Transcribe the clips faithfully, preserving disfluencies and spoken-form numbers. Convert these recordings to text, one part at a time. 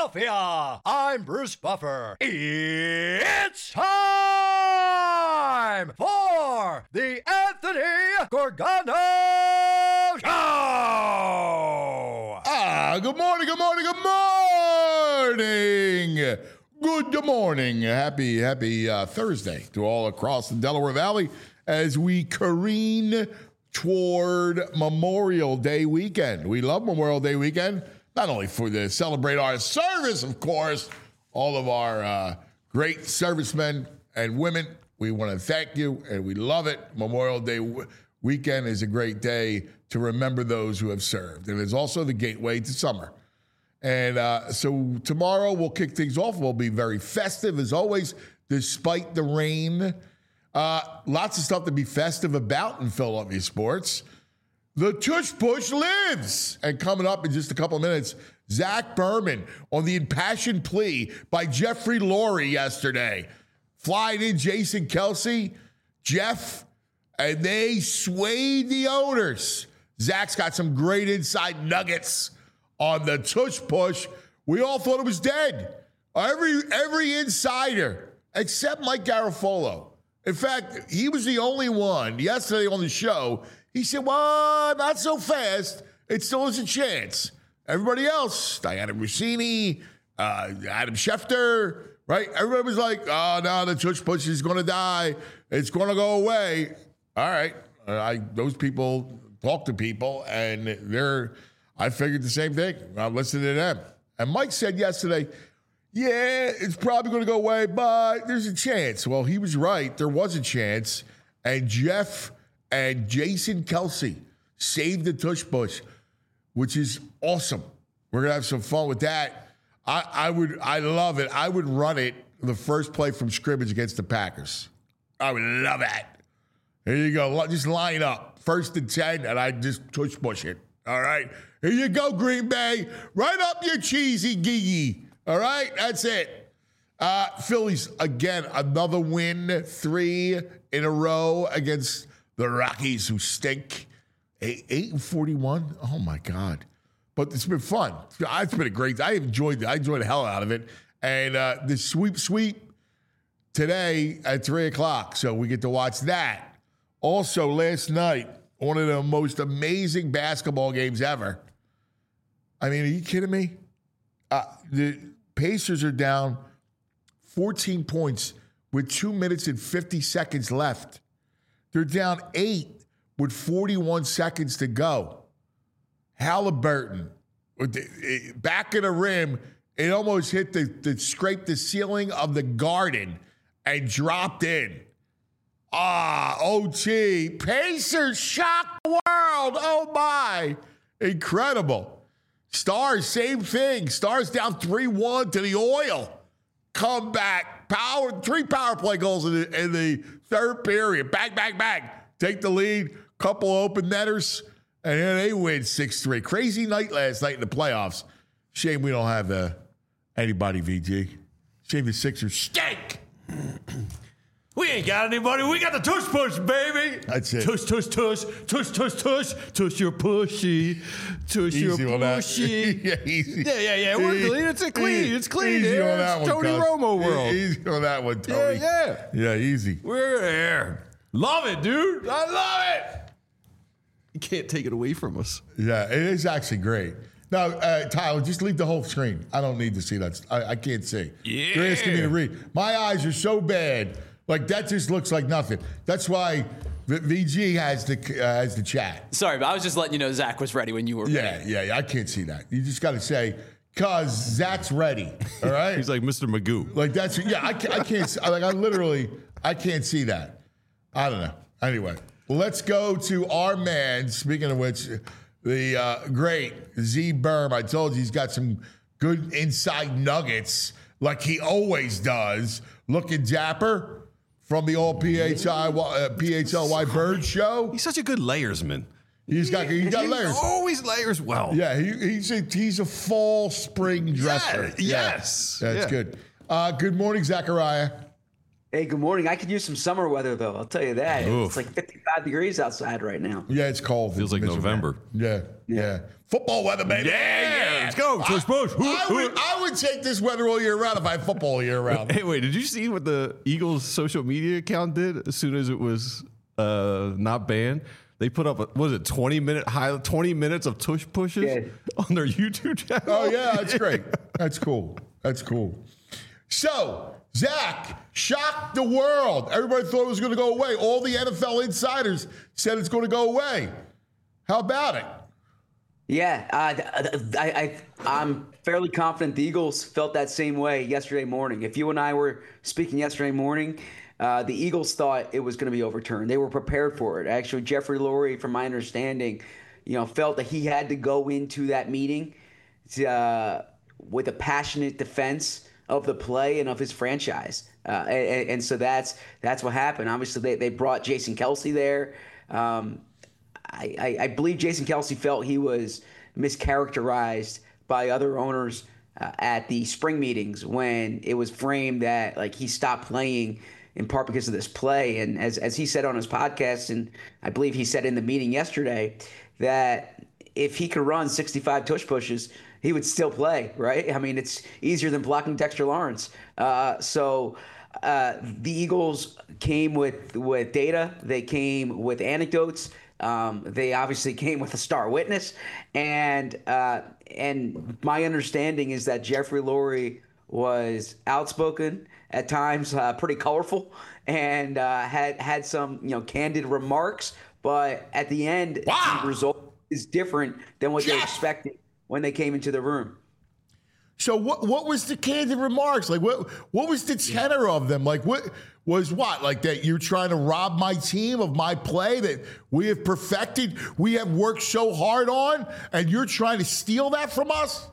Philadelphia. I'm Bruce Buffer. It's time for the Anthony Gorgano Show. Ah, good morning, good morning, good morning. Good morning. Happy, happy uh, Thursday to all across the Delaware Valley as we careen toward Memorial Day weekend. We love Memorial Day weekend, not only for the celebrate our service, of course, all of our uh, great servicemen and women. We want to thank you, and we love it. Memorial Day w- weekend is a great day to remember those who have served. And it's also the gateway to summer. And uh, so tomorrow we'll kick things off. We'll be very festive, as always, despite the rain. Uh, lots of stuff to be festive about in Philadelphia sports. The Tush Push lives. And coming up in just a couple of minutes, Zach Berman on the impassioned plea by Jeffrey Lurie yesterday. Flying in Jason Kelce, Jeff, and they swayed the owners. Zach's got some great inside nuggets on the Tush Push. We all thought it was dead. Every, every insider, except Mike Garafolo. In fact, he was the only one yesterday on the show. He said, well, not so fast. It still has a chance. Everybody else, Diana Rossini, uh, Adam Schefter, right? Everybody was like, oh, no, the Tush Push is going to die. It's going to go away. All right. Uh, I, those people talk to people, and they're, I figured the same thing. I'm listening to them. And Mike said yesterday, yeah, it's probably going to go away, but there's a chance. Well, he was right. There was a chance. And Jeff and Jason Kelce saved the Tush Push, which is awesome. We're going to have some fun with that. I, I would, I love it. I would run it the first play from scrimmage against the Packers. I would love that. Here you go. Just line up. First and ten, and I just Tush Push it. All right? Here you go, Green Bay. Right up your cheesy gigi. All right, that's it. Uh, Phillies, again, another win, three in a row against the Rockies, who stink. Eight, eight and forty-one. Oh my God! But it's been fun. It's been a great. I enjoyed it. I enjoyed the hell out of it. And uh, the sweep, sweep today at three o'clock. So we get to watch that. Also, last night, one of the most amazing basketball games ever. I mean, are you kidding me? Uh, the Pacers are down fourteen points with two minutes and fifty seconds left. They're down eight with forty-one seconds to go. Halliburton, back of the rim, it almost hit the, the scraped the ceiling of the Garden and dropped in. Ah, O T. Pacers shocked the world. Oh, my. Incredible. Stars, same thing. Stars down three one to the Oil. Come back. Power, three power play goals in the, in the third period. Bang, bang, bang. Take the lead. Couple open netters. And then they win six three. Crazy night last night in the playoffs. Shame we don't have uh, anybody, V G. Shame the Sixers stink. We ain't got anybody. We got the Tush Push, baby. That's it. Tush, tush, tush. Tush, tush, tush. Tush your pushy. Tush your Easy on that. pushy. yeah, easy. Yeah, yeah, yeah. We're Easy. clean. It's a clean. Easy. It's clean. Easy Yeah, on that it's one, Tony cuz. Romo world. Easy on that one, Tony. Yeah, yeah. Yeah, easy. We're there. Love it, dude. I love it. You can't take it away from us. Yeah, it is actually great. Now, uh, Tyler, just leave the whole screen. I don't need to see that. I, I can't see. Yeah. You're asking me to read. My eyes are so bad. Like, that just looks like nothing. That's why V G has the uh, has the chat. Sorry, but I was just letting you know Zach was ready when you were Yeah, ready. yeah, yeah. I can't see that. You just got to say, cuz Zach's ready. All right? He's like Mister Magoo. Like, that's, yeah, I can't, I can't, like, I literally, I can't see that. I don't know. Anyway, let's go to our man, speaking of which, the uh, great Z Berm. I told you he's got some good inside nuggets, like he always does. Looking dapper from the all P H I, uh, P H L Y Bird Show. He's such a good layersman. He's got, he's got He layers. always layers well. Yeah, he, he's, a, he's a fall spring dresser. Yeah, yes. Yeah, that's Yeah. good. Uh, good morning, Zachariah. Hey, good morning. I could use some summer weather, though. I'll tell you that. Oof. It's like fifty-five degrees outside right now. Yeah, it's cold. Feels like Miserable. November. Yeah, yeah. Football weather, baby. Yeah, yeah. Let's go. Tush push. I, I, would, I would take this weather all year round if I had football all year round. Hey, wait, did you see what the Eagles social media account did as soon as it was uh, not banned? They put up, a, what was it, twenty minute high, twenty minutes of tush pushes Yeah. on their YouTube channel? Oh, yeah, that's great. That's cool. That's cool. So, Zach shocked the world. Everybody thought it was going to go away. All the N F L insiders said it's going to go away. How about it? Yeah, uh, I, I, I'm fairly confident the Eagles felt that same way yesterday morning. If you and I were speaking yesterday morning, uh, the Eagles thought it was going to be overturned. They were prepared for it. Actually, Jeffrey Lurie, from my understanding, you know, felt that he had to go into that meeting to, uh, with a passionate defense of the play and of his franchise. Uh, and, and so that's that's what happened. Obviously, they, they brought Jason Kelce there. Um, I, I, I believe Jason Kelce felt he was mischaracterized by other owners uh, at the spring meetings when it was framed that like he stopped playing in part because of this play. And as, as he said on his podcast, and I believe he said in the meeting yesterday, that if he could run sixty-five tush pushes, he would still play, right? I mean, it's easier than blocking Dexter Lawrence. Uh, so uh, the Eagles came with, with data. They came with anecdotes. Um, they obviously came with a star witness. And uh, and my understanding is that Jeffrey Lurie was outspoken at times, uh, pretty colorful, and uh, had, had some, you know, candid remarks. But at the end, Wow. the result is different than what they Yes. expected when they came into the room. So what what was the candid remarks? Like what what was the tenor of them? Like what was what? Like that you're trying to rob my team of my play that we have perfected, we have worked so hard on, and you're trying to steal that from us?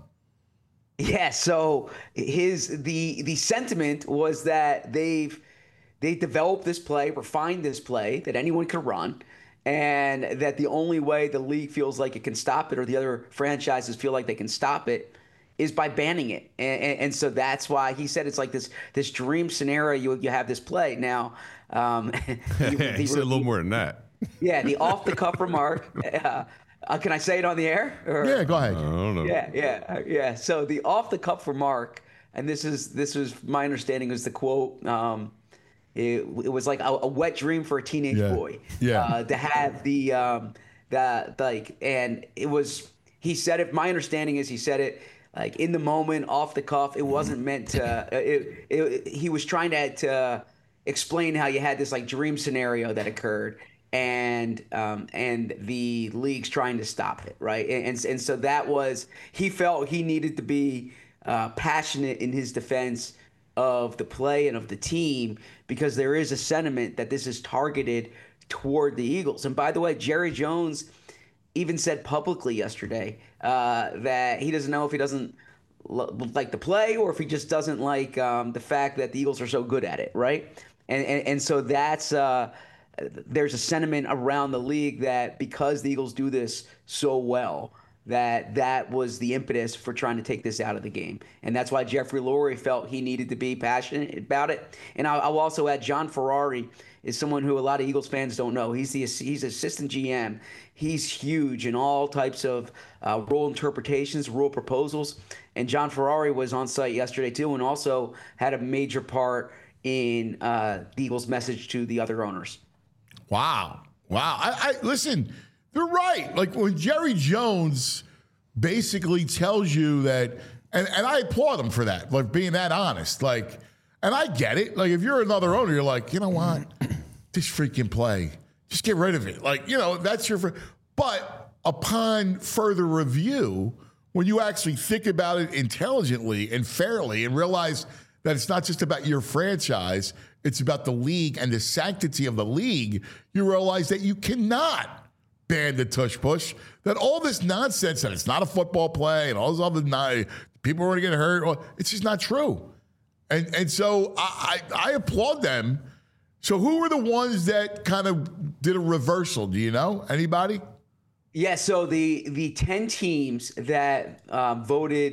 Yeah, so his the the sentiment was that they've they developed this play, refined this play that anyone could run, and that the only way the league feels like it can stop it, or the other franchises feel like they can stop it, is by banning it. And, and, and so that's why he said it's like this this dream scenario. You you have this play now. Um, he, the, he said a little more than that. Yeah, the off the cuff remark. Uh, uh, can I say it on the air? Or? Yeah, go ahead. I don't know. Yeah, yeah, uh, yeah. So the off the cuff remark, and this is this was my understanding was the quote. Um, it, it was like a, a wet dream for a teenage Yeah. boy. Yeah. Uh, to have the um, the like, and it was he said it. My understanding is he said it like in the moment, off the cuff. It wasn't meant to. It, it, he was trying to to explain how you had this like dream scenario that occurred. And um, and the league's trying to stop it, right? And, and and so that was he felt he needed to be uh, passionate in his defense of the play and of the team because there is a sentiment that this is targeted toward the Eagles. And by the way, Jerry Jones even said publicly yesterday uh, that he doesn't know if he doesn't l- like the play or if he just doesn't like um, the fact that the Eagles are so good at it, right? And and, and so that's. Uh, There's a sentiment around the league that because the Eagles do this so well, that that was the impetus for trying to take this out of the game. And that's why Jeffrey Lurie felt he needed to be passionate about it. And I'll, I'll also add John Ferrari is someone who a lot of Eagles fans don't know. He's the he's assistant G M. He's huge in all types of uh, rule interpretations, rule proposals. And John Ferrari was on site yesterday too and also had a major part in uh, the Eagles' message to the other owners. Wow. Wow. I, I listen, they're right. Like when Jerry Jones basically tells you that, and, and I applaud him for that, like being that honest. Like, and I get it. Like if you're another owner, you're like, you know what? This freaking play, just get rid of it. Like, you know, that's your, fr- but upon further review, when you actually think about it intelligently and fairly and realize that it's not just about your franchise, it's about the league and the sanctity of the league, you realize that you cannot ban the tush push, that all this nonsense, that it's not a football play and all this other, not, people are going to get hurt, well, it's just not true. And and so I, I, I applaud them. So who were the ones that kind of did a reversal? Do you know? Anybody? Yeah, so the the ten teams that um, voted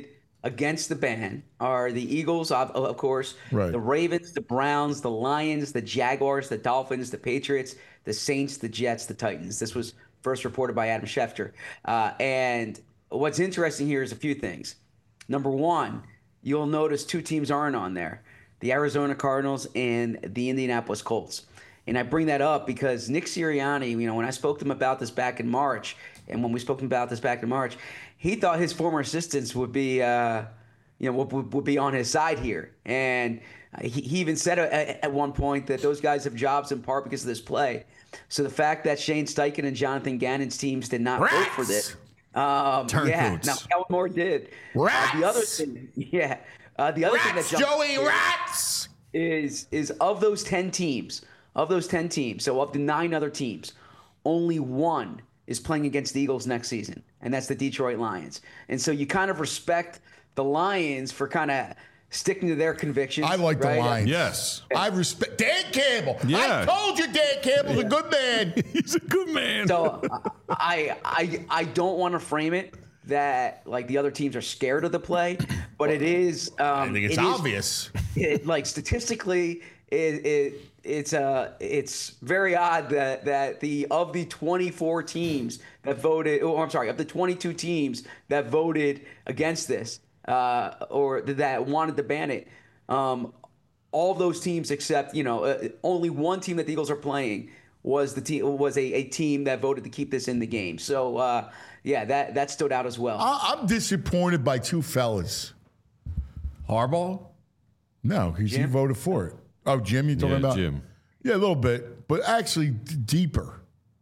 against the ban are the Eagles, of, of course, Right. the Ravens, the Browns, the Lions, the Jaguars, the Dolphins, the Patriots, the Saints, the Jets, the Titans. This was first reported by Adam Schefter. Uh, and what's interesting here is a few things. Number one, you'll notice two teams aren't on there, the Arizona Cardinals and the Indianapolis Colts. And I bring that up because Nick Sirianni, you know, when I spoke to him about this back in March, and when we spoke to him about this back in March, he thought his former assistants would be, uh, you know, would, would be on his side here. And he, he even said at, at one point that those guys have jobs in part because of this play. So the fact that Shane Steichen and Jonathan Gannon's teams did not Rats! vote for this, um, yeah, Turncoats. now Kellen Moore did. Rats! Uh, the other thing, yeah, uh, the other thing Rats, that jumped Joey, rats! is is of those ten teams, of those ten teams, so of the nine other teams, only one is playing against the Eagles next season, and that's the Detroit Lions. And so you kind of respect the Lions for kind of sticking to their convictions. I like the right? Lions. Yes. I respect Dan Campbell. Yeah. I told you Dan Campbell's a good man. He's a good man. So I I I don't want to frame it that like the other teams are scared of the play, but it is. Um, I think it's it is- obvious. it, like statistically, it, it it's uh it's very odd that that the of the twenty-four teams that voted, oh I'm sorry, of the twenty-two teams that voted against this uh, or that wanted to ban it, um, all those teams except you know uh, only one team that the Eagles are playing was the team was a, a team that voted to keep this in the game. So uh, yeah, that that stood out as well. I- I'm disappointed by two fellas. Harbaugh? No, he's, he Jim? voted for it. Oh, Jim, you talking Yeah, about? Jim. Yeah, a little bit, but actually d- deeper.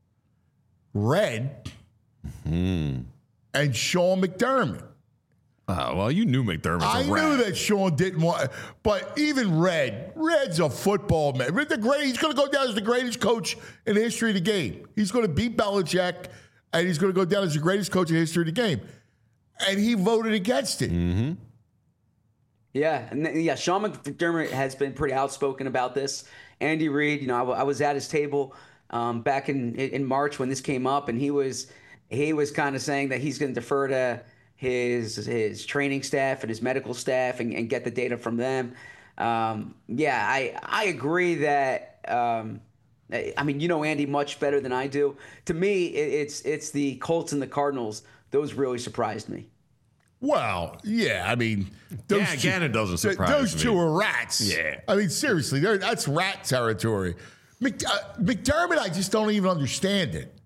Red Hmm. and Sean McDermott. Oh, well, you knew McDermott's a I rat. knew that Sean didn't want, but even Red, Red's a football man. Red, the great, he's going to go down as the greatest coach in the history of the game. He's going to beat Belichick, and he's going to go down as the greatest coach in the history of the game. And he voted against it. Mm-hmm. Yeah, and th- yeah, Sean McDermott has been pretty outspoken about this. Andy Reid, you know, I, w- I was at his table um, back in in March when this came up, and he was he was kind of saying that he's going to defer to his his training staff and his medical staff and, and get the data from them. Um, yeah, I I agree that. Um, I mean, you know Andy much better than I do. To me, it, it's it's the Colts and the Cardinals. Those really surprised me. Well, yeah, I mean, those Yeah, two, Gannon doesn't th- surprise Those me. two are rats. Yeah. I mean, seriously, they're- that's rat territory. Mc, uh, McDermott, I just don't even understand it.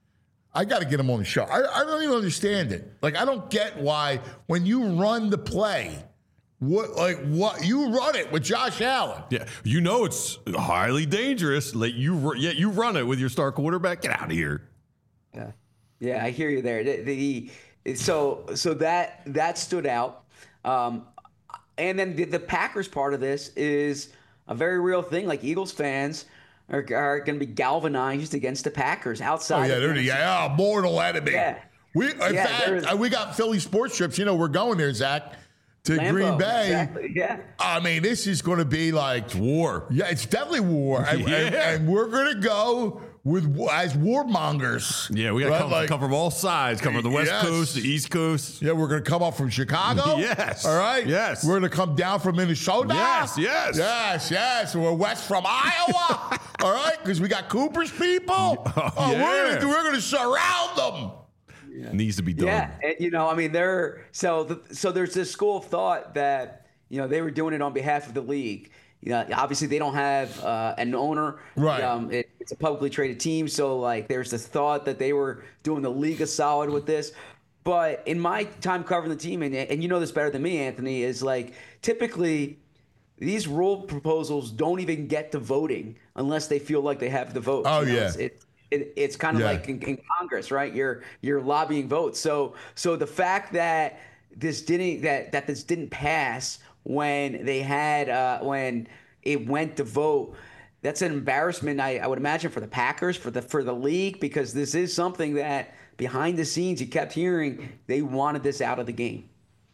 I got to get him on the show. I, I don't even understand it. Like, I don't get why when you run the play, what like what you run it with Josh Allen. Yeah, you know it's highly dangerous. Let you, ru- yeah, you run it with your star quarterback. Get out of here. Yeah, yeah, I hear you there. The, the so so that that stood out, um, and then the, the Packers part of this is a very real thing. Like Eagles fans are, are going to be galvanized against the Packers Oh outside. yeah, of they're the the yeah, mortal enemy. Yeah. We in Yeah, fact there's- uh, we got Philly sports trips. You know, we're going there, Zach, to Lambeau, Green Bay. exactly, yeah. I mean, this is going to be like War. Yeah, it's definitely war, and, and- Yeah. and we're going to go with as warmongers. Yeah, we got to Right? come, Like, come from all sides. Come from the West Yes. Coast, the East Coast. Yeah, we're going to come up from Chicago. Yes. All right. Yes. We're going to come down from Minnesota. Yes, yes. Yes, yes. We're west from Iowa. All right, because we got Cooper's people. Oh, we're yeah. going to we're going to surround them. Needs to be done. Yeah, and, you know, I mean, they're so the, so there's this school of thought that you know they were doing it on behalf of the league. You know, obviously they don't have uh, an owner. Right. Um, it, it's a publicly traded team, so like there's this thought that they were doing the league a solid with this. But in my time covering the team, and and you know this better than me, Anthony, is like typically these rule proposals don't even get to voting unless they feel like they have the vote. Oh, You know, yeah. it's- it, it, it's kind of Yeah. like in, in Congress, right? You're you're lobbying votes. So so the fact that this didn't that that this didn't pass when they had uh, when it went to vote, that's an embarrassment. I, I would imagine for the Packers, for the for the league, because this is something that behind the scenes you kept hearing they wanted this out of the game.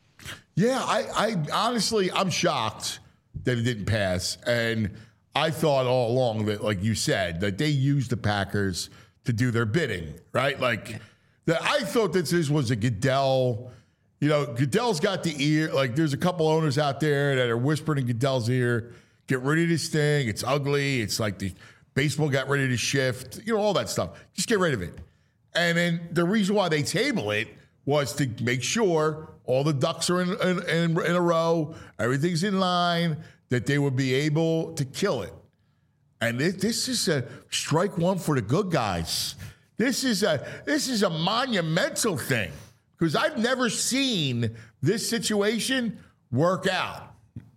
Yeah, I, I honestly, I'm shocked that it didn't pass. And I thought all along that, like you said, that they used the Packers to do their bidding, right? Like, that I thought that this was a Goodell, You know, Goodell's got the ear. Like, there's a couple owners out there that are whispering in Goodell's ear, get rid of this thing. It's ugly. It's like the baseball got ready to shift. You know, all that stuff. Just get rid of it. And then the reason why they table it was to make sure all the ducks are in, in, in, in a row, everything's in line, that they would be able to kill it. And this, this is a strike one for the good guys. This is a this is a monumental thing because I've never seen this situation work out.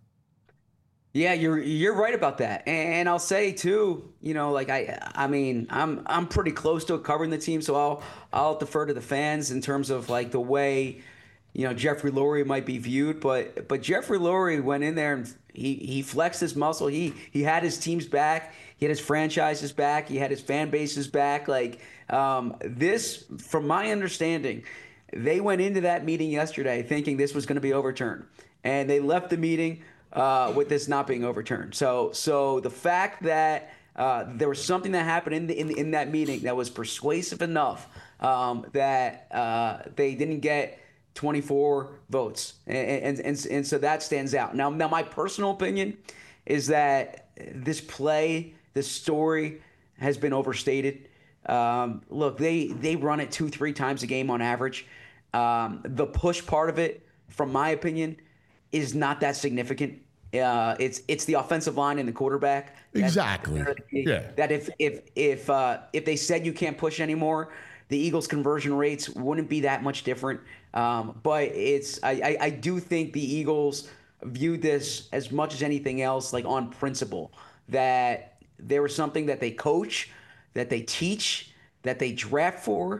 Yeah, you're you're right about that, and I'll say too. You know, like I, I mean, I'm I'm pretty close to covering the team, so I'll I'll defer to the fans in terms of like the way, you know, Jeffrey Lurie might be viewed. But but Jeffrey Lurie went in there and he he flexed his muscle. He he had his team's back. He had his franchises back. He had his fan bases back. Like um, this, from my understanding, they went into that meeting yesterday thinking this was going to be overturned, and they left the meeting uh, with this not being overturned. So, so the fact that uh, there was something that happened in, the, in in that meeting that was persuasive enough um, that uh, they didn't get twenty-four votes, and, and and and so that stands out. Now, now my personal opinion is that this play, this story, has been overstated. Um, look, they they run it two, three times a game on average. Um, the push part of it, from my opinion, is not that significant. Uh, it's it's the offensive line and the quarterback. Exactly. That, yeah. That if if if uh, if they said you can't push anymore, the Eagles' conversion rates wouldn't be that much different. Um, but it's I, I I do think the Eagles view this as much as anything else, like on principle, that there was something that they coach, that they teach, that they draft for,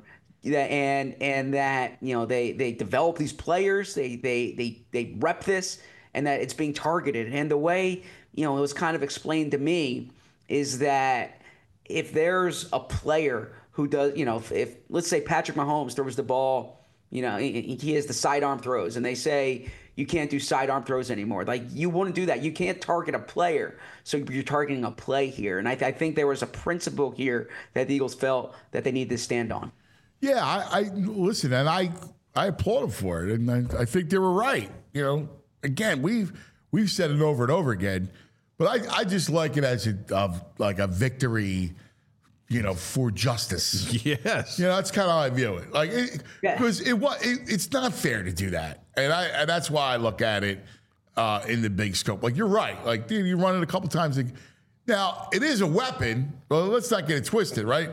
and and that you know they they develop these players, they they they they rep this, and that it's being targeted. And the way you know it was kind of explained to me is that if there's a player who does, you know, if, if let's say Patrick Mahomes throws the ball, you know, he, he has the sidearm throws, and they say you can't do sidearm throws anymore. Like, you wouldn't do that. You can't target a player. So you're targeting a play here. And I, th- I think there was a principle here that the Eagles felt that they needed to stand on. Yeah, I, I listen, and I I applaud them for it, and I, I think they were right. You know, again, we've we've said it over and over again, but I, I just like it as a of like a victory, you know, for justice. Yes. You know, that's kind of how I view it. Like, because it, Yeah. it, it it's not fair to do that, and I and that's why I look at it uh, in the big scope. Like, you're right. Like, dude, you run it a couple times. Now, it is a weapon. Well, let's not get it twisted, right?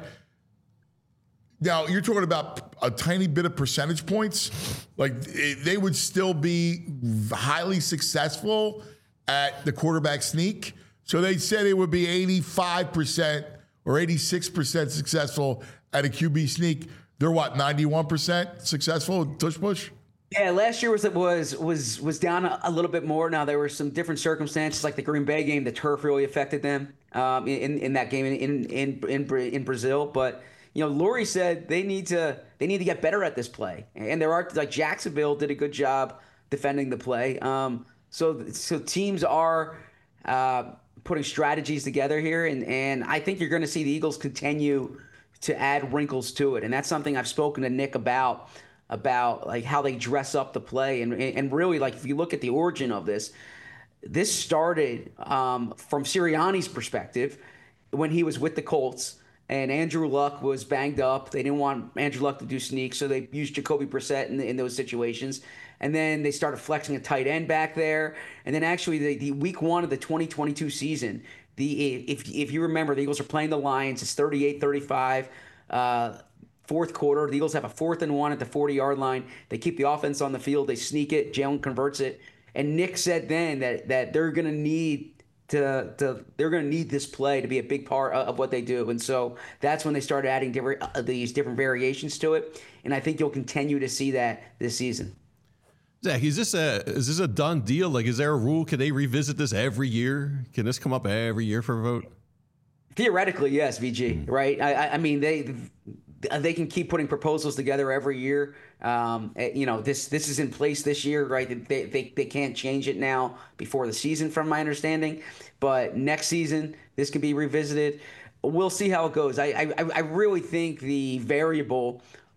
Now, you're talking about a tiny bit of percentage points. Like, it, they would still be highly successful at the quarterback sneak. So they said it would be eighty-five percent or eighty-six percent successful at a Q B sneak. They're what, ninety-one percent successful tush push? Yeah, last year was was was was down a, a little bit more. Now, there were some different circumstances, like the Green Bay game. The turf really affected them um, in in that game in in in in Brazil. But you know, Lurie said they need to they need to get better at this play, and there are like Jacksonville did a good job defending the play. Um, so so teams are uh, putting strategies together here, and and I think you're going to see the Eagles continue to add wrinkles to it, and that's something I've spoken to Nick about. about like how they dress up the play. And and really, like, if you look at the origin of this, this started um, from Sirianni's perspective when he was with the Colts and Andrew Luck was banged up. They didn't want Andrew Luck to do sneaks, so they used Jacoby Brissett in, in those situations. And then they started flexing a tight end back there. And then actually the, the week one of the twenty twenty-two season, the if if you remember, the Eagles are playing the Lions. It's thirty-eight thirty-five. Uh, Fourth quarter, the Eagles have a fourth and one at the forty-yard line. They keep the offense on the field. They sneak it. Jalen converts it. And Nick said then that that they're going to need to to they're going to need this play to be a big part of what they do. And so that's when they started adding different uh, these different variations to it. And I think you'll continue to see that this season. Zach, is this a is this a done deal? Like, is there a rule? Can they revisit this every year? Can this come up every year for a vote? Theoretically, yes, V G. Mm. Right? I, I mean, they. They can keep putting proposals together every year. Um, you know, this this is in place this year, right? They, they they can't change it now before the season, from my understanding. But next season, this can be revisited. We'll see how it goes. I I, I really think the variable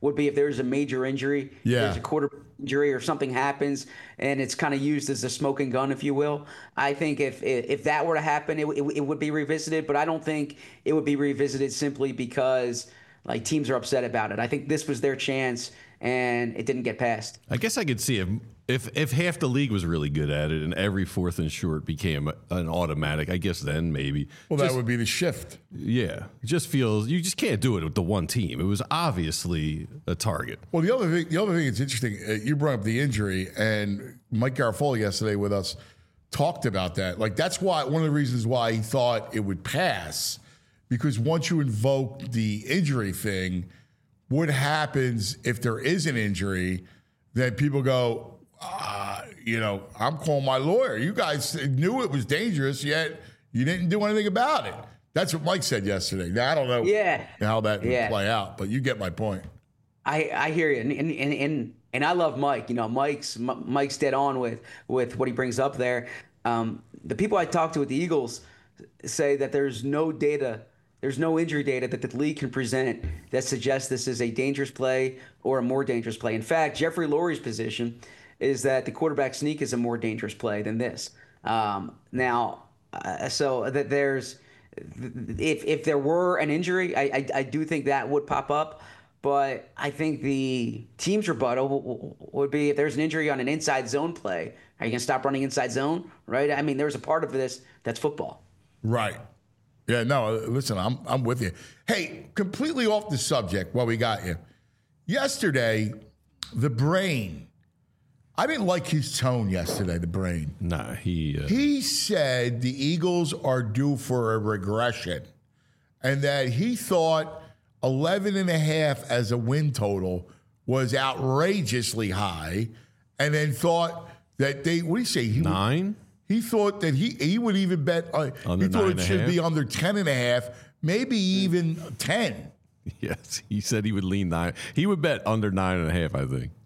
would be if there's a major injury, Yeah. there's a quarter injury or something happens, and it's kind of used as a smoking gun, if you will. I think if if that were to happen, it, it, it would be revisited, but I don't think it would be revisited simply because like teams are upset about it. I think this was their chance, and it didn't get passed. I guess I could see if if if half the league was really good at it and every fourth and short became an automatic. I guess then maybe. Well, just, that would be the shift. yeah. It just feels you just can't do it with the one team. It was obviously a target. Well, the other thing, the other thing that's interesting, uh, you brought up the injury, and Mike Garafolo yesterday with us talked about that. Like that's why one of the reasons why he thought it would pass, because once you invoke the injury thing, what happens if there is an injury? Then people go, uh, you know, I'm calling my lawyer. You guys knew it was dangerous, yet you didn't do anything about it. That's what Mike said yesterday. Now, I don't know Yeah. how that would Yeah. play out, but you get my point. I, I hear you, and and, and and and I love Mike. You know, Mike's M- Mike's dead on with with what he brings up there. Um, the people I talk to at the Eagles say that there's no data, there's no injury data that the league can present that suggests this is a dangerous play or a more dangerous play. In fact, Jeffrey Lurie's position is that the quarterback sneak is a more dangerous play than this. Um, now, uh, so that there's if if there were an injury, I, I I do think that would pop up. But I think the team's rebuttal would be if there's an injury on an inside zone play, are you going to stop running inside zone? Right? I mean, there's a part of this that's football. Right. Yeah, no, listen, I'm I'm with you. Hey, completely off the subject while we got you. Yesterday, the brain, I didn't like his tone yesterday, the brain. Nah, he. Uh, He said the Eagles are due for a regression and that he thought eleven and a half as a win total was outrageously high, and then thought that they, what do you say? He would- nine. He thought that he he would even bet. Uh, Under he thought nine it and a should half? be under ten and a half, maybe even ten. Yes, he said he would lean nine. He would bet under nine and a half. I think.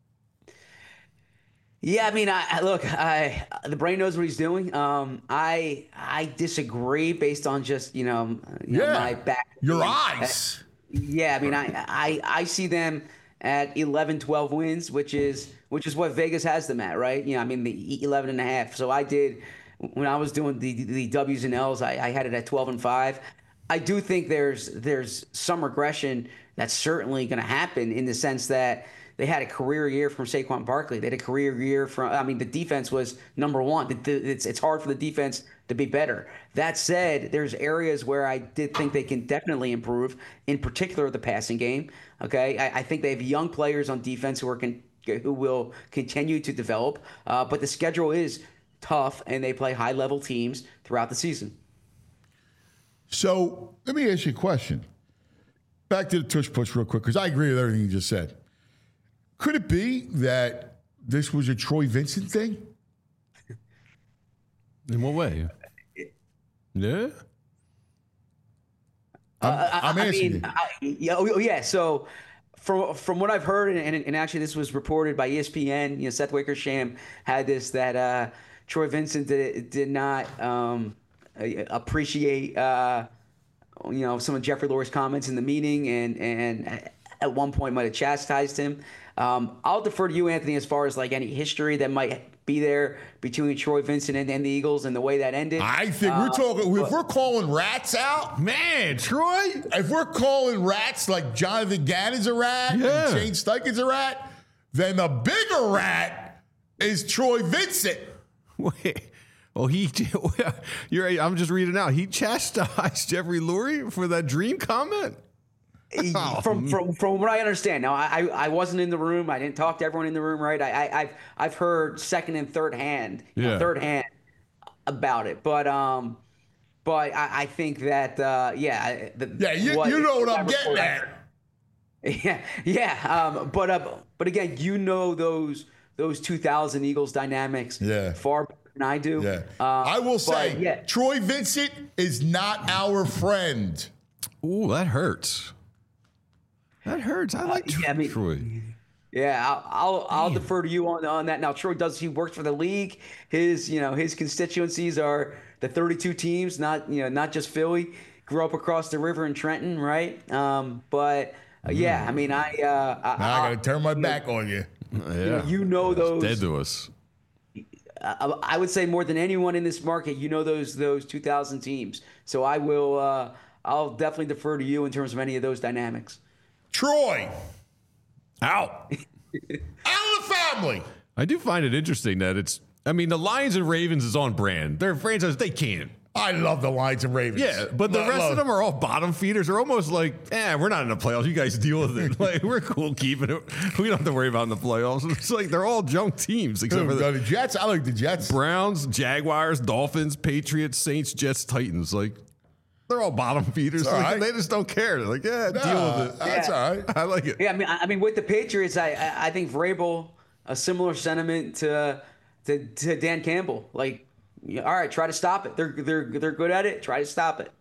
Yeah, I mean, I, I look, I the brain knows what he's doing. Um, I I disagree based on just you know, you know Yeah, my back. your eyes. Yeah, I mean, I, I I see them at eleven, twelve wins, which is which is what Vegas has them at, right? You know, I mean, the eleven and a half. So I did when I was doing the the W's and L's, I, I had it at twelve and five. I do think there's there's some regression that's certainly going to happen in the sense that they had a career year from Saquon Barkley. They had a career year from. I mean, the defense was number one. It's it's hard for the defense to be better. That said, there's areas where I did think they can definitely improve. In particular, the passing game. Okay, I, I think they have young players on defense who are con, who will continue to develop. Uh, but the schedule is tough, and they play high level teams throughout the season. So let me ask you a question. Back to the tush push real quick, because I agree with everything you just said. Could it be that this was a Troy Vincent thing? In what way? Yeah. I'm, Uh, I, I'm I asking mean, you. I, yeah, oh, yeah. So, from from what I've heard, and, and actually this was reported by E S P N. You know, Seth Wickersham had this that uh, Troy Vincent did, did not um, appreciate uh, you know some of Jeffrey Lurie's comments in the meeting, and and at one point might have chastised him. Um, I'll defer to you, Anthony, as far as like any history that might be there between Troy Vincent and, and the Eagles and the way that ended. I think we're talking, if we're calling rats out, Man, Troy. if we're calling rats like Jonathan Gannon's a rat Yeah. and Shane Steichen's a rat, then the bigger rat is Troy Vincent. Wait. Well, he. You're. right, I'm just reading out. He chastised Jeffrey Lurie for that dream comment. from from from what I understand. Now, I I wasn't in the room. I didn't talk to everyone in the room, right? I, I I've I've heard second and third hand, you know, Yeah. third hand about it, but um, but I, I think that uh, yeah, the, Yeah, you, you know what I'm getting at. Yeah, yeah. Um, but uh, but again, you know those those two thousand Eagles dynamics Yeah. far better than I do. Yeah. Uh, I will but, say, yeah. Troy Vincent is not our friend. Ooh, that hurts. That hurts. I like yeah, I mean- Troy. Yeah, I'll I'll, I'll defer to you on, on that. Now, Troy does he works for the league. His you know his constituencies are the thirty-two teams, not you know not just Philly. Grew up across the river in Trenton, right? Um, but Uh, yeah, I mean, I. Uh, I, Now I got to turn my back on you. Yeah. You know those. Dead to us. I, I would say more than anyone in this market, you know those those two thousand teams. So I will. Uh, I'll definitely defer to you in terms of any of those dynamics. Troy, Out. out of the family. I do find it interesting that it's, I mean, the Lions and Ravens is on brand. They're franchise, they can't. I love the Lions and Ravens. Yeah, but the Lo- rest love- of them are all bottom feeders. They're almost like, eh, we're not in the playoffs. You guys deal with it. Like, we're cool keeping it. We don't have to worry about in the playoffs. It's like they're all junk teams except for the, the the Jets. I like the Jets. Browns, Jaguars, Dolphins, Patriots, Saints, Jets, Titans. Like, they're all bottom feeders. all Like, right. They just don't care. They're like, yeah, deal Nah, with it. That's Yeah. all right. I like it. Yeah, I mean, I I mean, with the Patriots, I I, I think Vrabel, a similar sentiment to to, to Dan Campbell. Like, yeah, all right, try to stop it. They're they're they're good at it. Try to stop it.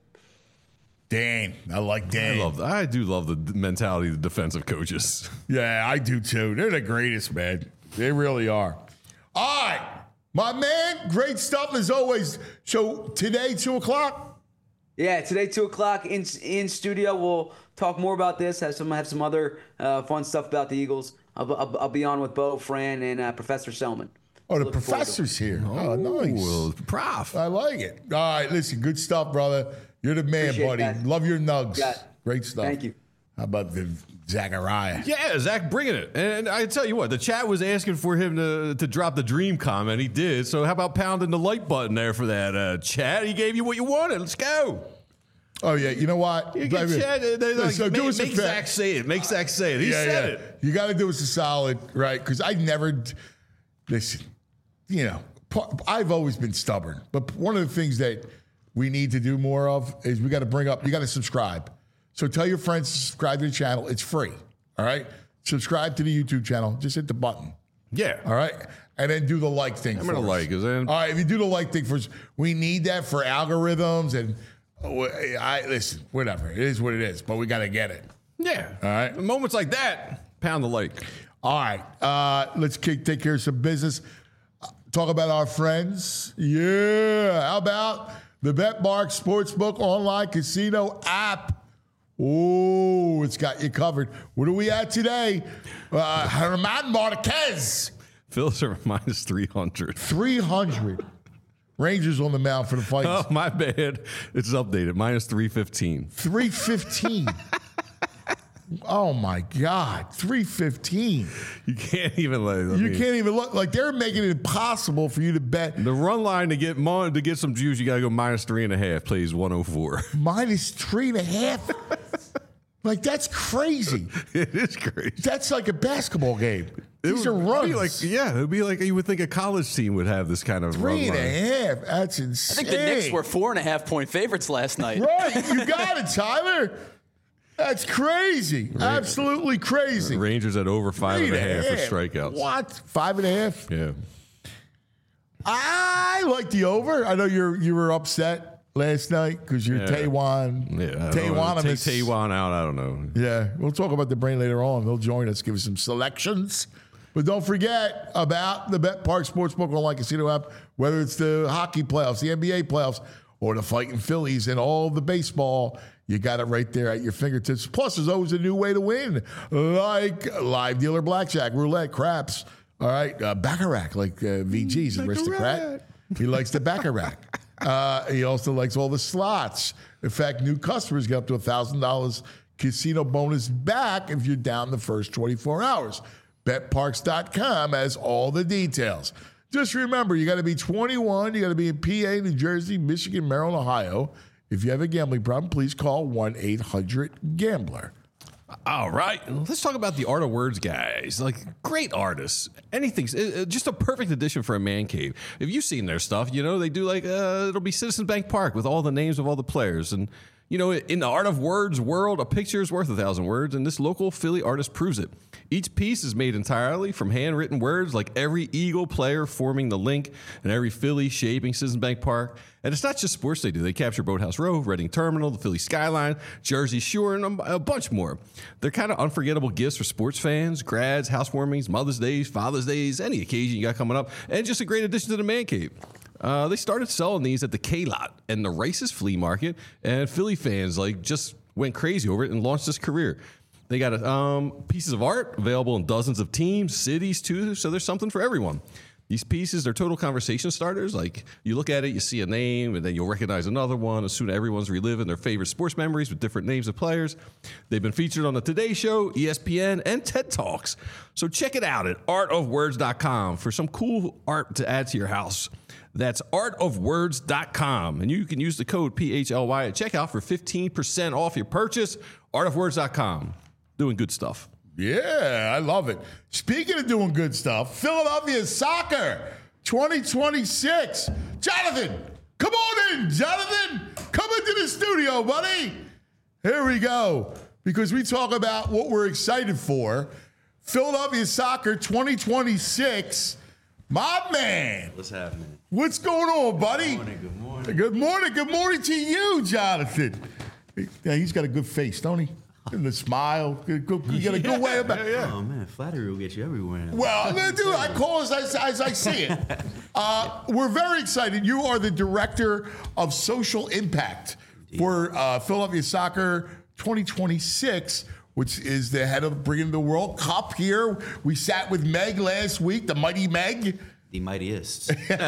Dan. I like Dan. I love that. I do love the mentality of the defensive coaches. Yeah, I do too. They're the greatest, man. They really are. All right. My man, great stuff as always. So today, two o'clock? Yeah, today two o'clock in in studio. We'll talk more about this. Have some have some other uh, fun stuff about the Eagles. I'll, I'll, I'll be on with Bo, Fran, and uh, Professor Selman. Oh, the Looking forward to it. professor's here. Oh, nice. Well, prof. I like it. All right, listen, good stuff, brother. You're the man, Appreciate buddy. that. Love your nugs. Got it. Great stuff. Thank you. How about the Zachariah? Yeah, Zach bringing it. And I tell you what, the chat was asking for him to, to drop the dream comment. He did. So how about pounding the like button there for that uh, chat? He gave you what you wanted. Let's go. Oh, yeah. You know what? You can Baby, chat. They're like, so make do us a make fa- Zach say it. Make Zach say it. He yeah, said yeah. it. You got to do us a solid, right? Because I never, listen, you know, pa- I've always been stubborn. But one of the things that we need to do more of is we got to bring up, you got to subscribe. So tell your friends to subscribe to the channel. It's free. All right. Subscribe to the YouTube channel. Just hit the button. Yeah. All right. And then do the like thing. I'm for going to us. like it. Then. All right. If you do the like thing first, we need that for algorithms and oh, I listen, whatever. It is what it is, but we got to get it. Yeah. All right. Moments like that, pound the like. All right. Uh, let's kick, take care of some business. Uh, Talk about our friends. Yeah. How about the BetMark Sportsbook online casino app? Oh, it's got you covered. What are we at today? Uh, Herman Marquez, Phillies are minus three hundred. three hundred. Rangers on the mound for the fight. Oh, my bad. It's updated. Minus three fifteen. three fifteen. Oh, my God. three fifteen. You can't even let it. You can't even look. Like, they're making it impossible for you to bet. The run line to get mo- to get some juice, you got to go minus three and a half. Plays one oh four. Minus three and a half. Like, that's crazy. It is crazy. That's like a basketball game. It These are would runs. be like, yeah, it would be like you would think a college team would have this kind of Three run and a line. half. That's I insane. think the Knicks were four and a half point favorites last night. Right. You got it, Tyler. That's crazy. Absolutely crazy. Rangers at over five Three and a half for half. strikeouts. What? Five and a half? Yeah. I like the over. I know you're you were upset last night because you're Yeah. Taiwan. Yeah. I don't know. Take Taiwanimous. Taiwan out. I don't know. Yeah, we'll talk about the brain later on. They'll join us, give us some selections. But don't forget about the BetPark Sportsbook online casino app, whether it's the hockey playoffs, the N B A playoffs, or the fighting Phillies and all the baseball. You got it right there at your fingertips. Plus, there's always a new way to win, like live dealer blackjack, roulette, craps. All right, uh, baccarat, like uh, V G's aristocrat. He likes the baccarat. Uh, he also likes all the slots. In fact, new customers get up to one thousand dollars casino bonus back if you're down the first twenty-four hours. Bet Parks dot com has all the details. Just remember, you got to be twenty-one. You got to be in P A, New Jersey, Michigan, Maryland, Ohio. If you have a gambling problem, please call one eight hundred gambler. All right, let's talk about the Art of Words guys. Like, great artists. Anything, uh, just a perfect addition for a man cave. If you've seen their stuff, you know, they do like, uh, it'll be Citizens Bank Park with all the names of all the players. And, you know, in the Art of Words world, a picture is worth a thousand words, and this local Philly artist proves it. Each piece is made entirely from handwritten words, like every Eagle player forming the link and every Philly shaping Citizens Bank Park. And it's not just sports they do. They capture Boathouse Row, Reading Terminal, the Philly skyline, Jersey Shore, and a, a bunch more. They're kind of unforgettable gifts for sports fans, grads, housewarmings, Mother's Days, Father's Days, any occasion you got coming up, and just a great addition to the man cave. Uh, they started selling these at the K-Lot and the Rice's Flea Market, and Philly fans like just went crazy over it and launched this career. They got um, pieces of art available in dozens of teams, cities, too. So there's something for everyone. These pieces, they're total conversation starters. Like, you look at it, you see a name, and then you'll recognize another one. As soon as everyone's reliving their favorite sports memories with different names of players. They've been featured on the Today Show, E S P N, and TED Talks. So check it out at art of words dot com for some cool art to add to your house. That's art of words dot com. And you can use the code P H L Y at checkout for fifteen percent off your purchase. art of words dot com. Doing good stuff. Yeah, I love it. Speaking of doing good stuff, Philadelphia Soccer twenty twenty-six. Jonathan, come on in, Jonathan. Come into the studio, buddy. Here we go. Because we talk about what we're excited for. Philadelphia Soccer twenty twenty-six. My man. What's happening? What's going on, buddy? Good morning, good morning. Good morning. Good morning to you, Jonathan. Yeah, he's got a good face, don't he? And the smile. Good, good, you got a good way about it. Oh, man, flattery will get you everywhere. Well, dude, I call it as I, as I see it. Uh, we're very excited. You are the director of social impact for uh, Philadelphia Soccer twenty twenty-six, which is the head of bringing the World Cup here. We sat with Meg last week, the mighty Meg. The mightiest.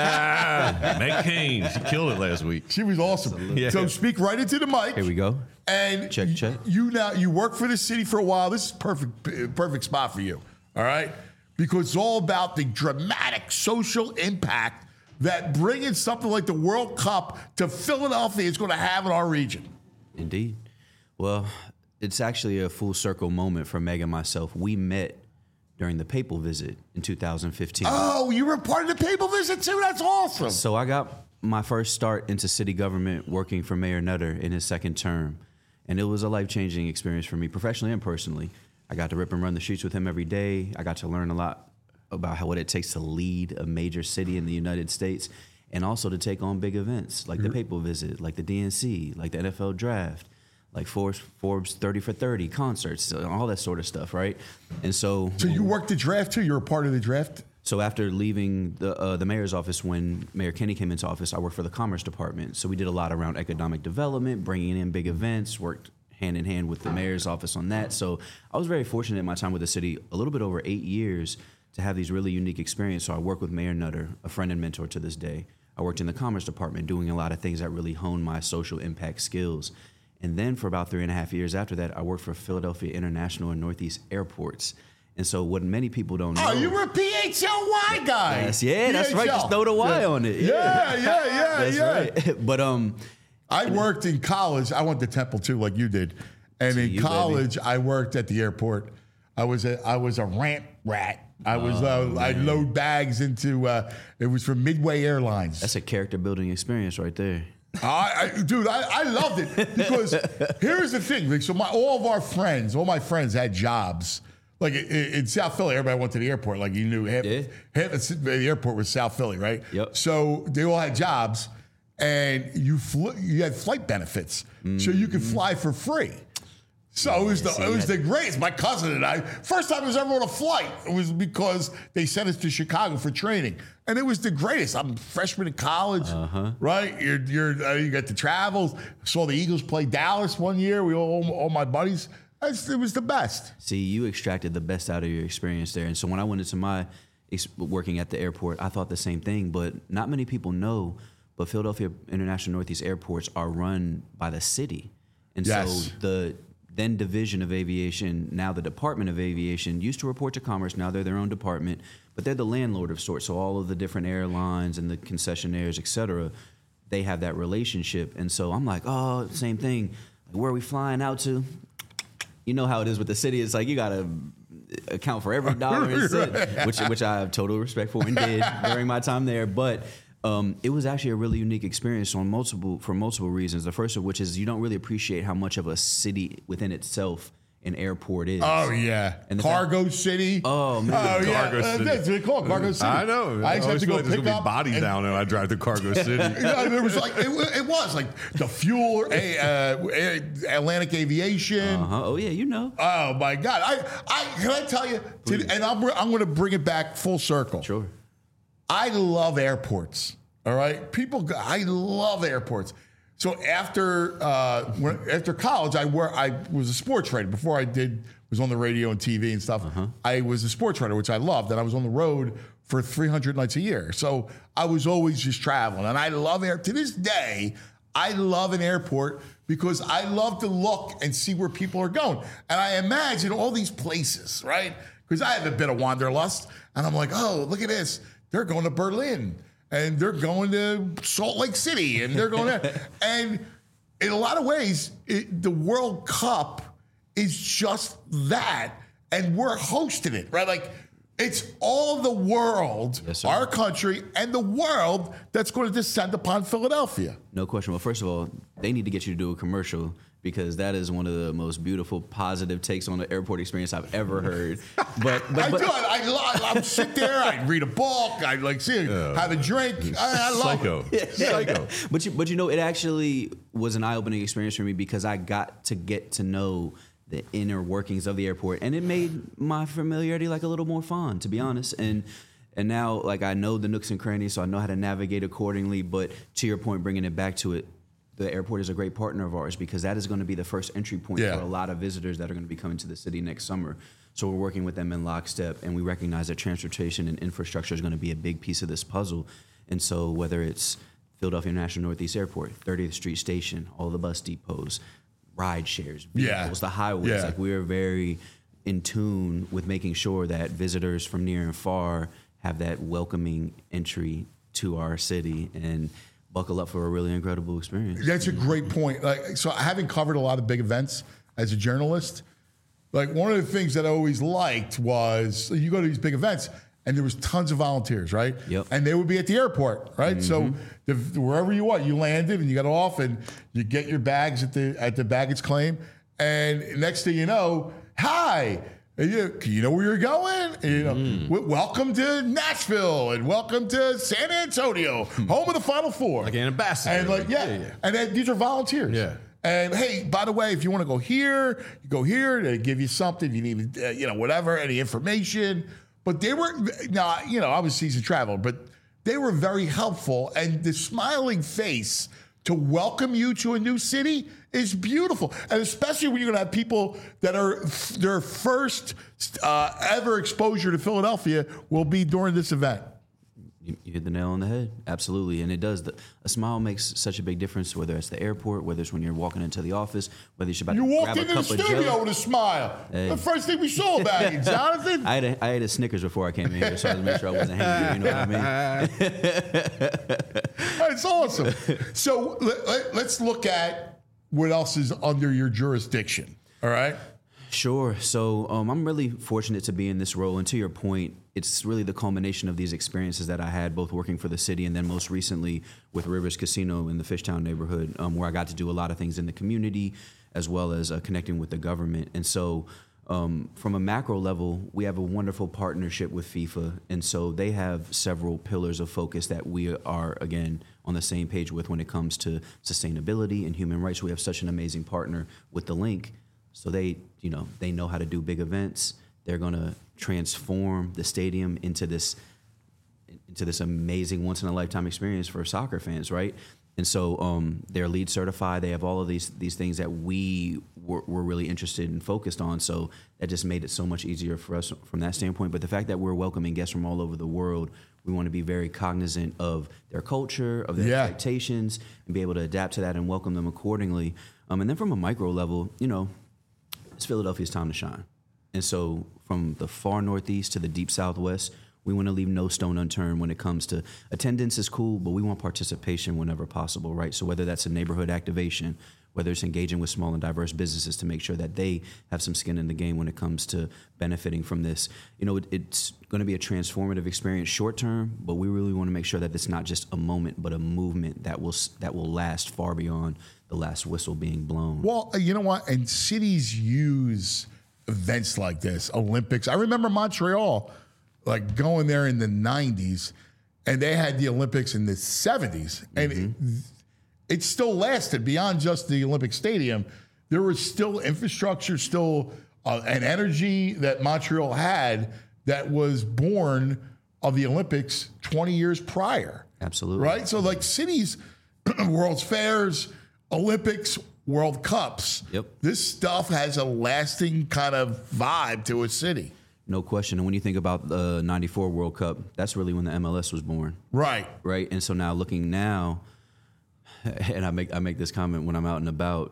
Ah, Meg Kane. She killed it last week. She was awesome. Yeah. So speak right into the mic. Here we go. And Check, you, check. you now you work for the city for a while. This is perfect, perfect spot for you. All right, because it's all about the dramatic social impact that bringing something like the World Cup to Philadelphia is going to have in our region. Indeed. Well, it's actually a full circle moment for Meg and myself. We met during the papal visit in two thousand fifteen. Oh, you were part of the papal visit too? That's awesome. So I got my first start into city government working for Mayor Nutter in his second term. And it was a life-changing experience for me, professionally and personally. I got to rip and run the streets with him every day. I got to learn a lot about how what it takes to lead a major city in the United States, and also to take on big events like the papal visit, like the D N C, like the N F L draft, like Forbes, Forbes thirty for thirty concerts, all that sort of stuff, right? And so... So you worked the draft too? You were a part of the draft? So after leaving the uh, the mayor's office, when Mayor Kenny came into office, I worked for the Commerce Department. So we did a lot around economic development, bringing in big events, worked hand in hand with the mayor's office on that. So I was very fortunate in my time with the city, a little bit over eight years, to have these really unique experiences. So I worked with Mayor Nutter, a friend and mentor to this day. I worked in the Commerce Department doing a lot of things that really honed my social impact skills. And then for about three and a half years after that, I worked for Philadelphia International and Northeast Airports. And so what many people don't know... Oh, you were a P H L Y guy. Yes, yeah, that's right. Just throw the Y yeah. on it. Yeah, yeah, yeah, yeah. That's yeah. right. But um, I worked in college. I went to Temple too, like you did. And See in you, college, I worked at the airport. I was a I was a ramp rat. I was uh, I'd load bags into. Uh, it was from Midway Airlines. that's a character building experience right there. I, I, dude, I, I loved it because here's the thing. Like, so my all of our friends, all my friends had jobs. Like in, in South Philly, everybody went to the airport. Like you knew half, Yeah. half the airport was South Philly, right? Yep. So they all had jobs, and you flew, you had flight benefits, so you could fly for free. So it was the see, it was yeah. the greatest. My cousin and I, first time I was ever on a flight, it was because they sent us to Chicago for training, and it was the greatest. I'm a freshman in college, Uh-huh. right? You're you're uh, you got to travel. Saw the Eagles play Dallas one year. We all all my buddies. That's, it was the best. See, you extracted the best out of your experience there. And so when I went into my ex- working at the airport, I thought the same thing. But not many people know, but Philadelphia International Northeast Airports are run by the city. And Yes. so the then Division of Aviation, now the Department of Aviation, used to report to Commerce. Now they're their own department, but they're the landlord of sorts. So all of the different airlines and the concessionaires, et cetera, they have that relationship. And so I'm like, oh, same thing. Where are we flying out to? You know how it is with the city. It's like you got to account for every dollar and cent, which, which I have total respect for and did during my time there. But um, it was actually a really unique experience on multiple for multiple reasons. The first of which is you don't really appreciate how much of a city within itself an airport is. Oh yeah, And the Cargo City. Oh, man. oh yeah, Cargo Uh, City. that's what they call it, Cargo City. I know. I used to have to go There's pick gonna up be bodies and- down there. I drive to Cargo City. Yeah, there was like it, wa- it was like the fuel, a, uh, a- Atlantic Aviation. Uh-huh. Oh yeah, you know. Oh my God! I, I can I tell you, to, and I'm I'm going to bring it back full circle. Sure. I love airports. All right, people. go- I love airports. So after uh, when, after college, I were I was a sports writer before I did was was on the radio and T V and stuff. Uh-huh. I was a sports writer, which I loved, and I was on the road for three hundred nights a year. So I was always just traveling, and I love air. To this day, I love an airport because I love to look and see where people are going. And I imagine all these places, right? Because I have a bit of wanderlust, and I'm like, oh, look at this. They're going to Berlin, and they're going to Salt Lake City, and they're going there. And in a lot of ways, it, the World Cup is just that, and we're hosting it, right? Like, it's all the world, Yes, sir. our country, and the world that's going to descend upon Philadelphia. No question. Well, first of all, they need to get you to do a commercial because that is one of the most beautiful, positive takes on the airport experience I've ever heard. But, but, I but do. I, I, I sit there. I read a book. I like see, have a drink. I, I love Psycho. it. Psycho. but you, but you know, it actually was an eye-opening experience for me because I got to get to know the inner workings of the airport, and it made my familiarity like a little more fun, to be honest. And and now, like, I know the nooks and crannies, so I know how to navigate accordingly. But to your point, bringing it back to it, the airport is a great partner of ours because that is going to be the first entry point Yeah. for a lot of visitors that are going to be coming to the city next summer. So we're working with them in lockstep, and we recognize that transportation and infrastructure is going to be a big piece of this puzzle. And so whether it's Philadelphia National Northeast Airport, thirtieth Street Station, all the bus depots, ride shares, vehicles, Yeah. the highways, Yeah. like we're very in tune with making sure that visitors from near and far have that welcoming entry to our city and buckle up for a really incredible experience. That's a great point. Like, so having covered a lot of big events as a journalist, like one of the things that I always liked was you go to these big events and there was tons of volunteers, right? Yep. And they would be at the airport, right? So the, wherever you are, you landed and you got off and you get your bags at the at the baggage claim, and next thing you know, hi. And you, you know where you're going? And, you know, w- welcome to Nashville and welcome to San Antonio, home of the Final Four. Like an ambassador. And like, yeah, Yeah, yeah. and then these are volunteers. Yeah. And hey, by the way, if you want to go here, you go here. They give you something. If you need, uh, you know, whatever, any information. But they were, now, you know, I was seasoned traveler, but they were very helpful. And the smiling face to welcome you to a new city is beautiful. And especially when you're going to have people that are, their first uh, ever exposure to Philadelphia will be during this event. You, you hit the nail on the head. Absolutely. And it does. The, a smile makes such a big difference, whether it's the airport, whether it's when you're walking into the office, whether you're about You to walked grab a into the cup of studio jelly. with a smile. Hey. The first thing we saw about you, Jonathan. I, had a, I ate a Snickers before I came in here, so I had to make sure I wasn't hangry. You know what I mean? That's awesome. So let, let, let's look at what else is under your jurisdiction. All right. Sure. So um, I'm really fortunate to be in this role. And to your point, it's really the culmination of these experiences that I had both working for the city and then most recently with Rivers Casino in the Fishtown neighborhood, um, where I got to do a lot of things in the community as well as uh, connecting with the government. And so um, from a macro level, we have a wonderful partnership with FIFA. And so they have several pillars of focus that we are, again, on the same page with when it comes to sustainability and human rights. We have such an amazing partner with The Link. So they, you know, they know how to do big events. They're going to transform the stadium into this into this amazing once in a lifetime experience for soccer fans, right? And so um, they're LEED certified. They have all of these these things that we were, were really interested and focused on. So that just made it so much easier for us from that standpoint. But the fact that we're welcoming guests from all over the world, we want to be very cognizant of their culture, of their Yeah. expectations, and be able to adapt to that and welcome them accordingly. Um, and then from a micro level, you know, it's Philadelphia's time to shine. And so from the far northeast to the deep southwest, we want to leave no stone unturned when it comes to attendance is cool, but we want participation whenever possible, right? So whether that's a neighborhood activation, whether it's engaging with small and diverse businesses to make sure that they have some skin in the game when it comes to benefiting from this. You know, it, it's going to be a transformative experience short term, but we really want to make sure that it's not just a moment, but a movement that will that will last far beyond the last whistle being blown. Well, you know what? And cities use events like this, Olympics. I remember Montreal, like going there in the nineties, and they had the Olympics in the seventies, and Mm-hmm. it, it still lasted beyond just the Olympic Stadium. There was still infrastructure, still uh, an energy that Montreal had that was born of the Olympics twenty years prior. Absolutely. Right? So like cities, World's Fairs, Olympics, World Cups. Yep. This stuff has a lasting kind of vibe to a city. No question. And when you think about the ninety-four World Cup, that's really when the M L S was born. Right. Right. And so now looking now, and I make I make this comment when I'm out and about,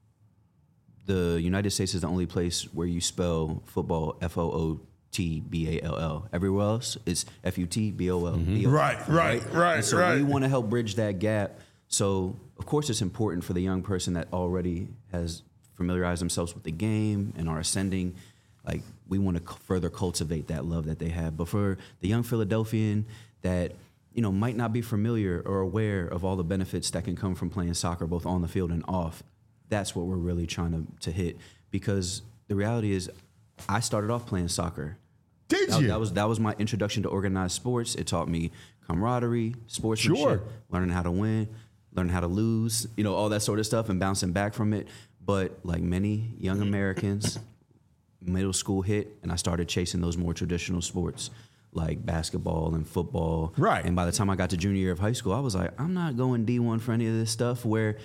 the United States is the only place where you spell football F O O T B A L L. Everywhere else, it's F U T B O L. Mm-hmm. Right, right, right, and so right. we want to help bridge that gap. So, of course, it's important for the young person that already has familiarized themselves with the game and are ascending. Like, we want to further cultivate that love that they have. But for the young Philadelphian that, you know, might not be familiar or aware of all the benefits that can come from playing soccer, both on the field and off, that's what we're really trying to, to hit. Because the reality is, I started off playing soccer. Did that, you? That was that was my introduction to organized sports. It taught me camaraderie, sportsmanship, Sure. learning how to win, learning how to lose, you know, all that sort of stuff, and bouncing back from it. But like many young Americans, middle school hit, and I started chasing those more traditional sports like basketball and football. Right. And by the time I got to junior year of high school, I was like, I'm not going D one for any of this stuff. Where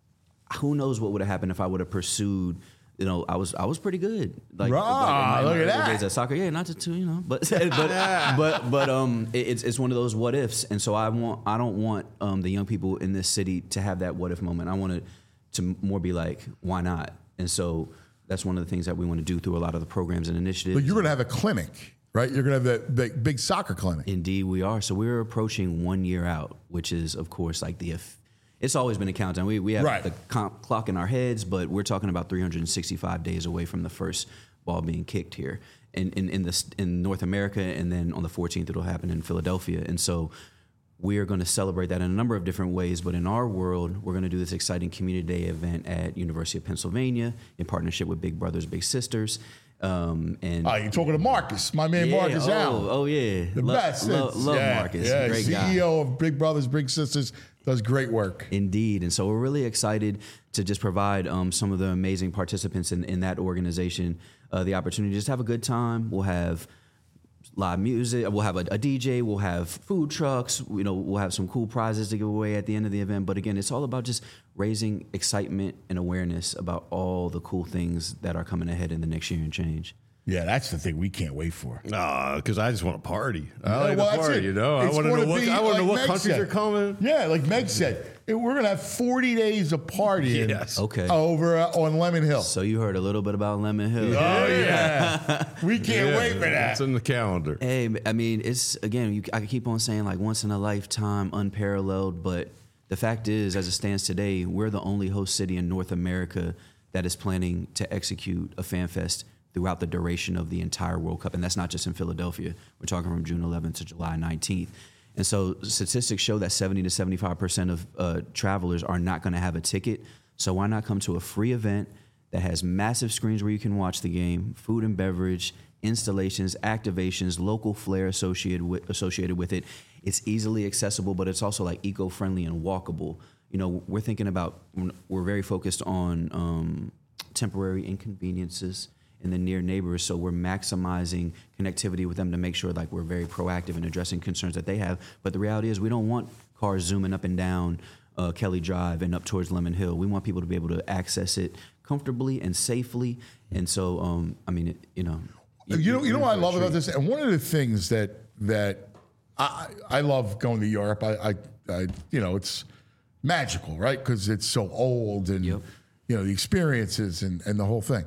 who knows what would have happened if I would have pursued. You know, I was I was pretty good. Like, Rah, like in my, look in my at early that. days at soccer, yeah, not to, to you know, but but but but um, it, it's it's one of those what ifs, and so I want I don't want um the young people in this city to have that what if moment. I want it to more be like, why not? And so that's one of the things that we want to do through a lot of the programs and initiatives. But you're going to have a clinic, right? You're going to have that big, big soccer clinic. Indeed, we are. So we're approaching one year out, which is, of course, like the. It's always been a countdown. We we have Right. the comp clock in our heads, but we're talking about three hundred sixty-five days away from the first ball being kicked here in in in, the, in North America, and then on the fourteenth it'll happen in Philadelphia. And so we are going to celebrate that in a number of different ways. But in our world, we're going to do this exciting community day event at University of Pennsylvania in partnership with Big Brothers Big Sisters. Um, and Oh, you're talking to Marcus, my man yeah, Marcus oh, Allen. oh yeah, The Lo- best. lo- It's- love yeah, Marcus, yeah, great C E guy. O of Big Brothers Big Sisters, does great work. Indeed. And so we're really excited to just provide um, some of the amazing participants in, in that organization uh, the opportunity to just have a good time. We'll have live music. We'll have a, a D J. We'll have food trucks. You know, we'll have some cool prizes to give away at the end of the event. But again, it's all about just raising excitement and awareness about all the cool things that are coming ahead in the next year and change. Yeah, that's the thing we can't wait for. Nah, because I just want to party. I Yeah, like well, to that's party, it. you know. I It's want to know gonna what be I want to know like what Meg countries said. are coming. Yeah, like Meg said, it- we're going to have forty days of partying Yes. Okay. over uh, on Lemon Hill. So you heard a little bit about Lemon Hill. Oh, yeah. we can't Yeah, wait for that. It's in the calendar. Hey, I mean, it's again, you, I could keep on saying like once in a lifetime, unparalleled, but the fact is, as it stands today, we're the only host city in North America that is planning to execute a fan fest throughout the duration of the entire World Cup. And that's not just in Philadelphia. We're talking from June eleventh to July nineteenth. And so statistics show that seventy to seventy-five percent of uh, travelers are not going to have a ticket. So why not come to a free event that has massive screens where you can watch the game, food and beverage, installations, activations, local flair associated with, associated with it. It's easily accessible, but it's also like eco-friendly and walkable. You know, we're thinking about, we're very focused on um, temporary inconveniences in the near neighbors, so we're maximizing connectivity with them to make sure like we're very proactive in addressing concerns that they have. But the reality is we don't want cars zooming up and down uh, Kelly Drive and up towards Lemon Hill. We want people to be able to access it comfortably and safely. And so, um, I mean, it, you know. You know, you know you're what I in for a love about treat. this, and one of the things that that I I love going to Europe. I, I, I you know, it's magical, right? Because it's so old, and Yep. you know the experiences and and the whole thing.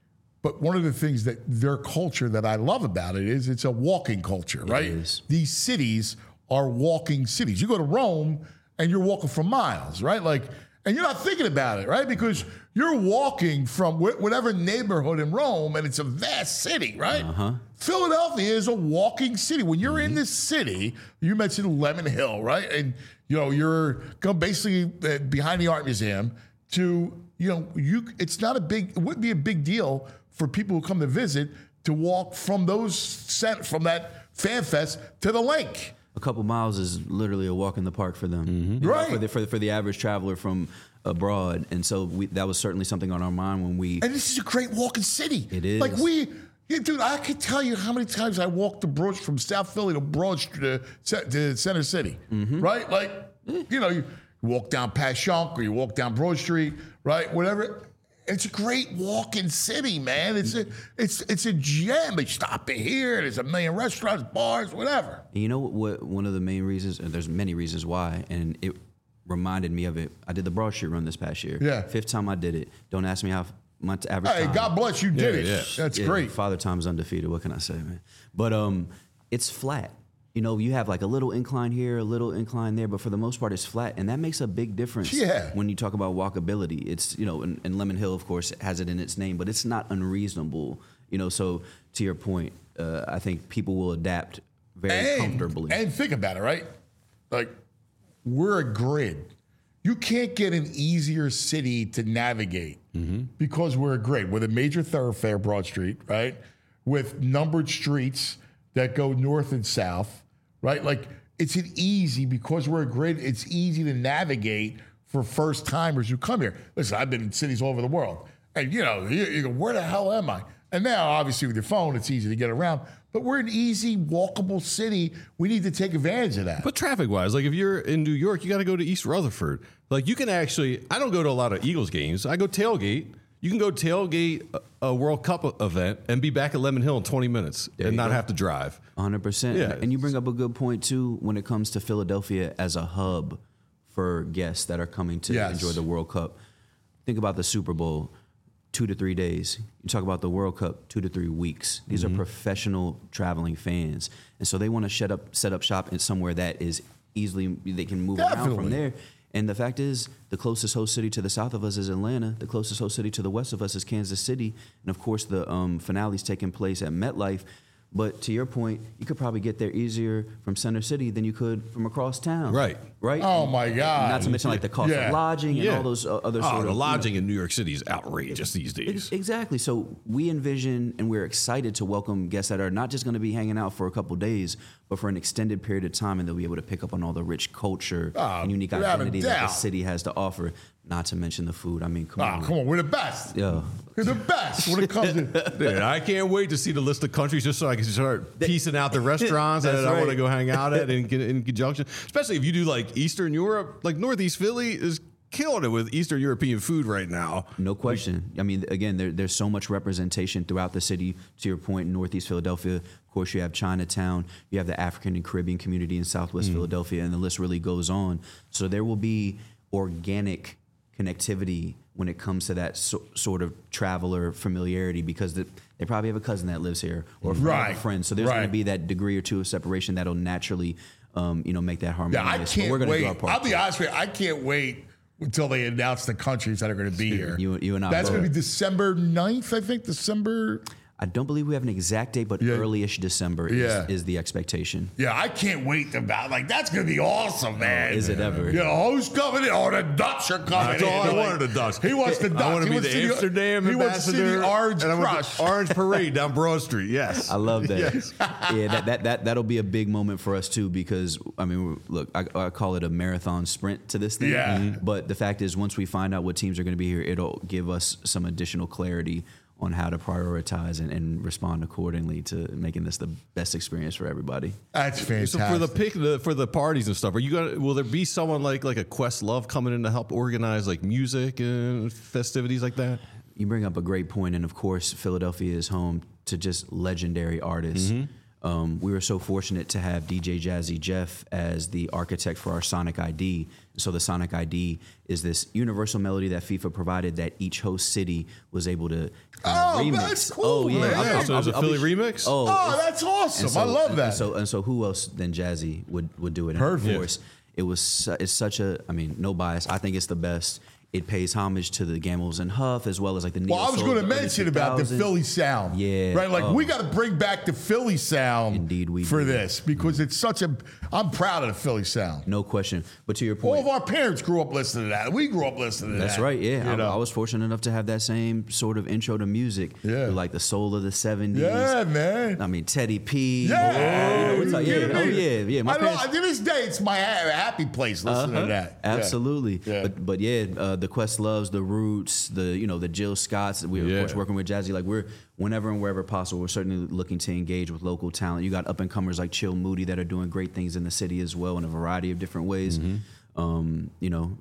But one of the things that their culture that I love about it is it's a walking culture, right? is. These cities are walking cities. You go to Rome and you're walking for miles, right? Like, and you're not thinking about it, right? Because you're walking from wh- whatever neighborhood in Rome, and it's a vast city, right? Uh-huh. Philadelphia is a walking city. When you're in this city, you mentioned Lemon Hill, right? And you know you're going basically uh, behind the art museum to you know you. It's not a big. It wouldn't be a big deal for people who come to visit to walk from those cent- from that fan fest to the lake. A couple miles is literally a walk in the park for them, you know, Right. For the, for the for the average traveler from abroad, and so we, that was certainly something on our mind when we. And this is a great walking city. It is. Like we, yeah, dude, I could tell you how many times I walked to Broad from South Philly to Broad Street to, Ce- to Center City, Mm-hmm. right? Like, you know, you, You walk down Passyunk or you walk down Broad Street, right? Whatever. It's a great walking city, man. It's a it's it's a gem. They stop it here. There's a million restaurants, bars, whatever. And you know what, what? One of the main reasons, and there's many reasons why, and it reminded me of it. I did the Broad Street run this past year. Yeah. Fifth time I did it. Don't ask me how my average Hey, time. God bless you. Did Yeah, it. yeah. That's Yeah, great. Father Time's undefeated. What can I say, man? But um, it's flat. You know, you have like a little incline here, a little incline there, but for the most part, it's flat, and that makes a big difference. Yeah. When you talk about walkability, it's you know, and, and Lemon Hill, of course, has it in its name, but it's not unreasonable. You know, so to your point, uh, I think people will adapt very and, comfortably. And think about it, right? Like, we're a grid. You can't get an easier city to navigate because we're a grid with a major thoroughfare, Broad Street, right? With numbered streets that go north and south, right? Like, it's an easy, because we're a grid, it's easy to navigate for first timers who come here. Listen, I've been in cities all over the world. And, you know, you, you go, where the hell am I? And now, obviously, with your phone, it's easy to get around. But we're an easy, walkable city. We need to take advantage of that. But traffic-wise, like if you're in New York, you got to go to East Rutherford. Like you can actually, I don't go to a lot of Eagles games. I go tailgate. You can go tailgate a, a World Cup event and be back at Lemon Hill in twenty minutes and not go. have to drive. one hundred percent. Yeah. And you bring up a good point, too, when it comes to Philadelphia as a hub for guests that are coming to Yes. enjoy the World Cup. Think about the Super Bowl, two to three days. You talk about the World Cup, two to three weeks. These Mm-hmm. are professional traveling fans. And so they want to set up, set up shop in somewhere that is easily, they can move around Definitely. from there. And the fact is, the closest host city to the south of us is Atlanta. The closest host city to the west of us is Kansas City. And of course, the um, finale's taking place at MetLife. But to your point, you could probably get there easier from Center City than you could from across town. Right. Right? Oh, my God. Not to mention like the cost Yeah. of lodging and Yeah. all those uh, other Oh, sort the of you know, lodging in New York City is outrageous these days. Ex- Exactly. So we envision and we're excited to welcome guests that are not just going to be hanging out for a couple days, but for an extended period of time, and they'll be able to pick up on all the rich culture Oh, and unique without a identity that the doubt. city has to offer. Not to mention the food. I mean, come Oh, on. come on. We're the best. Yeah. We're the best when it comes to. Dude, I can't wait to see the list of countries just so I can start piecing out the restaurants that That's I want to right. go hang out at in, in conjunction. Especially if you do like Eastern Europe, like Northeast Philly is killing it with Eastern European food right now. No question. I mean, again, there, there's so much representation throughout the city. To your point, Northeast Philadelphia, of course, you have Chinatown, you have the African and Caribbean community in Southwest Philadelphia, and the list really goes on. So there will be organic connectivity when it comes to that so, sort of traveler familiarity, because the, they probably have a cousin that lives here or a friend of Right. a friend. So there's going Right. to be that degree or two of separation that'll naturally, um, you know, make that Yeah, harmonious. I But can't we're gonna do our wait. part. I'll be honest with you. I can't wait until they announce the countries that are going to be here. You- you and I That's both. going to be December ninth, I think. December. I don't believe we have an exact date, but Yeah. early-ish December is, Yeah. is the expectation. Yeah, I can't wait about. Like, that's going to be awesome, man. is it ever? Yeah, who's coming in? Oh, the Dutch are coming That's in. all I Like, wanted, the Dutch. He wants the Dutch. I want to He be wants the to see Amsterdam He wants to see ambassador. the Orange and I want Crush. the Orange Parade down Broad Street. Yes. I love that. Yes. Yeah, that, that that that'll be a big moment for us too, because I mean, look, I, I call it a marathon sprint to this thing. Yeah. Mhm. But the fact is, once we find out what teams are going to be here, it'll give us some additional clarity on how to prioritize and, and respond accordingly to making this the best experience for everybody. That's fantastic. So for the pick the, for the parties and stuff, are you gonna? Will there be someone like like a Questlove coming in to help organize like music and festivities like that? You bring up a great point, and of course, Philadelphia is home to just legendary artists. Um, we were so fortunate to have D J Jazzy Jeff as the architect for our Sonic I D. So the Sonic I D is this universal melody that FIFA provided that each host city was able to uh, Oh, remix. that's cool, oh yeah, man. I'll- I'll- So there's a I'll be- Philly remix? Oh, Oh, it's- that's awesome. and so- I love and that. so and so, who else than Jazzy would would do it? And Perfect. of course, it was su- it's such a. I mean, no bias. I think it's the best. It pays homage to the Gambles and Huff as well as like the. Well, I was going to mention about the Philly sound. Yeah. Right? Like, Oh. we got to bring back the Philly sound Indeed we for do. this because it's such a. I'm proud of the Philly sound. No question. But to your All point, of our parents grew up listening to that. We grew up listening to that. that's right. Yeah, You I, know? I was fortunate enough to have that same sort of intro to music. Yeah. with, like the soul of the seventies. Yeah, man. I mean, Teddy P. Yeah, you know, it's you like, yeah, kidding oh me? yeah, yeah. My I know, parents, to this day, it's my ha- happy place listening Uh-huh. to that. Yeah. Absolutely. Yeah. But but yeah, uh, the Questloves, the Roots, the you know the Jill Scotts. We're Yeah. of course working with Jazzy. Like we're whenever and wherever possible, we're certainly looking to engage with local talent. You got up and comers like Chill Moody that are doing great things in the city as well in a variety of different ways. um, you know,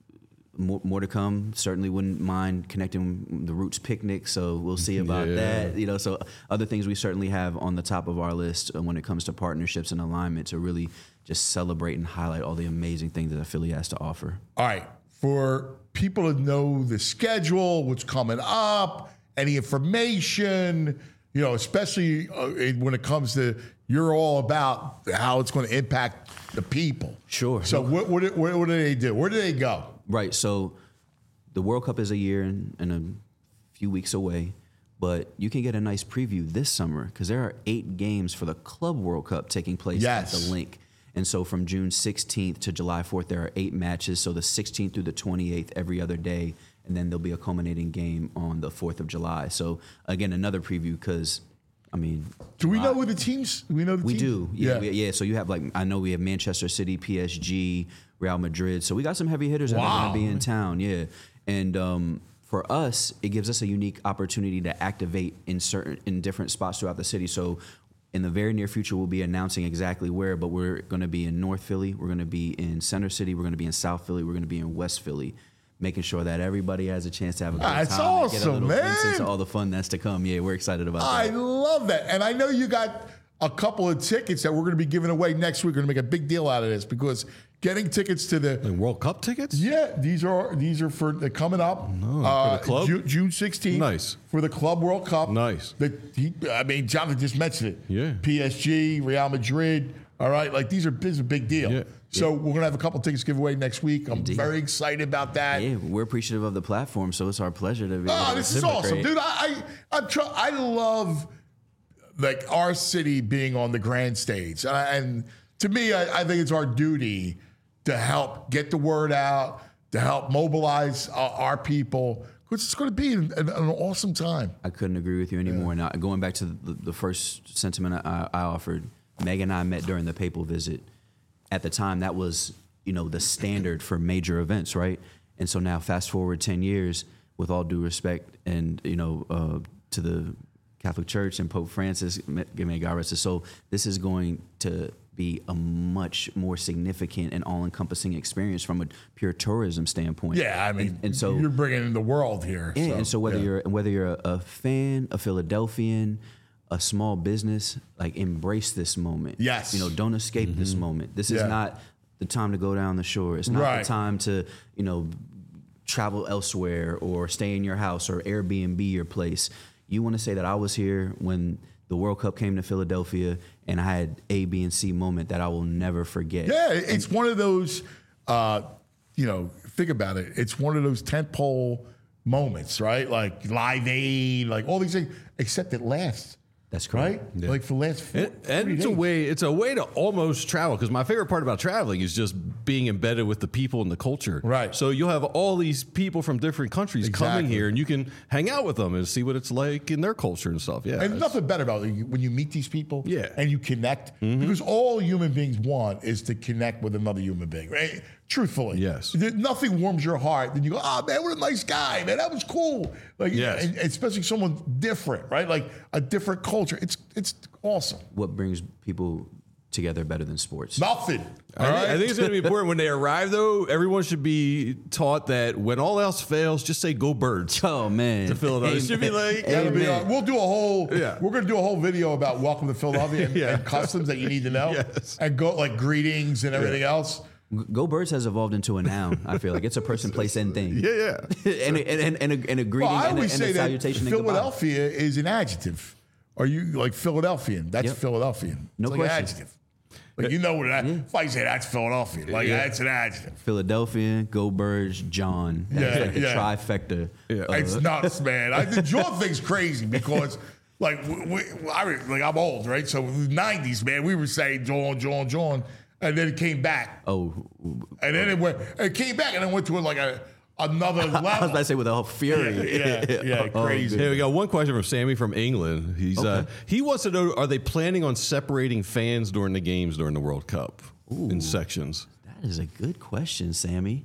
more, more to come. Certainly wouldn't mind connecting the Roots Picnic. So we'll see about Yeah. that. You know, so other things we certainly have on the top of our list when it comes to partnerships and alignment to really just celebrate and highlight all the amazing things that Philly has to offer. All right. For people to know the schedule, what's coming up, any information, you know, especially uh, when it comes to you're all about how it's going to impact the people. Sure. So what, what, what, what do they do? Where do they go? Right. So the World Cup is a year and, and a few weeks away, but you can get a nice preview this summer because there are eight games for the Club World Cup taking place Yes. at the Link. And so from June sixteenth to July fourth, there are eight matches. So the sixteenth through the twenty-eighth every other day. And then there'll be a culminating game on the fourth of July. So, again, another preview because, I mean. Do we July- know who the teams? Do we know the We teams? do. Yeah, Yeah. we- yeah. So you have, like, I know we have Manchester City, P S G, Real Madrid. So we got some heavy hitters that are Wow. going to be in town. Yeah. And um, for us, it gives us a unique opportunity to activate in certain, in different spots throughout the city. So in the very near future, we'll be announcing exactly where, but we're going to be in North Philly. We're going to be in Center City. We're going to be in South Philly. We're going to be in West Philly, making sure that everybody has a chance to have a good That's time and get a awesome, little glimpse man. into all the fun that's to come. Yeah, we're excited about I that. love that. And I know you got a couple of tickets that we're going to be giving away next week. We're going to make a big deal out of this because getting tickets to the Like World Cup tickets? yeah, these are these are for they're coming up. No, uh, for the club? Ju- June sixteenth. Nice. For the Club World Cup. Nice. The, he, I mean, Jonathan just mentioned it. Yeah. P S G, Real Madrid. All right, like these are this is a big deal. Yeah. So we're gonna have a couple tickets giveaway next week. I'm Indeed. very excited about that. Yeah, we're appreciative of the platform, so it's our pleasure to be. able Oh, to this is awesome, reciprocate. dude! I I I'm tr- I love like our city being on the grand stage, and, I, and to me, I, I think it's our duty to help get the word out, to help mobilize uh, our people, because it's going to be an, an, an awesome time. I couldn't agree with you anymore. Now, going back to the, the first sentiment I, I offered, Meg and I met during the papal visit. At the time, that was, you know, the standard for major events, right? And so now, fast forward ten years, with all due respect, and you know, uh, to the Catholic Church and Pope Francis, may God rest his soul, this is going to be a much more significant and all-encompassing experience from a pure tourism standpoint. Yeah, I mean, and, and so you're bringing in the world here. yeah, and so whether yeah. you're whether you're a, a fan, a Philadelphian, a small business, like embrace this moment. Yes. You know, don't escape this moment. This is Yeah. not the time to go down the shore. It's not Right. the time to, you know, travel elsewhere or stay in your house or Airbnb your place. You want to say that I was here when the World Cup came to Philadelphia and I had A, B, and C moment that I will never forget. Yeah, it's one of those, uh, you know, think about it. It's one of those tentpole moments, right? Like Live Aid, like all these things, except it lasts. That's Right? correct. Like for the last four, And, and three it's a days. way it's a way to almost travel because my favorite part about traveling is just being embedded with the people and the culture. Right. So you'll have all these people from different countries coming Exactly. here, and you can hang out with them and see what it's like in their culture and stuff. Yeah. And it's- nothing better about it when you meet these people Yeah. and you connect, because all human beings want is to connect with another human being, right? Truthfully. Yes. There- Nothing warms your heart than you go, oh, man, what a nice guy, man. That was cool. Like, Yes. and especially someone different, right? Like a different culture. It's it's awesome. What brings people together better than sports? Nothing. I, all think, I right? think it's going to be important when they arrive, though. Everyone should be taught that when all else fails, just say "Go Birds." Oh man, To Philadelphia. It should be like- That'll be, Amen. uh, we'll do a whole. Yeah. We're gonna do a whole video about welcome to Philadelphia and, Yeah. and customs that you need to know, Yes. and go like greetings and everything else. Go Birds has evolved into a noun. I feel like it's a person, place, and thing. Yeah, yeah. and, a, and, and, a, and a greeting Well, I and, a, always and a say that salutation and goodbye. Philadelphia is an adjective. Are you like Philadelphian? That's Yep. Philadelphian. No it's like question. an adjective. Like you know what that, if I say that's Philadelphia, like Yeah. that's an adjective. Philadelphia, Go Birds, John. That's Yeah, like the yeah. trifecta. Uh, It's nuts, man. I, the John thing's crazy because, like, we, we, I re- like I'm old, right? So in the nineties, man, we were saying John, John, John, and then it came back, oh, and then it went, it came back, and then went to like a another level. I was about to say with a whole fury. yeah, yeah, yeah, Oh, crazy. Hey, we got one question from Sammy from England. He's uh, Okay. he wants to know: are they planning on separating fans during the games during the World Cup in sections? That is a good question, Sammy.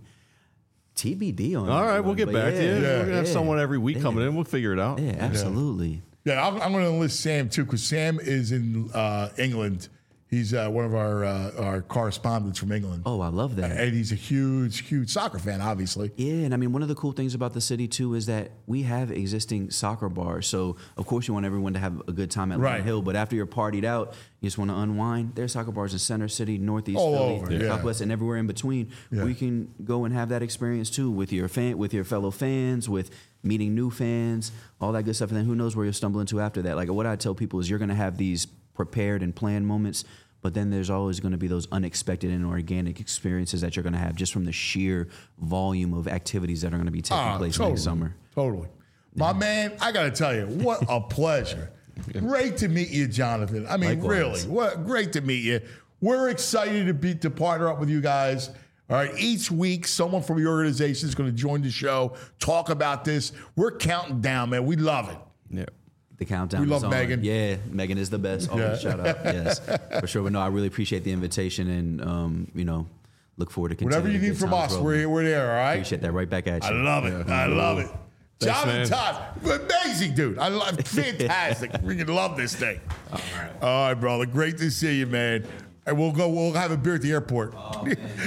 T B D on All that right, one, we'll get but back to you. yeah, We're gonna have yeah, someone every week yeah. coming in. We'll figure it out. Yeah, absolutely. Yeah, I'm, I'm going to enlist Sam too because Sam is in uh, England. He's uh, one of our uh, our correspondents from England. Oh, I love that. And he's a huge, huge soccer fan, obviously. Yeah, and I mean, one of the cool things about the city, too, is that we have existing soccer bars. So, of course, you want everyone to have a good time at Right. Lime Hill, but after you're partied out, you just want to unwind. There's soccer bars in Center City, Northeast All Philly, over, yeah. Southwest, and everywhere in between. Yeah. We can go and have that experience, too, with your fan, with your fellow fans, with meeting new fans, all that good stuff. And then who knows where you'll stumble into after that. Like, what I tell people is you're going to have these prepared and planned moments, but then there's always going to be those unexpected and organic experiences that you're going to have just from the sheer volume of activities that are going to be taking Ah, place totally, next summer. Totally. My man, I got to tell you, what a pleasure. Great to meet you, Jonathan. I mean, Likewise. really, what great to meet you. We're excited to be to partner up with you guys. All right, each week, someone from your organization is going to join the show, talk about this. We're counting down, man. We love it. Yeah. The countdown We is love on. Megan. Yeah, Megan is the best. Always Yeah. shout out. Yes, for sure. But no, I really appreciate the invitation and, um, you know, look forward to continuing. Whatever you the need good from times us, rolling. we're, we're there, all right? Appreciate that. Right back at you. I love it. I love it. Thanks, Jonathan man. Todd, amazing dude. I love, fantastic. We can love this thing. All right. All right, brother. Great to see you, man. And we'll go. We'll have a beer at the airport. Oh,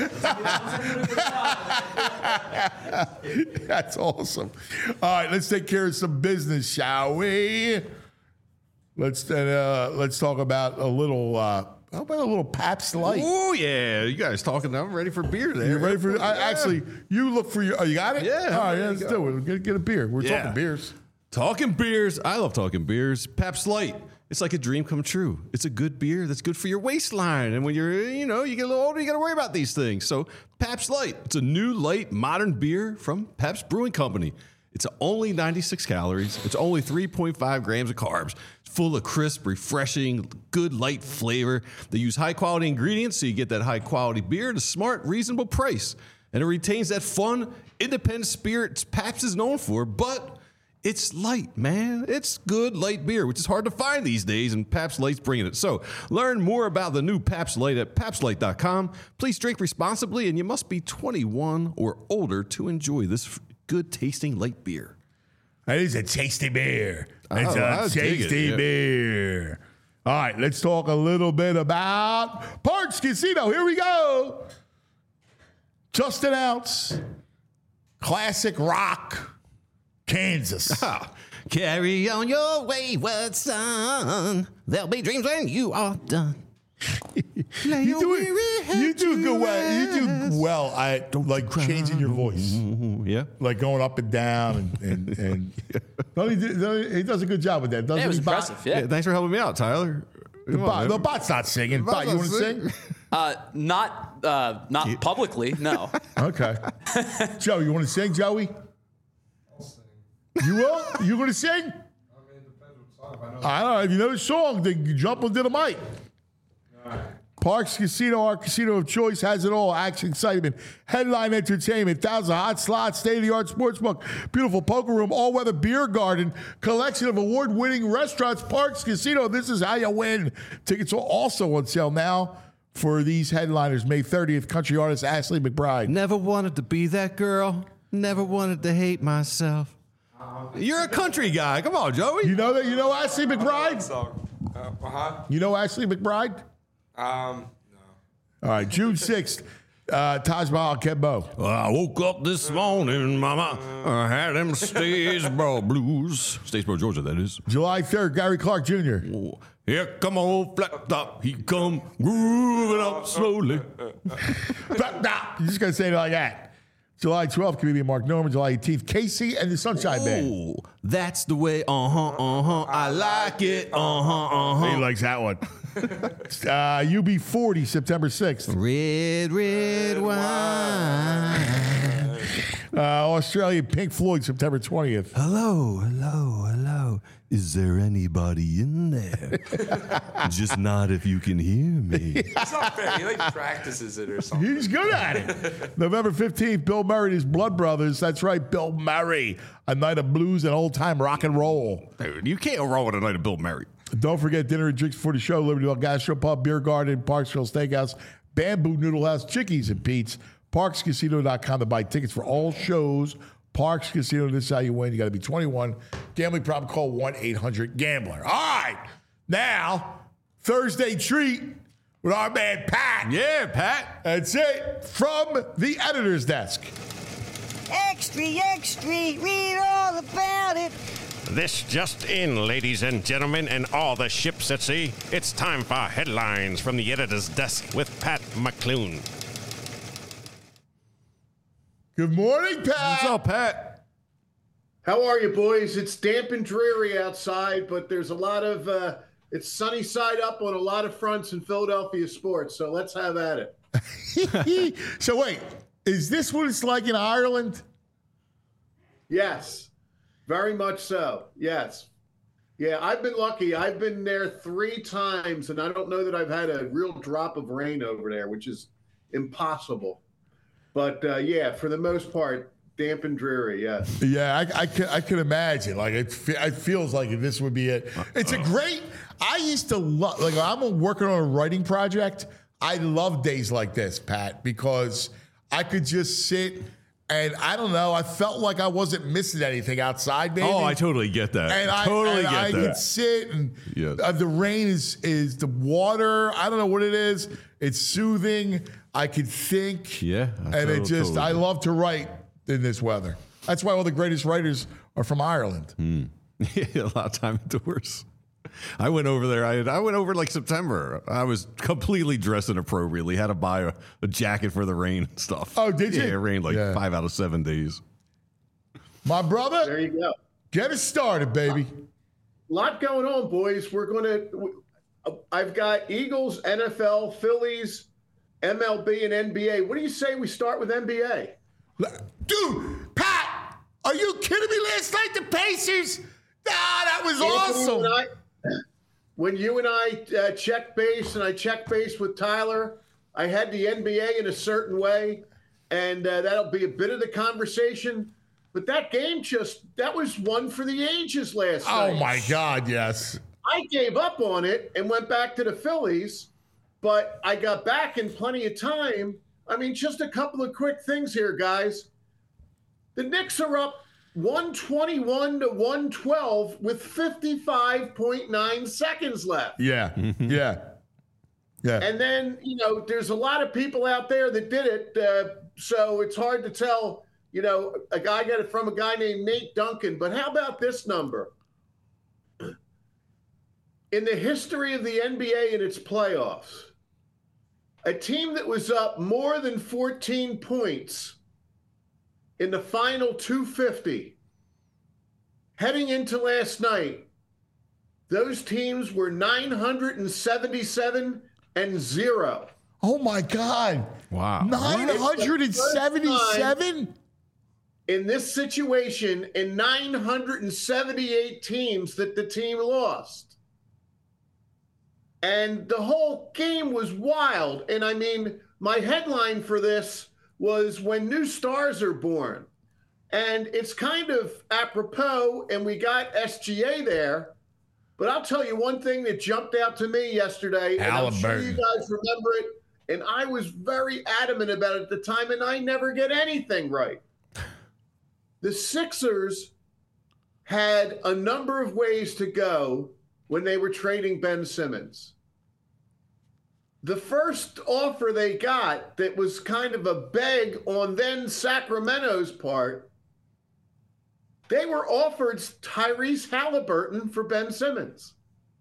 That's awesome. All right, let's take care of some business, shall we? Let's uh, let's talk about a little. Uh, how about a little Pabst Light? Oh yeah, you guys talking? I'm ready for beer. There, You ready for? I, Yeah. Actually, you look for your. Oh, you got it? Yeah, All right, there you let's go. do it. Get, get a beer. We're Yeah. talking beers. Talking beers. I love talking beers. Pabst Light. It's like a dream come true. It's a good beer that's good for your waistline. And when you're, you know, you get a little older, you got to worry about these things. So Pabst Light. It's a new, light, modern beer from Pabst Brewing Company. It's only ninety-six calories. It's only three point five grams of carbs. It's full of crisp, refreshing, good light flavor. They use high quality ingredients so you get that high quality beer at a smart, reasonable price. And it retains that fun, independent spirit Pabst is known for, but it's light, man. It's good light beer, which is hard to find these days, and Pabst Light's bringing it. So learn more about the new Pabst Light at pabst light dot com. Please drink responsibly, and you must be twenty-one or older to enjoy this good tasting light beer. It is a tasty beer. It's Oh, I a dig it, tasty yeah. beer. All right, let's talk a little bit about Parks Casino. Here we go. Just announced classic rock, Kansas. Ah, carry on your wayward son. There'll be dreams when you are done. You do it. You do good well. You do well at like changing your voice, Yeah. like going up and down, and and, and no, he, did- no, he does a good job with that. Doesn't Yeah, it was he, Bot? impressive. Yeah. Yeah, thanks for helping me out, Tyler. The, Come on, bot, man. the bot's not singing. Bot's Bot, you not want to singing. sing? Uh, not uh, not publicly, no. Okay. Joe, you want to sing, Joey? I'll sing. You will? You going to sing? I mean, it depends what song. I don't know. If you know the song, then you jump into the mic. All right. Parks Casino, our casino of choice, has it all. Action, excitement, headline entertainment, thousand hot slots, state-of-the-art sportsbook, beautiful poker room, all-weather beer garden, collection of award-winning restaurants. Parks Casino, this is how you win. Tickets are also on sale now for these headliners. May thirtieth, country artist Ashley McBride. Never wanted to be that girl. Never wanted to hate myself. You're a country guy. Come on, Joey. You know that? You know Ashley McBride? song. Uh huh. You know Ashley McBride? Um, All right, June sixth, uh, Taj Mahal, Kembo. Well, I woke up this morning, mama. I had them Statesboro blues. Statesboro, Georgia, that is. July third, Gary Clark Junior Oh, here come old flat top. He come grooving up slowly. You just gotta say it like that. July twelfth, comedian Mark Norman. July eighteenth, Casey and the Sunshine Band. Oh, that's the way. Uh huh. Uh huh. I like it. Uh huh. Uh huh. He likes that one. uh, U B forty, September sixth. Red, red wine. Uh, Australia, Pink Floyd, September twentieth. Hello, hello, hello. Is there anybody in there? Just not if you can hear me. it's not fair. He like practices it or something. He's good at it. November fifteenth, Bill Murray and his Blood Brothers. That's right, Bill Murray. A night of blues and old-time rock and roll. Dude, you can't roll with a night of Bill Murray. Don't forget dinner and drinks before the show. Libertyville Gastro Pub, Beer Garden, Parksville Steakhouse, Bamboo Noodle House, Chickies and Pete's, parks casino dot com to buy tickets for all shows. Parks Casino, this is how you win. You got to be twenty-one. Gambling problem, call one eight hundred gambler. All right. Now, Thursday treat. with our man Pat. Yeah, Pat. That's it from the editor's desk. Extra, extra, read all about it. This just in, ladies and gentlemen, and all the ships at sea. It's time for headlines from the editor's desk with Pat McClune. Good morning, Pat. What's up, Pat? How are you, boys? It's damp and dreary outside, but there's a lot of, uh, it's sunny side up on a lot of fronts in Philadelphia sports, so let's have at it. So wait, is this what it's like in Ireland? Yes, very much so. Yes. Yeah, I've been lucky. I've been there three times, and I don't know that I've had a real drop of rain over there, which is impossible. But, uh, yeah, for the most part, damp and dreary, yes. Yeah, I, I, can, I can imagine. Like, it, fe- it feels like this would be it. It's a great, I used to love, like, I'm working on a writing project. I love days like this, Pat, because I could just sit and I don't know, I felt like I wasn't missing anything outside, maybe. Oh, I totally get that. And I totally and get I that. could sit and Yes. uh, the rain is is the water. I don't know what it is. It's soothing. I could think. Yeah, I and it tot- just totally I do. love to write in this weather. That's why all the greatest writers are from Ireland. Yeah, a lot of time indoors. I went over there. I, I went over like September. I was completely dressed inappropriately. Had to buy a, a jacket for the rain and stuff. Oh, did you? Yeah, it rained like Yeah. five out of seven days. My brother, There you go. get us started, baby. A lot going on, boys. We're going to, I've got Eagles, N F L, Phillies, M L B, and N B A. What do you say we start with N B A? Dude, Pat, are you kidding me? Last night the Pacers. Ah, that was Anthony, When, awesome. I, when you and I uh, checked base, and I checked base with Tyler, I had the N B A in a certain way, and uh, that'll be a bit of the conversation. But that game just, that was one for the ages last night. Oh my God, yes. I gave up on it and went back to the Phillies, but I got back in plenty of time. I mean, just a couple of quick things here, guys. The Knicks are up one twenty-one to one twelve with fifty-five point nine seconds left. Yeah, yeah, yeah. And then, you know, there's a lot of people out there that did it. Uh, so it's hard to tell, you know, a guy got it from a guy named Nate Duncan. But how about this number? In the history of the N B A and its playoffs, a team that was up more than fourteen points in the final two fifty, heading into last night, those teams were nine hundred seventy-seven and zero. Oh my God. Wow. nine hundred seventy-seven? In this situation, in nine hundred seventy-eight teams that the team lost. And the whole game was wild. And I mean, my headline for this was When New Stars Are Born. And it's kind of apropos, and we got S G A there. But I'll tell you one thing that jumped out to me yesterday, and I'm sure you guys remember it, and I was very adamant about it at the time, and I never get anything right. The Sixers had a number of ways to go when they were trading Ben Simmons. The first offer they got that was kind of a beg on then Sacramento's part, they were offered Tyrese Halliburton for Ben Simmons.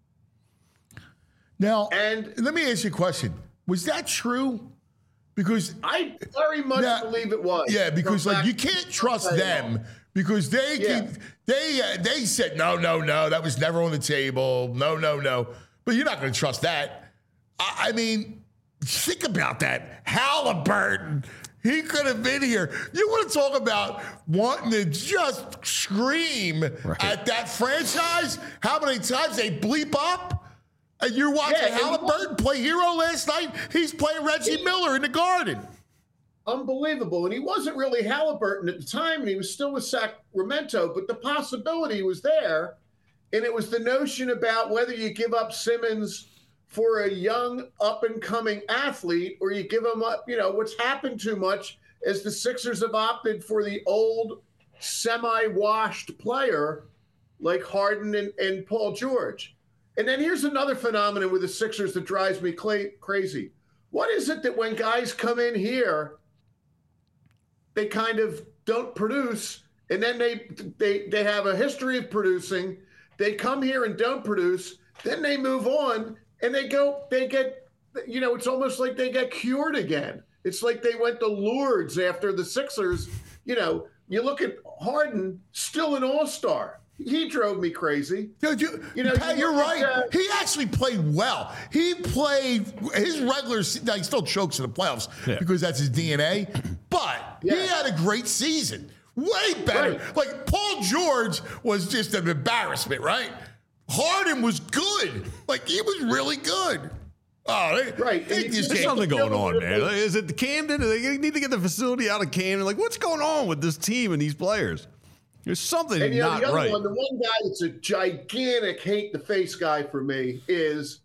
Now, And let me ask you a question. Was that true? Because I very much Now- believe it was. yeah, because From like you back- can't trust them because they Yeah. keep, they uh, they said no, no, no, that was never on the table. No, no, no. But you're not going to trust that. I, I mean, think about that. Halliburton. He could have been here. You want to talk about wanting to just scream at that franchise? How many times they bleep up? And you're watching Yeah, and Halliburton play hero last night. He's playing Reggie Miller in the Garden. Unbelievable. And he wasn't really Halliburton at the time, and he was still with Sacramento, but the possibility was there. And it was the notion about whether you give up Simmons for a young up-and-coming athlete or you give him up, you know, what's happened too much is the Sixers have opted for the old semi-washed player like Harden and, and Paul George. And then here's another phenomenon with the Sixers that drives me cla- crazy. What is it that when guys come in here, they kind of don't produce, and then they they they have a history of producing. They come here and don't produce, then they move on and they go, they get, you know, it's almost like they get cured again. It's like they went to Lourdes after the Sixers. You know, you look at Harden, still an all-star. He drove me crazy. Dude, you, you know, Pat, you you're right. At, uh, he actually played well. He played his regular. Now he still chokes in the playoffs yeah. because that's his D N A. But yeah. he had a great season. Way better. Right. Like Paul George was just an embarrassment, right? Harden was good. Like he was really good. Oh, they, right. They just There's something going on, man. Is it Camden? They need to get the facility out of Camden. Like, what's going on with this team and these players? There's something and, you know, not the other right. One, the one guy that's a gigantic hate-the-face guy for me is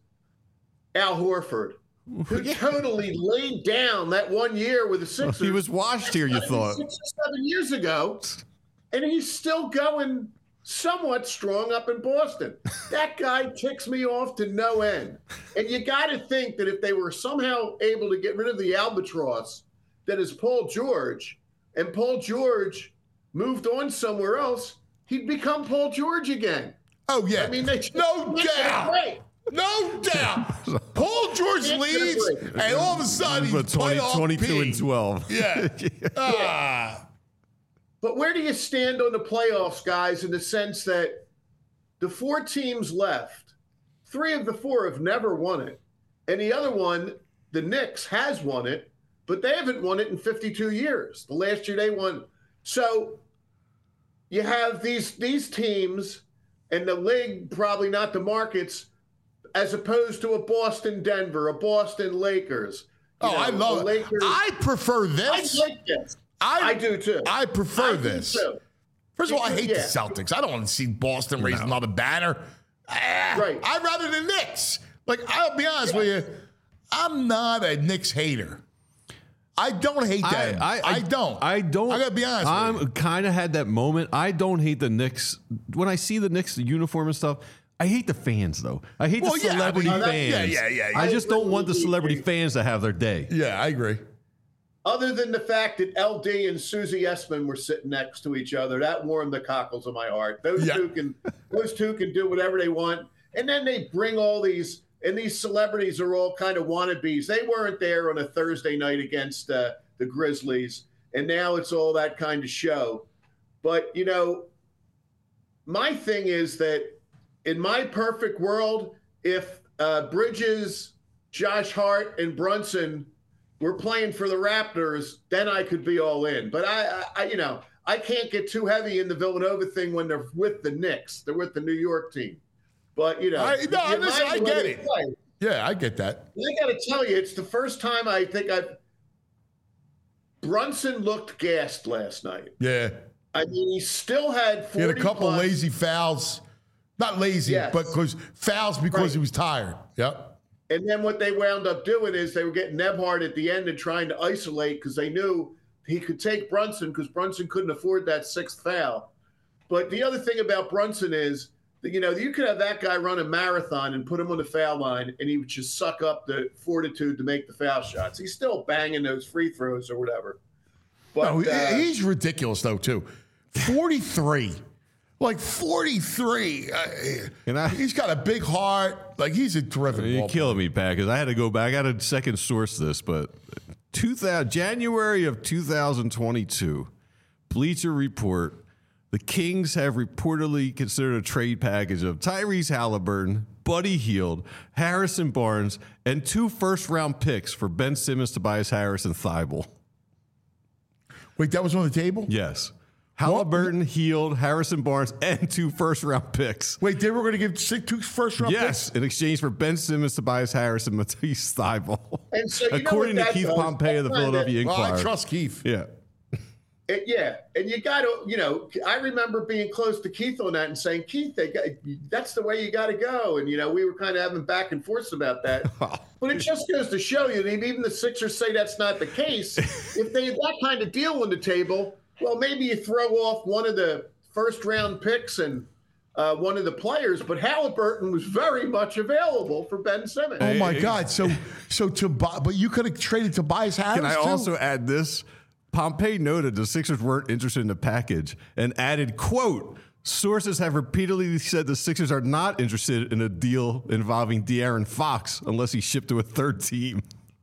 Al Horford, who yeah. totally laid down that one year with the Sixers. He was washed here, you thought. Six or seven years ago, and he's still going somewhat strong up in Boston. That guy ticks me off to no end. And you got to think that if they were somehow able to get rid of the albatross that is Paul George, and Paul George moved on somewhere else, he'd become Paul George again. Oh, yeah. I mean, they no doubt. No doubt. Paul George leaves, and all of a sudden he's twenty, twenty-two and twelve. Yeah. ah. But where do you stand on the playoffs, guys, in the sense that the four teams left, three of the four have never won it, and the other one, the Knicks, has won it, but they haven't won it in fifty-two years. The last year they won. So you have these these teams, and the league, probably not the markets, as opposed to a Boston Denver, a Boston Lakers. Oh, know, I love it. Lakers. I prefer this. I like this. I, I do too. I prefer I this. Too. First of all, I hate yeah. the Celtics. I don't want to see Boston raise no. another banner. Ah, right. I'd rather the Knicks. Like, I'll be honest yeah. with you, I'm not a Knicks hater. I don't hate them. I, I, I don't. I don't. I gotta be honest. I'm with you. kind of had that moment. I don't hate the Knicks. When I see the Knicks uniform and stuff, I hate the fans though. I hate well, the celebrity yeah, fans. Yeah, yeah, yeah, yeah. I just don't want the celebrity fans to have their day. Yeah, I agree. Other than the fact that L D and Susie Essman were sitting next to each other, that warmed the cockles of my heart. Those yeah. two can, those two can do whatever they want, and then they bring all these. And these celebrities are all kind of wannabes. They weren't there on a Thursday night against uh, the Grizzlies, and now it's all that kind of show. But, you know, my thing is that in my perfect world, if uh, Bridges, Josh Hart, and Brunson were playing for the Raptors, then I could be all in. But, I, I you know, I can't get too heavy in the Villanova thing when they're with the Knicks. They're with the New York team. But, you know, I, no, you listen, I get it. Play. Yeah, I get that. I got to tell you, it's the first time I think I've. Brunson looked gassed last night. Yeah. I mean, he still had forty. He had a couple plus. lazy fouls. Not lazy, yes. but because fouls because right. he was tired. Yep. And then what they wound up doing is they were getting Nebhard at the end and trying to isolate because they knew he could take Brunson because Brunson couldn't afford that sixth foul. But the other thing about Brunson is, you know, you could have that guy run a marathon and put him on the foul line, and he would just suck up the fortitude to make the foul shots. He's still banging those free throws or whatever. But no, uh, he's ridiculous, though, too. forty-three. Like, forty-three. Uh, and I, he's got a big heart. Like, he's a terrific You're ball killing player. me, Pat, because I had to go back. I had a second source this, but two thousand, January of two thousand twenty-two, Bleacher Report, the Kings have reportedly considered a trade package of Tyrese Halliburton, Buddy Hield, Harrison Barnes, and two first-round picks for Ben Simmons, Tobias Harris, and Thibault. Wait, that was on the table? Yes. Halliburton, what? Hield, Harrison Barnes, and two first-round picks. Wait, they were going to give two first-round yes, picks? Yes, in exchange for Ben Simmons, Tobias Harris, and Matisse Thibault. And so according to Keith does? Pompey of the Philadelphia Well, Inquirer. I trust Keith. Yeah. It, yeah, and you got to, you know, I remember being close to Keith on that and saying, Keith, they got, that's the way you got to go. And, you know, we were kind of having back and forth about that. But it just goes to show you, that even the Sixers say that's not the case. If they had that kind of deal on the table, well, maybe you throw off one of the first-round picks and uh, one of the players, but Halliburton was very much available for Ben Simmons. Oh my God! So, so to buy, but you could have traded Tobias Harris. Can I too? also add this? Pompey noted the Sixers weren't interested in the package and added, quote, sources have repeatedly said the Sixers are not interested in a deal involving De'Aaron Fox unless he's shipped to a third team.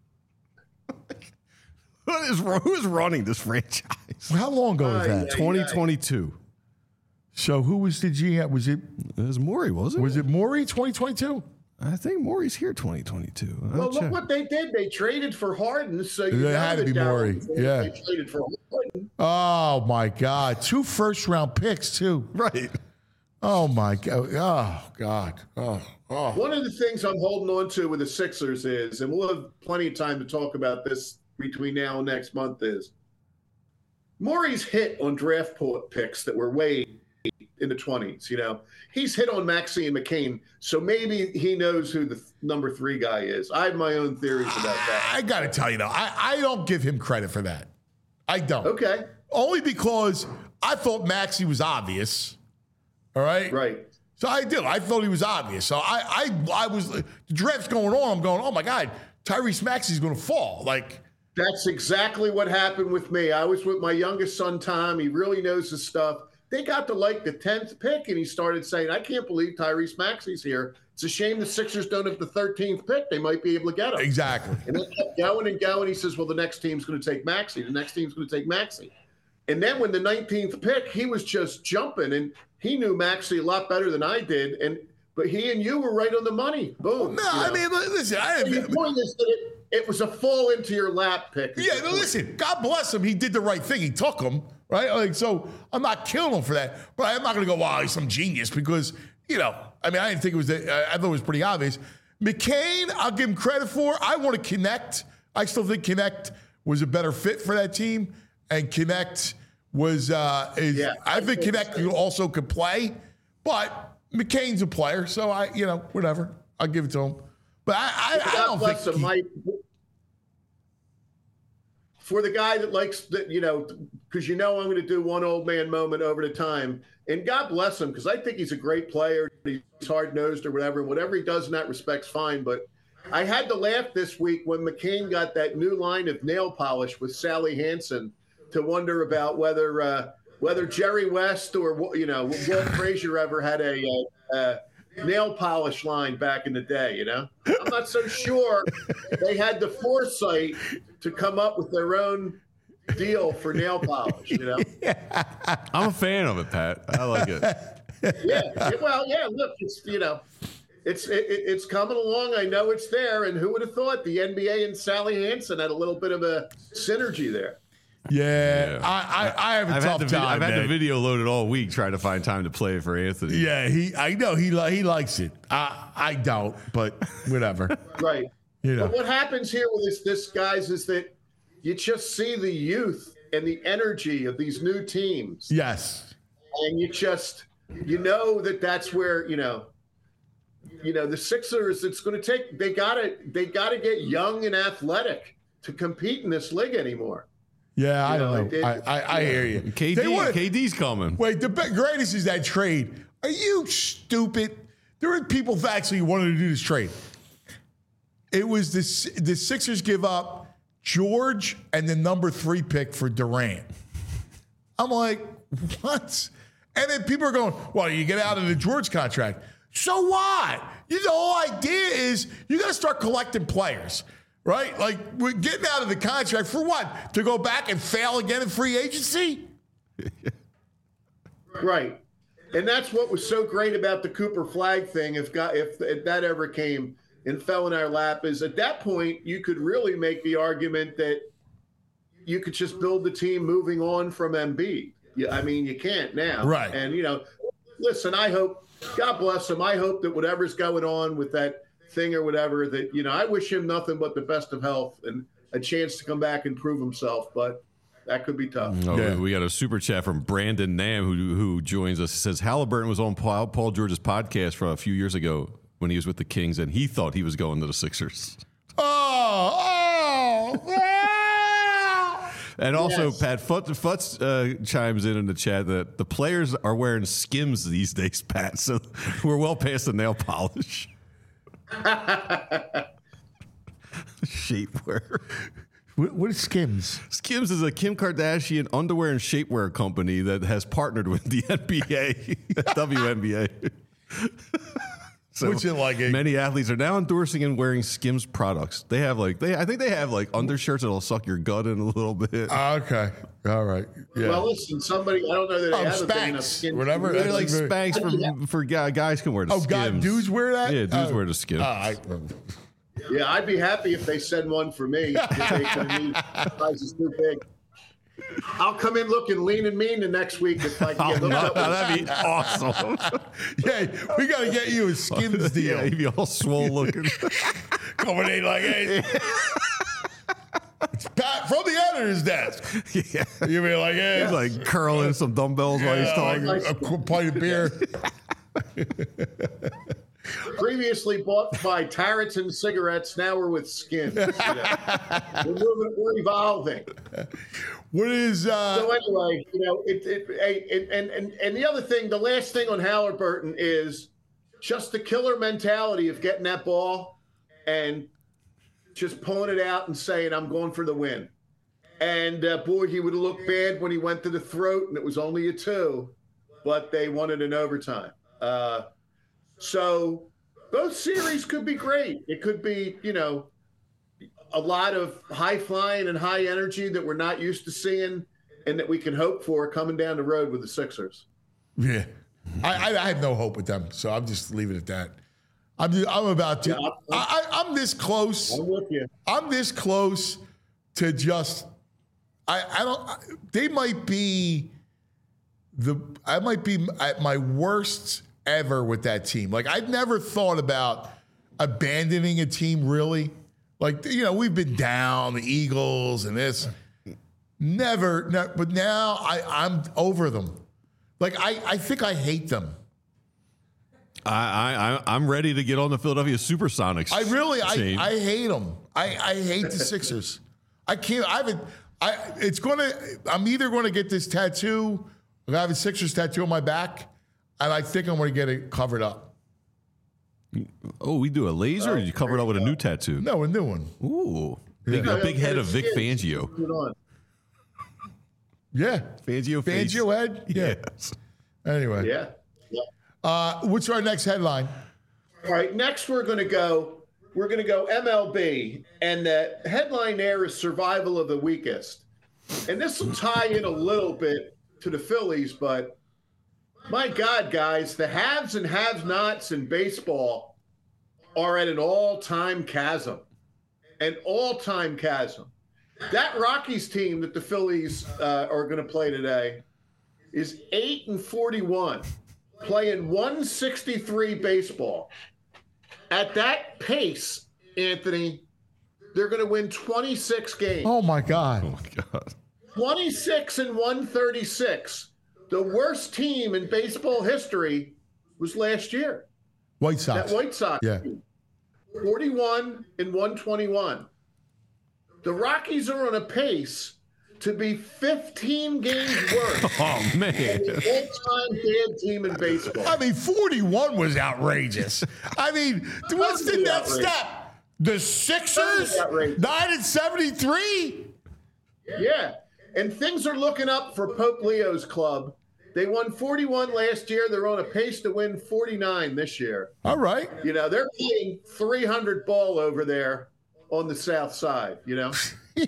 What is, who is running this franchise? How long ago was Aye, that? aye. twenty twenty-two. So who was the G M? Was it It was Morey, wasn't it? was it Morey twenty twenty-two? I think Morey's here twenty twenty-two. I'll Well, look check. what they did. They traded for Harden, so you It know had to that be Darren Morey. was- Yeah. They traded for Harden. Oh my God! Two first round picks too. Right. Oh my God! Oh God! Oh oh. One of the things I'm holding on to with the Sixers is, and we'll have plenty of time to talk about this between now and next month, is Morey's hit on draft po- picks that were way in the twenties. You know, he's hit on Maxey and McCain, so maybe he knows who the th- number three guy is. I have my own theories about that. I got to tell you though, I, I don't give him credit for that. I don't. Okay. Only because I thought Maxey was obvious. All right. Right. So I did. I thought he was obvious. So I I I was the draft's going on. I'm going, oh my God, Tyrese Maxey's going to fall. Like. That's exactly what happened with me. I was with my youngest son, Tom. He really knows his stuff. They got to like the tenth pick, and he started saying, I can't believe Tyrese Maxey's here. It's a shame the Sixers don't have the thirteenth pick. They might be able to get him. Exactly. And they kept going and going. He says, well, the next team's going to take Maxey. The next team's going to take Maxey. And then when the nineteenth pick, he was just jumping, and he knew Maxey a lot better than I did. And but he and you were right on the money. Boom. No, you I know. mean, li- listen, I The point is that it, it was a fall into your lap pick. yeah, no, listen, God bless him. He did the right thing. He took him, right? Like, so I'm not killing him for that, but I'm not going to go, wow, he's some genius because, you know, I mean, I didn't think it was, the, I I thought it was pretty obvious. McCain, I'll give him credit for. I want to connect. I still think Connect was a better fit for that team, and Connect was, uh, is, Yeah, I I think think Connect so. also could play, but McCain's a player, so I, you know, whatever. I'll give it to him. But I, I, I God don't bless think him. he- My, for the guy that likes that, you know, because you know I'm going to do one old man moment over the time, and God bless him because I think he's a great player. He's hard nosed or whatever. Whatever he does in that respect's fine. But I had to laugh this week when McCain got that new line of nail polish with Sally Hansen to wonder about whether uh, whether Jerry West or you know Walt Frazier ever had a. Uh, uh, nail polish line back in the day, you know? I'm not so sure they had the foresight to come up with their own deal for nail polish, you know? I'm a fan of it, Pat. I like it. Yeah. Well, yeah, look, it's, you know, it's it, it's coming along. I know it's there. And who would have thought the N B A and Sally Hansen had a little bit of a synergy there? Yeah, Yeah. I, I, I have a I've tough had, the, vid- time. I've had man. the video loaded all week trying to find time to play it for Anthony. Yeah, he. I know he. li- He likes it. I. I don't, but whatever. Right. You know. But what happens here with this, this guys, is that you just see the youth and the energy of these new teams. Yes. And you just, you know that that's where, you know, you know, the Sixers, it's going to take, they got to, they got to get young and athletic to compete in this league anymore. Yeah, I You don't know, know. it- it- I, I, I hear you. K They D, wanna- K D's coming. Wait, the be- greatest is that trade. Are you stupid? There are people that actually wanted to do this trade. It was the S- the Sixers give up George and the number three pick for Durant. I'm like, what? And then people are going, well, you get out of the George contract. So what? You, the whole idea is you got to start collecting players, right? Like, we're getting out of the contract for what? To go back and fail again in free agency? Right. And that's what was so great about the Cooper Flag thing. If got, if, if that ever came and fell in our lap, is at that point you could really make the argument that you could just build the team moving on from Embiid. Yeah, I mean, you can't now. Right. And, you know, listen, I hope, God bless him. I hope that whatever's going on with that thing or whatever, that, you know, I wish him nothing but the best of health and a chance to come back and prove himself. But that could be tough. Oh, Yeah. We got a super chat from Brandon Nam who who joins us. He says Halliburton was on Paul, Paul George's podcast from a few years ago when he was with the Kings, and he thought he was going to the Sixers. Oh, oh, ah! And also, Yes. Pat Futz, Futz uh, chimes in in the chat that the players are wearing Skims these days, Pat. So we're well past the nail polish. Shapewear. What, what is Skims? Skims is a Kim Kardashian underwear and shapewear company that has partnered with the N B A, W N B A. So What's it like a- many athletes are now endorsing and wearing Skims products. They have like they, I think they have like undershirts that'll suck your gut in a little bit. Ah, okay, all right. Yeah. Well, listen, somebody, I don't know that they Oh, have a big enough Spanx, skin. whatever. They're like That's very- Spanx for for guy- guys can wear the oh, Skims. God, dudes wear that? Yeah, dudes Oh. wear the Skims. Ah, I, Yeah, I'd be happy if they send one for me. If they can meet. Size is too big. I'll come in looking lean and mean the next week if I can get Oh, hooked no, up with that'd be awesome. yeah, we got to get you a Skims deal. Yeah, he'd be all swole looking. Coming in like, hey. It's Pat from the editor's desk. Yeah. You be like, hey. He's like curling some dumbbells while he's Yeah, talking. like a, a pint of beer. Previously bought by Tarleton cigarettes, now we're with Skins. You know. We're moving, we're evolving. What is uh So anyway, you know, it, it, it, and and and the other thing, the last thing on Halliburton is just the killer mentality of getting that ball and just pulling it out and saying, "I'm going for the win." And uh, boy, he would have looked bad when he went to the throat, and it was only a two, but they won it in overtime. Uh, so both series could be great. It could be, you know, a lot of high flying and high energy that we're not used to seeing and that we can hope for coming down the road with the Sixers. Yeah. I, I, I have no hope with them, so I'm just leaving it at that. I'm just, I'm about to Yeah, I'm- I, I, I'm this close. I'm with you. I'm this close to just I I don't I, they might be the I might be at my worst ever with that team. Like I've never thought about abandoning a team really. Like you know, we've been down the Eagles and this. Never, no, but now I, I'm over them. Like I, I think I hate them. I, I, I'm ready to get on the Philadelphia Supersonics. I really, chain. I, I hate them. I, I hate the Sixers. I can't. I haven't. I. It's gonna. I'm either going to get this tattoo. I have a Sixers tattoo on my back, and I think I'm going to get it covered up. Oh, we do a laser, or you cover it up with a new tattoo? No, a new one. Ooh, big, a big head of Vic Fangio. Put it on. Yeah, Fangio, face. Fangio head. Yeah. Yes. Anyway. Yeah. yeah. Uh, what's our next headline? All right. Next, we're going to go. We're going to go M L B, and the headline there is "Survival of the Weakest," and this will tie in a little bit to the Phillies, but my God, guys, the haves and have-nots in baseball are at an all-time chasm, an all-time chasm. That Rockies team that the Phillies uh, are going to play today is eight and forty-one, playing one sixty-three baseball. At that pace, Anthony, they're going to win twenty-six games. Oh my God. Oh my God. twenty-six and one thirty-six. The worst team in baseball history was last year. White Sox. That White Sox Yeah. team. forty-one and one twenty-one. The Rockies are on a pace to be fifteen games worse Oh man. than the all-time bad team in baseball. I mean, forty-one was outrageous. I mean, what's the Totally next outrageous. step? The Sixers? Totally outrageous. nine and seventy-three? Yeah, and things are looking up for Pope Leo's club. They won forty-one last year. They're on a pace to win forty-nine this year. All right. You know, they're playing three hundred ball over there on the south side, you know.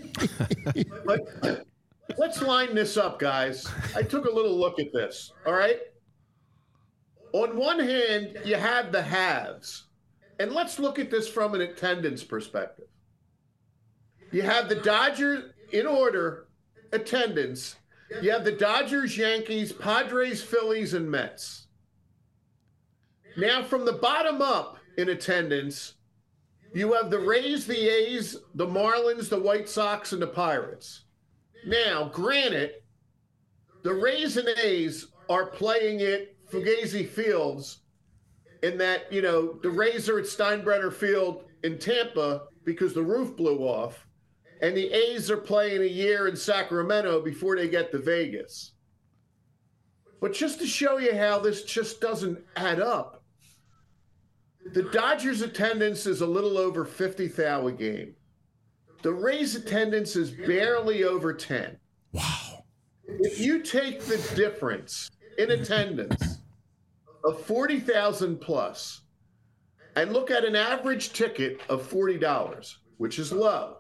But let's line this up, guys. I took a little look at this, all right? On one hand, you have the haves. And let's look at this from an attendance perspective. You have the Dodgers in order, attendance. You have the Dodgers, Yankees, Padres, Phillies, and Mets. Now, from the bottom up in attendance, you have the Rays, the A's, the Marlins, the White Sox, and the Pirates. Now, granted, the Rays and A's are playing at Fugazi Fields in that, you know, the Rays are at Steinbrenner Field in Tampa because the roof blew off, and the A's are playing a year in Sacramento before they get to Vegas. But just to show you how this just doesn't add up, the Dodgers' attendance is a little over fifty thousand a game. The Rays' attendance is barely over ten. Wow. If you take the difference in attendance of forty thousand plus and look at an average ticket of forty dollars, which is low,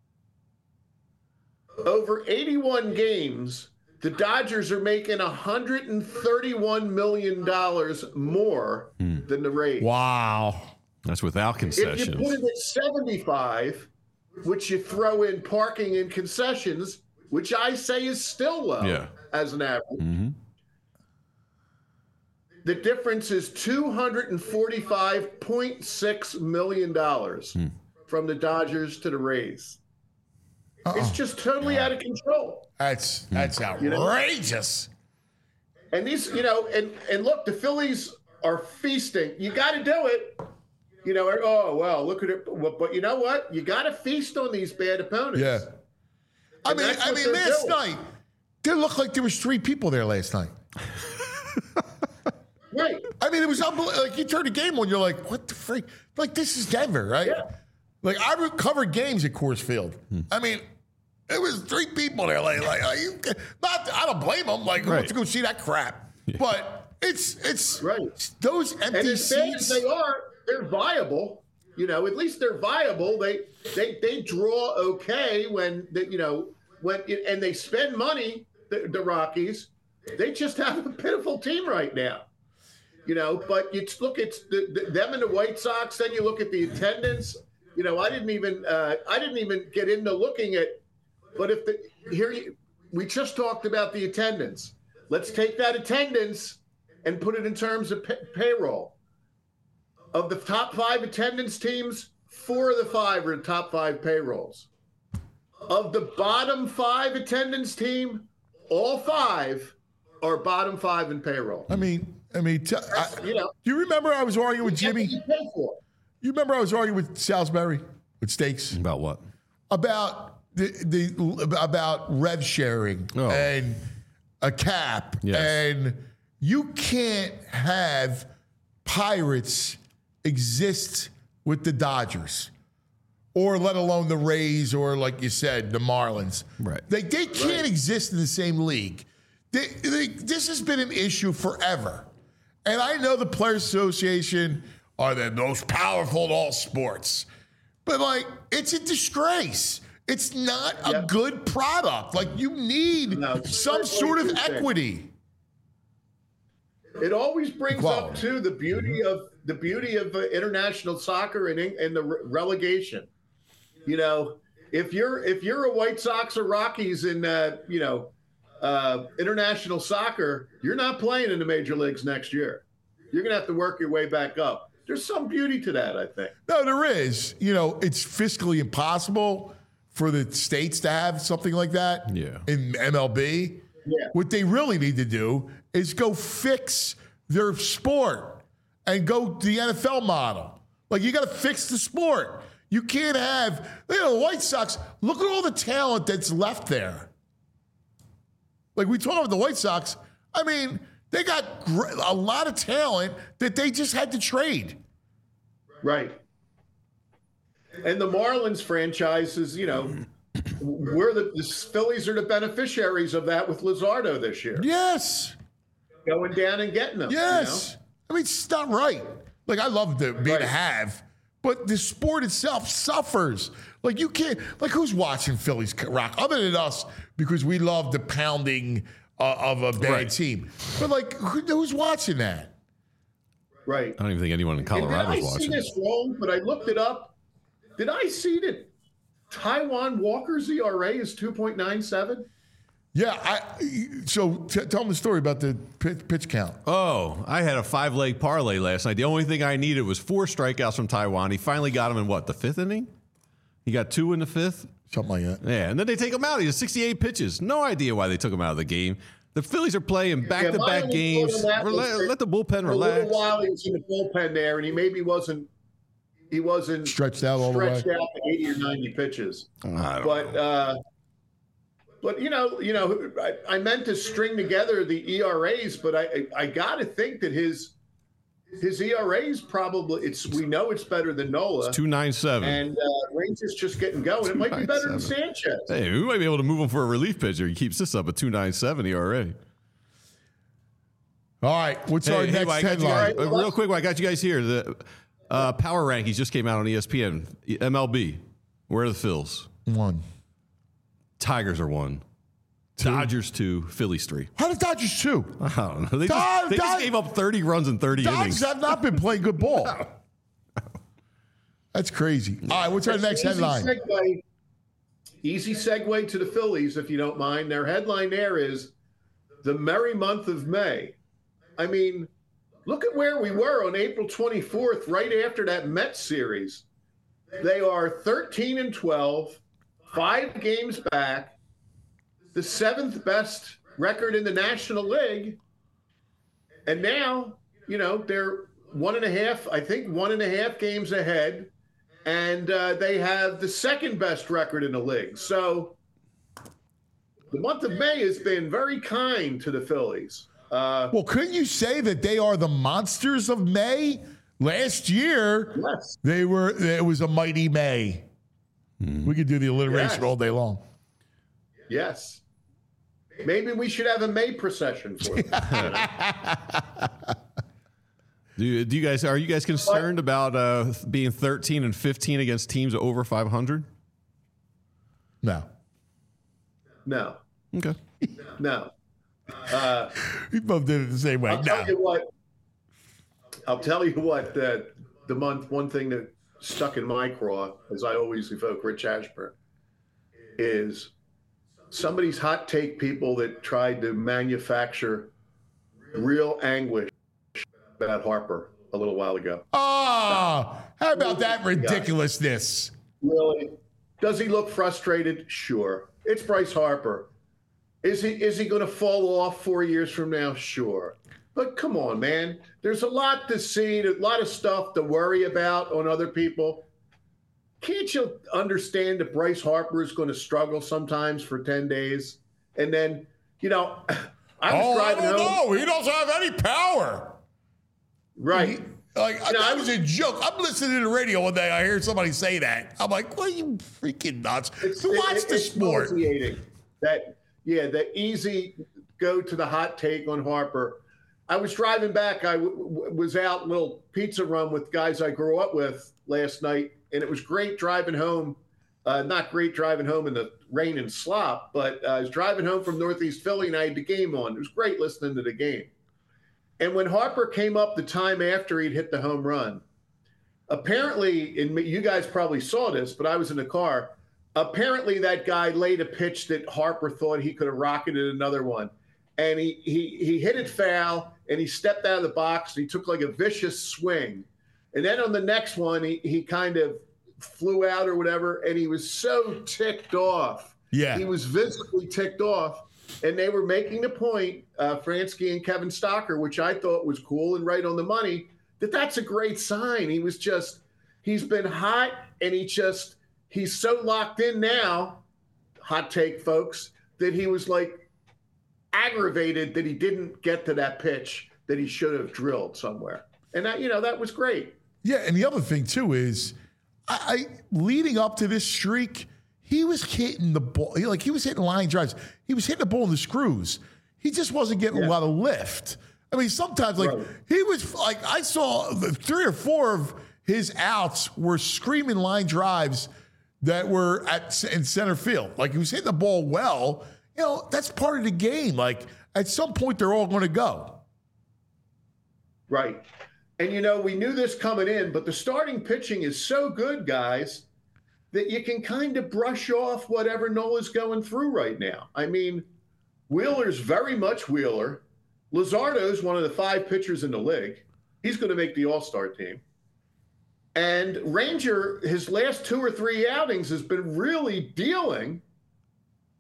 over eighty-one games, the Dodgers are making one hundred thirty-one million dollars more mm. than the Rays. Wow. That's without concessions. If you put it at seventy-five, which you throw in parking and concessions, which I say is still low yeah. as an average, mm-hmm. the difference is two hundred forty-five point six million dollars mm. from the Dodgers to the Rays. Uh-oh. It's just totally out of control. That's that's outrageous. You know? And these, you know, and and look, the Phillies are feasting. You got to do it. You know, oh well, look at it. But you know what? You got to feast on these bad opponents. Yeah. I and mean, I mean, last doing. night there looked like there was three people there last night. Right. I mean, it was unbelievable. Like you turn the game on, you're like, what the freak? Like this is Denver, right? Yeah. Like I covered games at Coors Field. Hmm. I mean. It was three people there. Like, like are you, not, I don't blame them. Like, who right. wants to go see that crap? Yeah. But it's it's right. Those empty and as seats. As they are, they're viable. You know, at least they're viable. They they they draw okay when they, you know when and they spend money. The, the Rockies, they just have a pitiful team right now. You know, but you look at the, the, them and the White Sox. Then you look at the attendance. You know, I didn't even uh, I didn't even get into looking at. But if the here you, we just talked about the attendance. Let's take that attendance and put it in terms of pay, payroll. Of the top five attendance teams, four of the five are top five payrolls. Of the bottom five attendance team, all five are bottom five in payroll. I mean, I mean, t- I, you know, do you remember I was arguing with Jimmy? You pay for. You remember I was arguing with Salisbury with Stakes about what? About. The, the about rev sharing oh. and a cap, yes. and you can't have Pirates exist with the Dodgers, or let alone the Rays, or like you said, the Marlins. Right? They they can't right. exist in the same league. They, they, this has been an issue forever, and I know the Players Association are the most powerful in all sports, but like it's a disgrace. It's not a yep. good product. Like you need no, some sort of equity. It always brings Equality. up too the beauty mm-hmm. of the beauty of uh, international soccer and and the re- relegation. You know, if you're if you're a White Sox or Rockies in uh, you know uh, international soccer, you're not playing in the major leagues next year. You're gonna have to work your way back up. There's some beauty to that, I think. No, there is. You know, it's fiscally impossible for the states to have something like that yeah. in M L B. Yeah. What they really need to do is go fix their sport and go to the N F L model. Like, you got to fix the sport. You can't have, you know, the White Sox, look at all the talent that's left there. Like, we talk about the White Sox. I mean, they got a lot of talent that they just had to trade. Right. And the Marlins franchise is, you know, we're the, the Phillies are the beneficiaries of that with Luzardo this year. Yes. Going down and getting them. Yes. You know? I mean, it's not right. Like, I love the being right. a have, but the sport itself suffers. Like, you can't, like, who's watching Phillies rock other than us because we love the pounding uh, of a bad right. team? But, like, who, who's watching that? Right. I don't even think anyone in Colorado is watching. I see this wrong, but I looked it up. Did I see that Taijuan Walker's E R A is two point nine seven? Yeah. I, so t- tell them the story about the pitch, pitch count. Oh, I had a five-leg parlay last night. The only thing I needed was four strikeouts from Taijuan. He finally got him in, what, the fifth inning? He got two in the fifth? Something like that. Yeah, and then they take him out. He has sixty-eight pitches. No idea why they took him out of the game. The Phillies are playing back-to-back yeah, games. Rela- let the bullpen for relax. A little while he was in the bullpen there, and he maybe wasn't he wasn't stretched out all the way. Stretched out to eighty or ninety pitches. I don't but know. uh, but you know, you know, I, I meant to string together the E R As, but I I, I got to think that his his E R A is probably it's we know it's better than Nola. It's two ninety-seven. And uh, Rangers just getting going. It might be better than Sanchez. Hey, we might be able to move him for a relief pitcher. He keeps this up at two ninety-seven E R A. All right, what's hey, our hey, next well, I got you headline? guys- uh, real quick, well, I got you guys here. The uh, power rankings just came out on E S P N. M L B. Where are the Phils? One. Tigers are one. Two. Dodgers two. Phillies three. How did Dodgers two? I don't know. They, Dod- just, they just Dod- gave up thirty runs in thirty Dodgers innings. have not been playing good ball. That's crazy. All right, what's our next Easy headline? Segue, easy segue to the Phillies, if you don't mind. Their headline there is the merry month of May. I mean, look at where we were on April twenty-fourth, right after that Mets series. They are thirteen and twelve, five games back, the seventh best record in the National League. And now, you know, they're one and a half, I think one and a half games ahead. And uh, they have the second best record in the league. So the month of May has been very kind to the Phillies. Uh, Well, couldn't you say that they are the monsters of May? Last year, yes. they were. It was a mighty May. We could do the alliteration Yes. all day long. Yes. Maybe we should have a May procession for them. Do you, do you guys are you guys concerned about uh, being thirteen and fifteen against teams over five hundred? No. No. Okay. No. Uh, We both did it the same way. I'll No. tell you what. I'll tell you what. The the month one thing that stuck in my craw, as I always evoke Rich Ashburn, is somebody's hot take people that tried to manufacture real anguish about Harper a little while ago. Ah, how about that ridiculousness? Really? Does he look frustrated? Sure. It's Bryce Harper. Is he is he going to fall off four years from now? Sure. But come on, man. There's a lot to see, a lot of stuff to worry about on other people. Can't you understand that Bryce Harper is going to struggle sometimes for ten days? And then, you know, I was oh, driving I don't home. know. He doesn't have any power. Right. Like, You know, that I was was- a joke. I'm listening to the radio one day. I hear somebody say that. I'm like, what are you freaking nuts? It's, Who watch it- the it's sport? nauseating. That yeah, the easy go to the hot take on Harper. I was driving back. I w- w- was out little pizza run with guys I grew up with last night, and it was great driving home. Uh, not great driving home in the rain and slop, but uh, I was driving home from Northeast Philly, and I had the game on. It was great listening to the game. And when Harper came up the time after he'd hit the home run, apparently, and you guys probably saw this, but I was in the car. Apparently, that guy laid a pitch that Harper thought he could have rocketed another one. And he, he, he hit it foul, and he stepped out of the box, and he took like a vicious swing. And then on the next one, he, he kind of flew out or whatever, and he was so ticked off. Yeah. He was visibly ticked off. And they were making the point, uh, Fransky and Kevin Stocker, which I thought was cool and right on the money, that that's a great sign. He was just, he's been hot, and he just, he's so locked in now, hot take, folks, that he was like aggravated that he didn't get to that pitch that he should have drilled somewhere. And that, you know, that was great. Yeah, and the other thing too is, I, I leading up to this streak, he was hitting the ball. He, like he was hitting line drives. He was hitting the ball in the screws. He just wasn't getting Yeah. a lot of lift. I mean, sometimes like Right. he was like I saw the three or four of his outs were screaming line drives that were at in center field. Like he was hitting the ball well. You know, that's part of the game. Like at some point, they're all going to go. Right. And, you know, we knew this coming in, but the starting pitching is so good, guys, that you can kind of brush off whatever Nola's going through right now. I mean, Wheeler's very much Wheeler. Luzardo's one of the five pitchers in the league. He's going to make the All-Star team. And Ranger, his last two or three outings has been really dealing.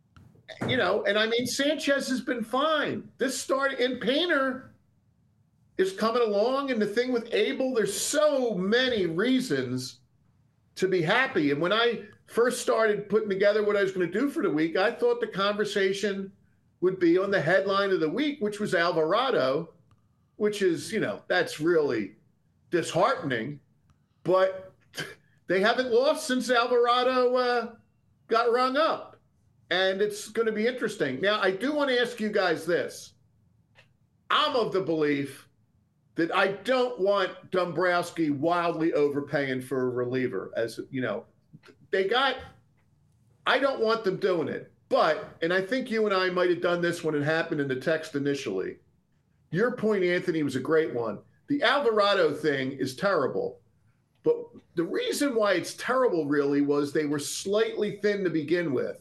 You know, and I mean, Sanchez has been fine. This start in Painter, is coming along. And the thing with Abel, there's so many reasons to be happy. And when I first started putting together what I was going to do for the week, I thought the conversation would be on the headline of the week, which was Alvarado, which is, you know, that's really disheartening. But they haven't lost since Alvarado uh, got rung up. And it's going to be interesting. Now, I do want to ask you guys this. I'm of the belief that I don't want Dombrowski wildly overpaying for a reliever. As you know, they got, I don't want them doing it. But, and I think you and I might have done this when it happened in the text initially. Your point, Anthony, was a great one. The Alvarado thing is terrible. But the reason why it's terrible really was they were slightly thin to begin with.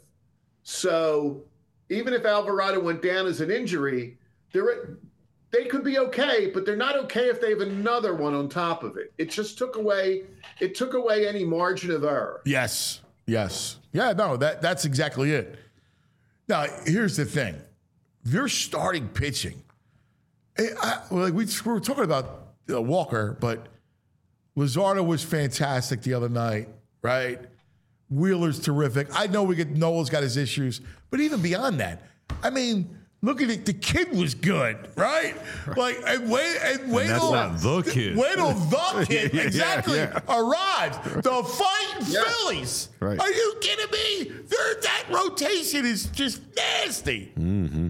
So even if Alvarado went down as an injury, they're, they could be okay, but they're not okay if they have another one on top of it. It just took away, it took away any margin of error. Yes, yes. Yeah, no, that that's exactly it. Now, here's the thing. They're starting pitching. I, like we, we were talking about uh, Walker, but Luzardo was fantastic the other night, right? Wheeler's terrific. I know we get Noel's got his issues, but even beyond that, I mean, look at it. The kid was good, right? Like, and wait, and wait that's till not the kid. Wait till the kid Yeah, exactly yeah. arrives. The fighting Yeah. Phillies. Right. Are you kidding me? They're, that rotation is just nasty. Mm-hmm.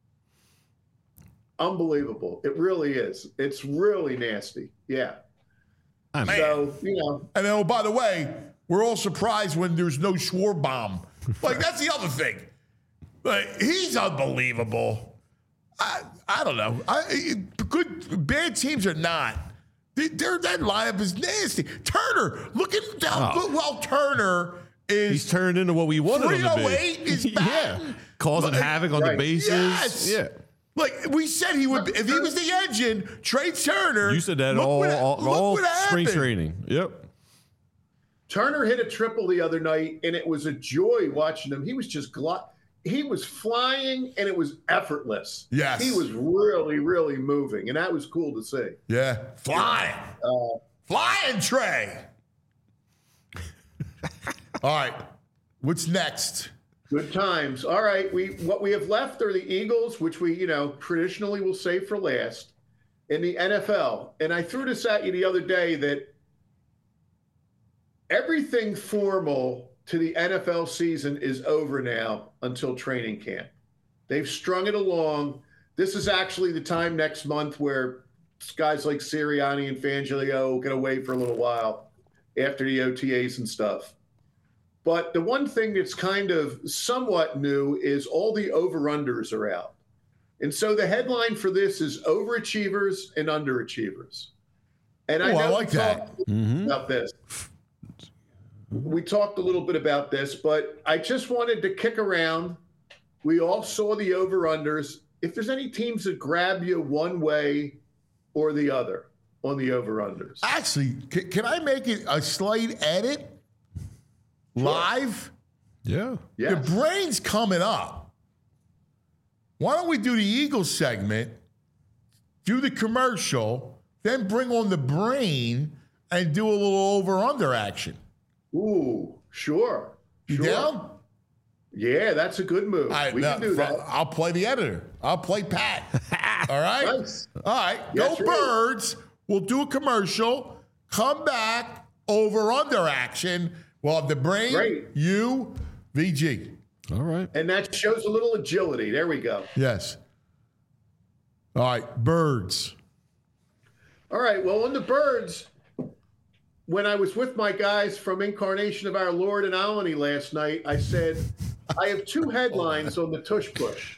Unbelievable. It really is. It's really nasty. Yeah. I mean, So, you know, And then, oh, by the way, we're all surprised when there's no Schwarbaum. Like, that's the other thing. Like, he's unbelievable. I I don't know. I, good bad teams or not, they, they're, that lineup is nasty. Turner, look at how Oh. good. Well, Turner is he's turned into what we wanted him to three oh be. eight is yeah, batting. causing Like, havoc on right. the bases. Yes. Yeah, Like we said, he would. If he was the engine, trade Turner. you said that look all what- all, look all what spring happened. training. Yep. Turner hit a triple the other night, and it was a joy watching him. He was just gl- he was flying, and it was effortless. Yes. He was really, really moving, and that was cool to see. Yeah, flying, Uh, flying Trey. All right, what's next? Good times. All right, we what we have left are the Eagles, which we, you know, traditionally will save for last, in the N F L. And I threw this at you the other day that everything formal to the N F L season is over now until training camp. They've strung it along. This is actually the time next month where guys like Sirianni and Fangio get away for a little while after the O T As and stuff. But the one thing that's kind of somewhat new is all the over-unders are out. And so the headline for this is overachievers and underachievers. And I Oh, know I like we that. talked about this. We talked a little bit about this, but I just wanted to kick around. We all saw the over-unders. If there's any teams that grab you one way or the other on the over-unders. Actually, can, can I make it a slight edit? Live? Yeah. Yes. The brain's coming up. Why don't we do the Eagles segment, do the commercial, then bring on the brain and do a little over-under action? Ooh, sure. You sure. down? Yeah, that's a good move. All right, we now, can do that. I'll play the editor. I'll play Pat. All right? Nice. All right, Yes, go sir. Birds. We'll do a commercial. Come back, over-under action. We'll have the brain, Great. you, V G. All right. And that shows a little agility. There we go. Yes. All right, Birds. All right. Well, on the Birds, when I was with my guys from Incarnation of Our Lord in Alany last night, I said, I have two headlines on the tush push.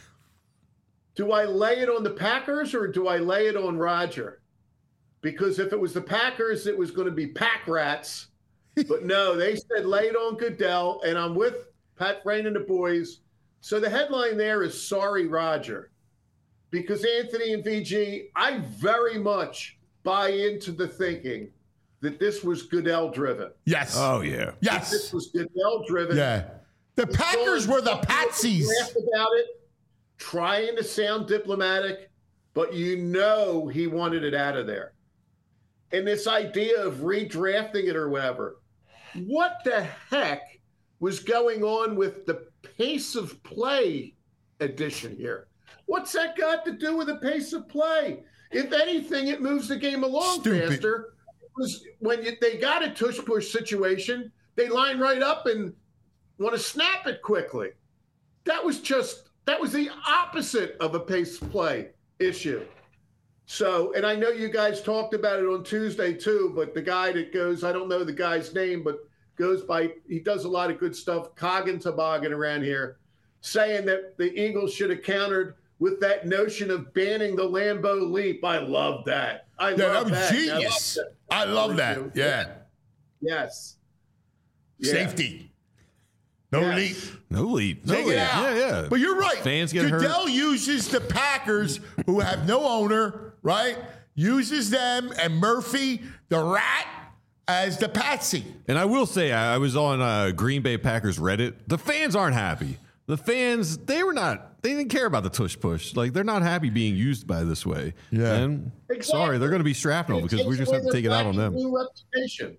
Do I lay it on the Packers or do I lay it on Roger? Because if it was the Packers, it was going to be pack rats. But no, they said lay it on Goodell, and I'm with Pat Frayne and the boys. So the headline there is sorry, Roger. Because Anthony and V G, I very much buy into the thinking that this was Goodell driven. Yes. Oh yeah. Yes. This was Goodell driven. Yeah. The Packers were the Patsies. Laughed about it, trying to sound diplomatic. but you know he wanted it out of there. And this idea of redrafting it or whatever, what the heck was going on with the pace of play edition here? What's that got to do with the pace of play? If anything, it moves the game along Stupid. faster. Because when you, they got a tush-push situation, they line right up and want to snap it quickly. That was just, that was the opposite of a pace play issue. So, and I know you guys talked about it on Tuesday too, but the guy that goes, I don't know the guy's name, but goes by, he does a lot of good stuff, Coggin Toboggan around here, saying that the Eagles should have countered with that notion of banning the Lambeau leap. I love that. I Yeah, love that was that. genius. I I love love that. that. Yeah. Yes. Yeah. Safety. No Yes. leap. No leap. No Take leap. it out. Yeah, yeah. But you're right. Fans get hurt. Goodell uses the Packers, who have no owner, right? Uses them and Murphy, the rat, as the patsy. And I will say, I I was on uh, Green Bay Packers Reddit. The fans aren't happy. The fans, they were not, they didn't care about the tush push. Like, they're not happy being used by this way. Yeah. And Exactly. sorry, they're going to be shrapnel because we just have to take it out on them. Blue reputation.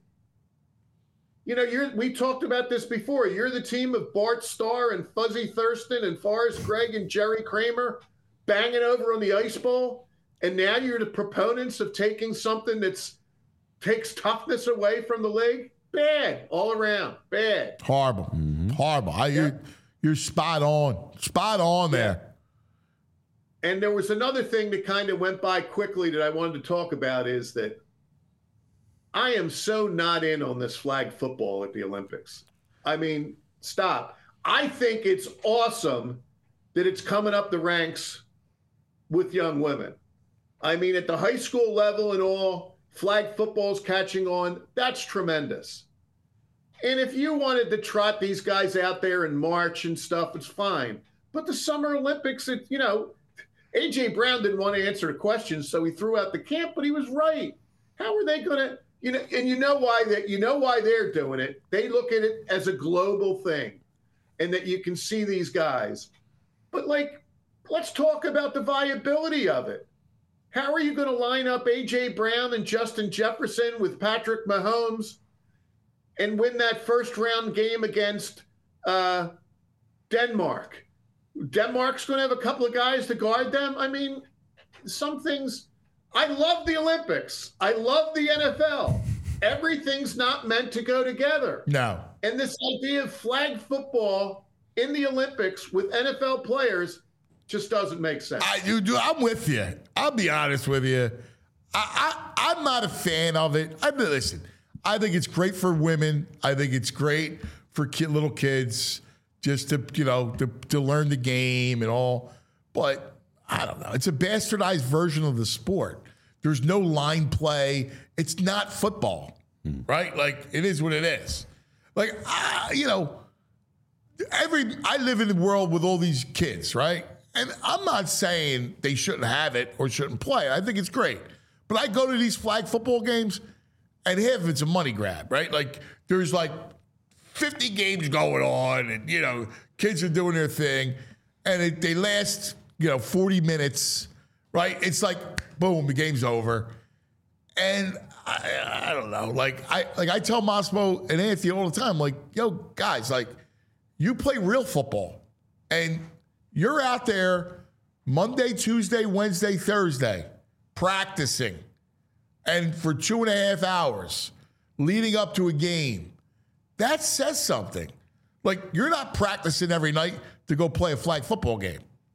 You know, you're, we talked about this before. You're the team of Bart Starr and Fuzzy Thurston and Forrest Gregg and Jerry Kramer banging over on the ice ball. And now you're the proponents of taking something that's takes toughness away from the league. Bad all around. Bad. Horrible. Horrible. I, you're, you're spot on. Spot on there. And there was another thing that kind of went by quickly that I wanted to talk about is that I am so not in on this flag football at the Olympics. I mean, stop. I think it's awesome that it's coming up the ranks with young women. I mean, at the high school level and all, flag football's catching on. That's tremendous. And if you wanted to trot these guys out there and march and stuff, it's fine. But the Summer Olympics, it, you know, A J Brown didn't want to answer the question, so he threw out the camp, but he was right. How are they going to, you know, and you know why that, you know why they're doing it. They look at it as a global thing and that you can see these guys. But like, let's talk about the viability of it. How are you going to line up A J Brown and Justin Jefferson with Patrick Mahomes and win that first round game against uh, Denmark? Denmark's going to have a couple of guys to guard them. I mean, some things. I love the Olympics. I love the N F L. Everything's not meant to go together. No. And this idea of flag football in the Olympics with N F L players just doesn't make sense. I, you do. I'm with you. I'll be honest with you. I, I, I'm not a fan of it. I mean, listen, I think it's great for women. I think it's great for kid, little kids just to, you know, to, to learn the game and all. But I don't know. It's a bastardized version of the sport. There's no line play. It's not football, hmm. right? Like, it is what it is. Like, uh, you know, every I live in the world with all these kids, right? And I'm not saying they shouldn't have it or shouldn't play. I think it's great. But I go to these flag football games, and half of it's a money grab, right? Like, there's like fifty games going on, and, you know, kids are doing their thing, and it, they last, you know, forty minutes, right? It's like, boom, the game's over. And I, I don't know. Like, I like I tell Massimo and Anthony all the time, like, yo, guys, like, you play real football, and you're out there Monday, Tuesday, Wednesday, Thursday, practicing, and for two and a half hours leading up to a game. That says something. Like, you're not practicing every night to go play a flag football game.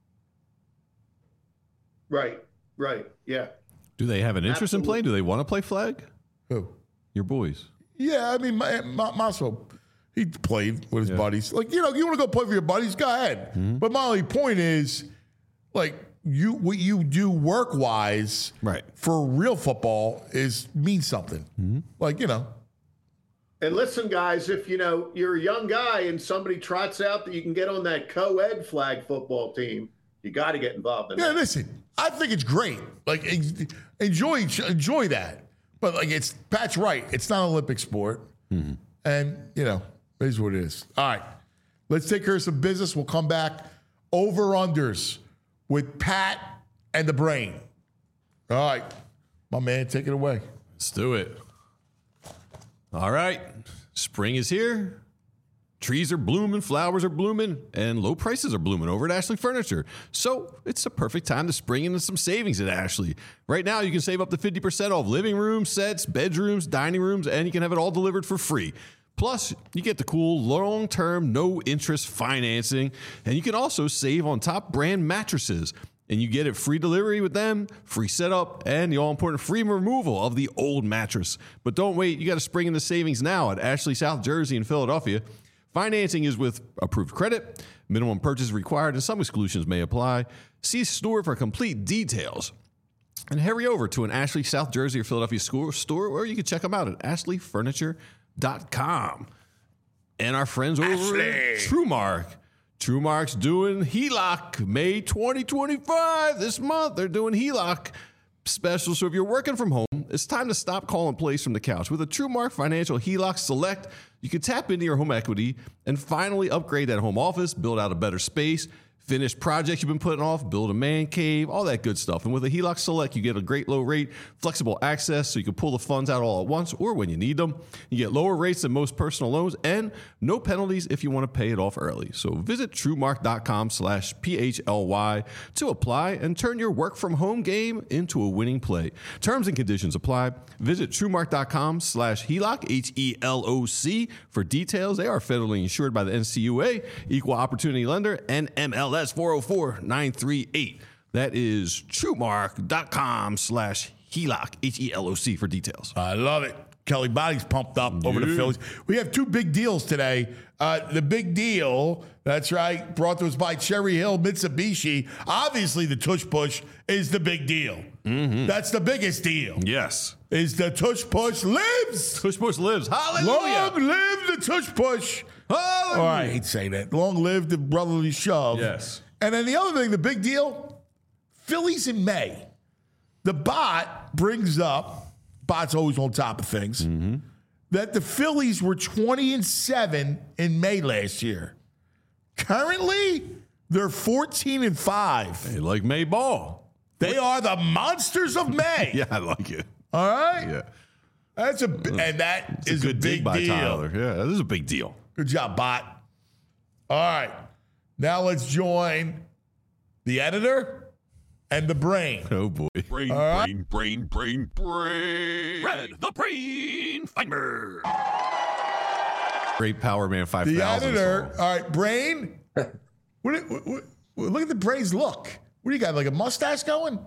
Right, right, yeah. Do they have an interest Absolutely. in playing? Do they want to play flag? Who? Your boys. Yeah, I mean, my, my, Massimo, he played with his yeah. buddies. Like, you know, you want to go play with your buddies, go ahead. Mm-hmm. But my only point is, like, you what you do work-wise right. for real football is means something. Mm-hmm. Like, you know. And listen, guys, if, you know, you're a young guy and somebody trots out that you can get on that co-ed flag football team, you got to get involved in yeah, that. Yeah, listen, I think it's great. Like, enjoy enjoy that. But, like, it's Pat's right. It's not an Olympic sport. Mm-hmm. And, you know, it is what it is. All right. Let's take care of some business. We'll come back. Over-unders with Pat and the Brain. All right, my man, take it away. Let's do it. All right, spring is here. Trees are blooming, flowers are blooming, and low prices are blooming over at Ashley Furniture. So it's the perfect time to spring into some savings at Ashley. Right now, you can save up to fifty percent off living room sets, bedrooms, dining rooms, and you can have it all delivered for free. Plus, you get the cool long-term, no-interest financing, and you can also save on top brand mattresses. And you get it free delivery with them, free setup, and the all-important free removal of the old mattress. But don't wait, you got to spring into savings now at Ashley South Jersey and Philadelphia. Financing is with approved credit. Minimum purchase required, and some exclusions may apply. See store for complete details. And hurry over to an Ashley South Jersey or Philadelphia store, store or you can check them out at ashley furniture dot com. And our friends over Ashley. at TrueMark. TrueMark's doing H E L O C May twenty twenty-five. This month, they're doing H E L O C special. So if you're working from home, it's time to stop calling plays from the couch. With a TrueMark Financial H E L O C Select, you can tap into your home equity and finally upgrade that home office, build out a better space, finish projects you've been putting off, build a man cave, all that good stuff. And with a H E L O C Select, you get a great low rate, flexible access so you can pull the funds out all at once or when you need them. You get lower rates than most personal loans and no penalties if you want to pay it off early. So visit truemark.com slash PHLY to apply and turn your work from home game into a winning play. Terms and conditions apply. Visit truemark.com slash HELOC, H E L O C for details. They are federally insured by the N C U A, Equal Opportunity Lender, and M L S four oh four nine three eight. That is truemark.com slash HELOC, H E L O C for details. I love it. Kelly Body's pumped up over the Phillies. We have two big deals today. Uh, the big deal, that's right, brought to us by Cherry Hill Mitsubishi. Obviously, the tush push is the big deal. Mm-hmm. That's the biggest deal. Yes. Is the tush push lives. Tush push lives. Hallelujah. Long live the tush push. Hallelujah. Oh, I hate saying that. Long live the brotherly shove. Yes. And then the other thing, the big deal, Phillies in May. The bot brings up, bot's always on top of things, mm-hmm. that the Phillies were twenty and seven in May last year. Currently, they're fourteen and five. They like May ball. They are the monsters of May. Yeah, I like it. All right? Yeah. That's a and that It's is a a, good big dig by deal. Tyler. Yeah, this is a big deal. Good job, bot. All right. Now let's join the editor and the brain. Oh, boy. Brain, All right. brain, brain, brain, brain. Red, the brain finder. Great Power Man five The thousand editor. song. All right, brain. what, what, what, look at the brain's look. What do you got, like a mustache going?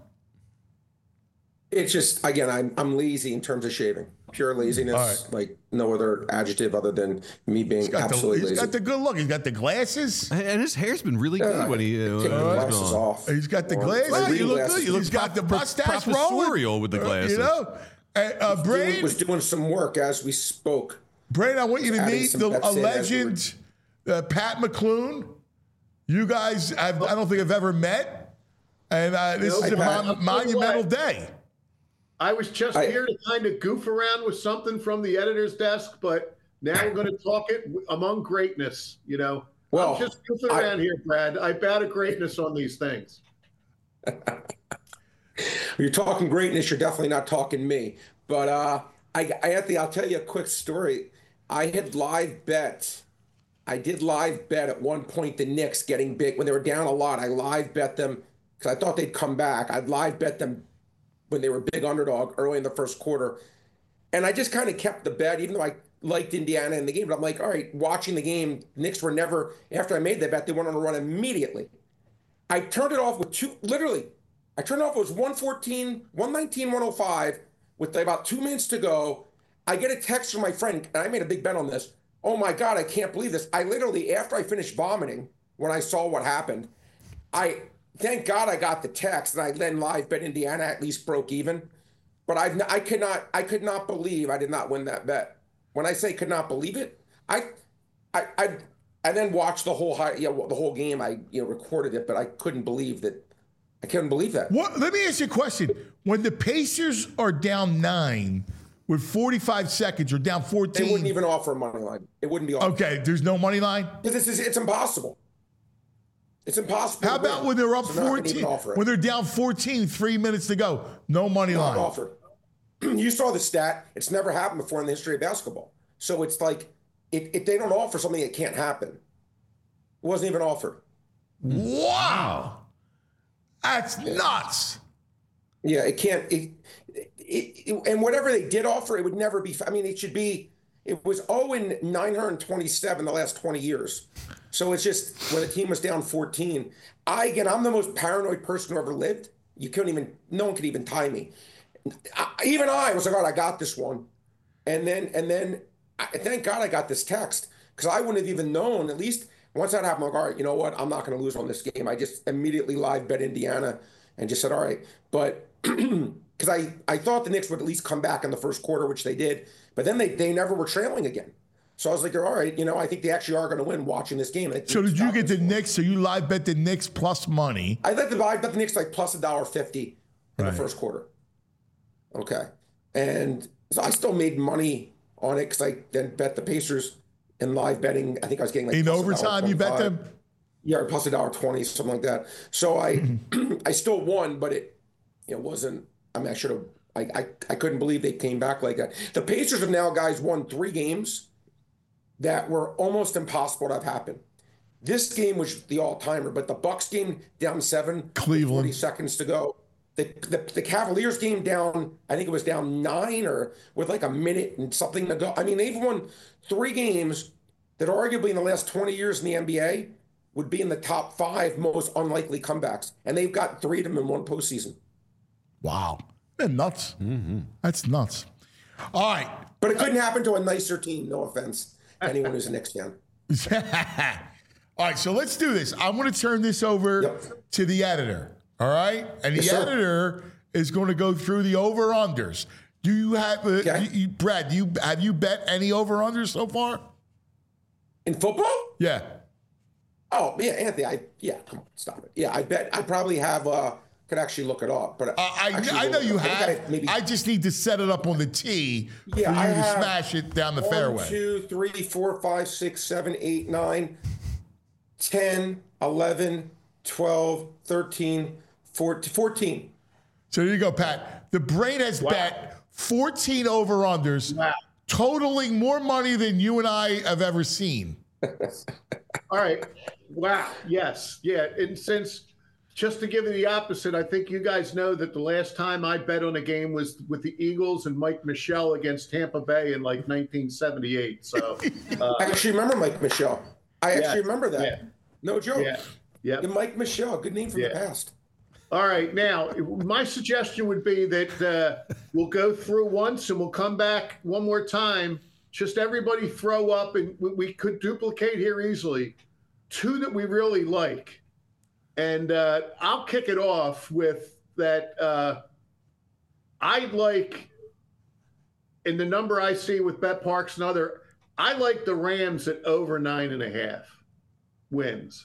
It's just, again, I'm I'm lazy in terms of shaving. Pure laziness, right. like no other adjective other than me being He's got, absolutely the, he's lazy. got the good look. He's got the glasses. And his hair's been really Yeah, good when he uh, take the uh, glasses on. off. He's got the Or- glasses. or you reading look glasses. good. You look He's got the pro- mustache professorial rolling. with the Uh, glasses. You know, uh, uh, Dude brain. was doing some work as we spoke. Brain, I want you to Adding meet some the, a Pepsi as we were- legend, uh, Pat McClune. You guys, I've, I don't think I've ever met, and uh, this Nope. is a Hi, Pat. mon- monumental day. I was just I- here to kind of goof around with something from the editor's desk, but now we're going to talk it w- among greatness. You know, Well, I'm just goofing I- around here, Brad. I bat at greatness on these things. You're talking greatness. You're definitely not talking me. But uh, I, I Anthony, I'll tell you a quick story. I had live bet. I did live bet at one point the Knicks getting big when they were down a lot. I live bet them because I thought they'd come back. I'd live bet them when they were big underdog early in the first quarter, and I just kind of kept the bet, even though I liked Indiana in the game. But I'm like, all right, watching the game, Knicks were never. After I made that bet, they went on a run immediately. I turned it off with two. Literally, I turned it off. It was one fourteen, one nineteen, one oh five with about two minutes to go. I get a text from my friend, and I made a big bet on this. Oh my God, I can't believe this. I literally, after I finished vomiting, when I saw what happened, I thank God I got the text, and I then live bet Indiana at least broke even. But I, I could not, I could not believe I did not win that bet. When I say could not believe it, I, I, I, I then watched the whole high, you know, the whole game. I, you know, recorded it, but I couldn't believe that. I couldn't believe that. What? Let me ask you a question. When the Pacers are down nine with forty-five seconds or down fourteen, They wouldn't even offer a money line. It wouldn't be offered. Okay, there's no money line. This is, it's impossible. It's impossible. How to about win. when they're up So they're not gonna even fourteen? offer it. When they're down fourteen, three minutes to go, no money Not line. offer. You saw the stat. It's never happened before in the history of basketball. So it's like, if, if they don't offer something, it can't happen. It wasn't even offered. Wow. That's nuts. Yeah, it can't. It, it, it, and whatever they did offer, it would never be. I mean, it should be. It was oh and nine hundred twenty-seven the last twenty years. So it's just when the team was down fourteen. I again, I'm the most paranoid person who ever lived. You couldn't even. No one could even tie me. I, even I was like, all right, I got this one. And then and then, I, thank God I got this text because I wouldn't have even known. At least once that happened, I'm like, all right, you know what? I'm not going to lose on this game. I just immediately live bet Indiana and just said, all right, but. Because I, I thought the Knicks would at least come back in the first quarter, which they did. But then they, they never were trailing again. So I was like, all right, you know, I think they actually are going to win watching this game. So did you get the Knicks? So you live bet the Knicks plus money. I bet the, I bet the Knicks like plus a dollar fifty in Right. the first quarter. Okay. And so I still made money on it because I then bet the Pacers in live betting. I think I was getting like In plus overtime, you bet one twenty-five. them? Yeah, plus a dollar twenty, something like that. So I I still won, but it it wasn't. I mean, I should have. I, I I couldn't believe they came back like that. The Pacers have now, guys, won three games that were almost impossible to have happen. This game was the all-timer, but the Bucks game down seven, Cleveland, forty seconds to go. The, the the Cavaliers game down, I think it was down nine or with like a minute and something to go. I mean, they've won three games that arguably in the last twenty years in the N B A would be in the top five most unlikely comebacks, and they've got three of them in one postseason. Wow. Man, nuts. Mm-hmm. That's nuts. All right. But it couldn't happen to a nicer team, no offense to anyone who's a Knicks fan. All right, so let's do this. I'm going to turn this over yep. to the editor, all right? And the yes, editor is going to go through the over-unders. Do you have, uh, okay. you, you, Brad, do you, have you bet any over-unders so far? In football? Yeah. Oh, yeah, Anthony, I, yeah, come on, stop it. Yeah, I bet I probably have, uh, could actually look it up. But uh, I, I know you I have. I, maybe, I just need to set it up on the tee yeah, for you I to have smash it down the one, fairway. One, two, three, four, five, six, seven, eight, nine, ten, eleven, twelve, thirteen, fourteen. So there you go, Pat. The Brain has wow. bet fourteen over-unders, wow. totaling more money than you and I have ever seen. All right. Wow. Yes. Yeah. And since, just to give you the opposite, I think you guys know that the last time I bet on a game was with the Eagles and Mike Michel against Tampa Bay in like nineteen seventy-eight. So uh, I actually remember Mike Michel. I yeah, actually remember that. Yeah. No joke. Yeah. Yeah. Mike Michel, good name from yeah. the past. All right. Now, my suggestion would be that uh, we'll go through once and we'll come back one more time. Just everybody throw up, and we could duplicate here easily. Two that we really like. And uh, I'll kick it off with that. Uh, I like, in the number I see with BetParks and other, I like the Rams at over nine and a half wins.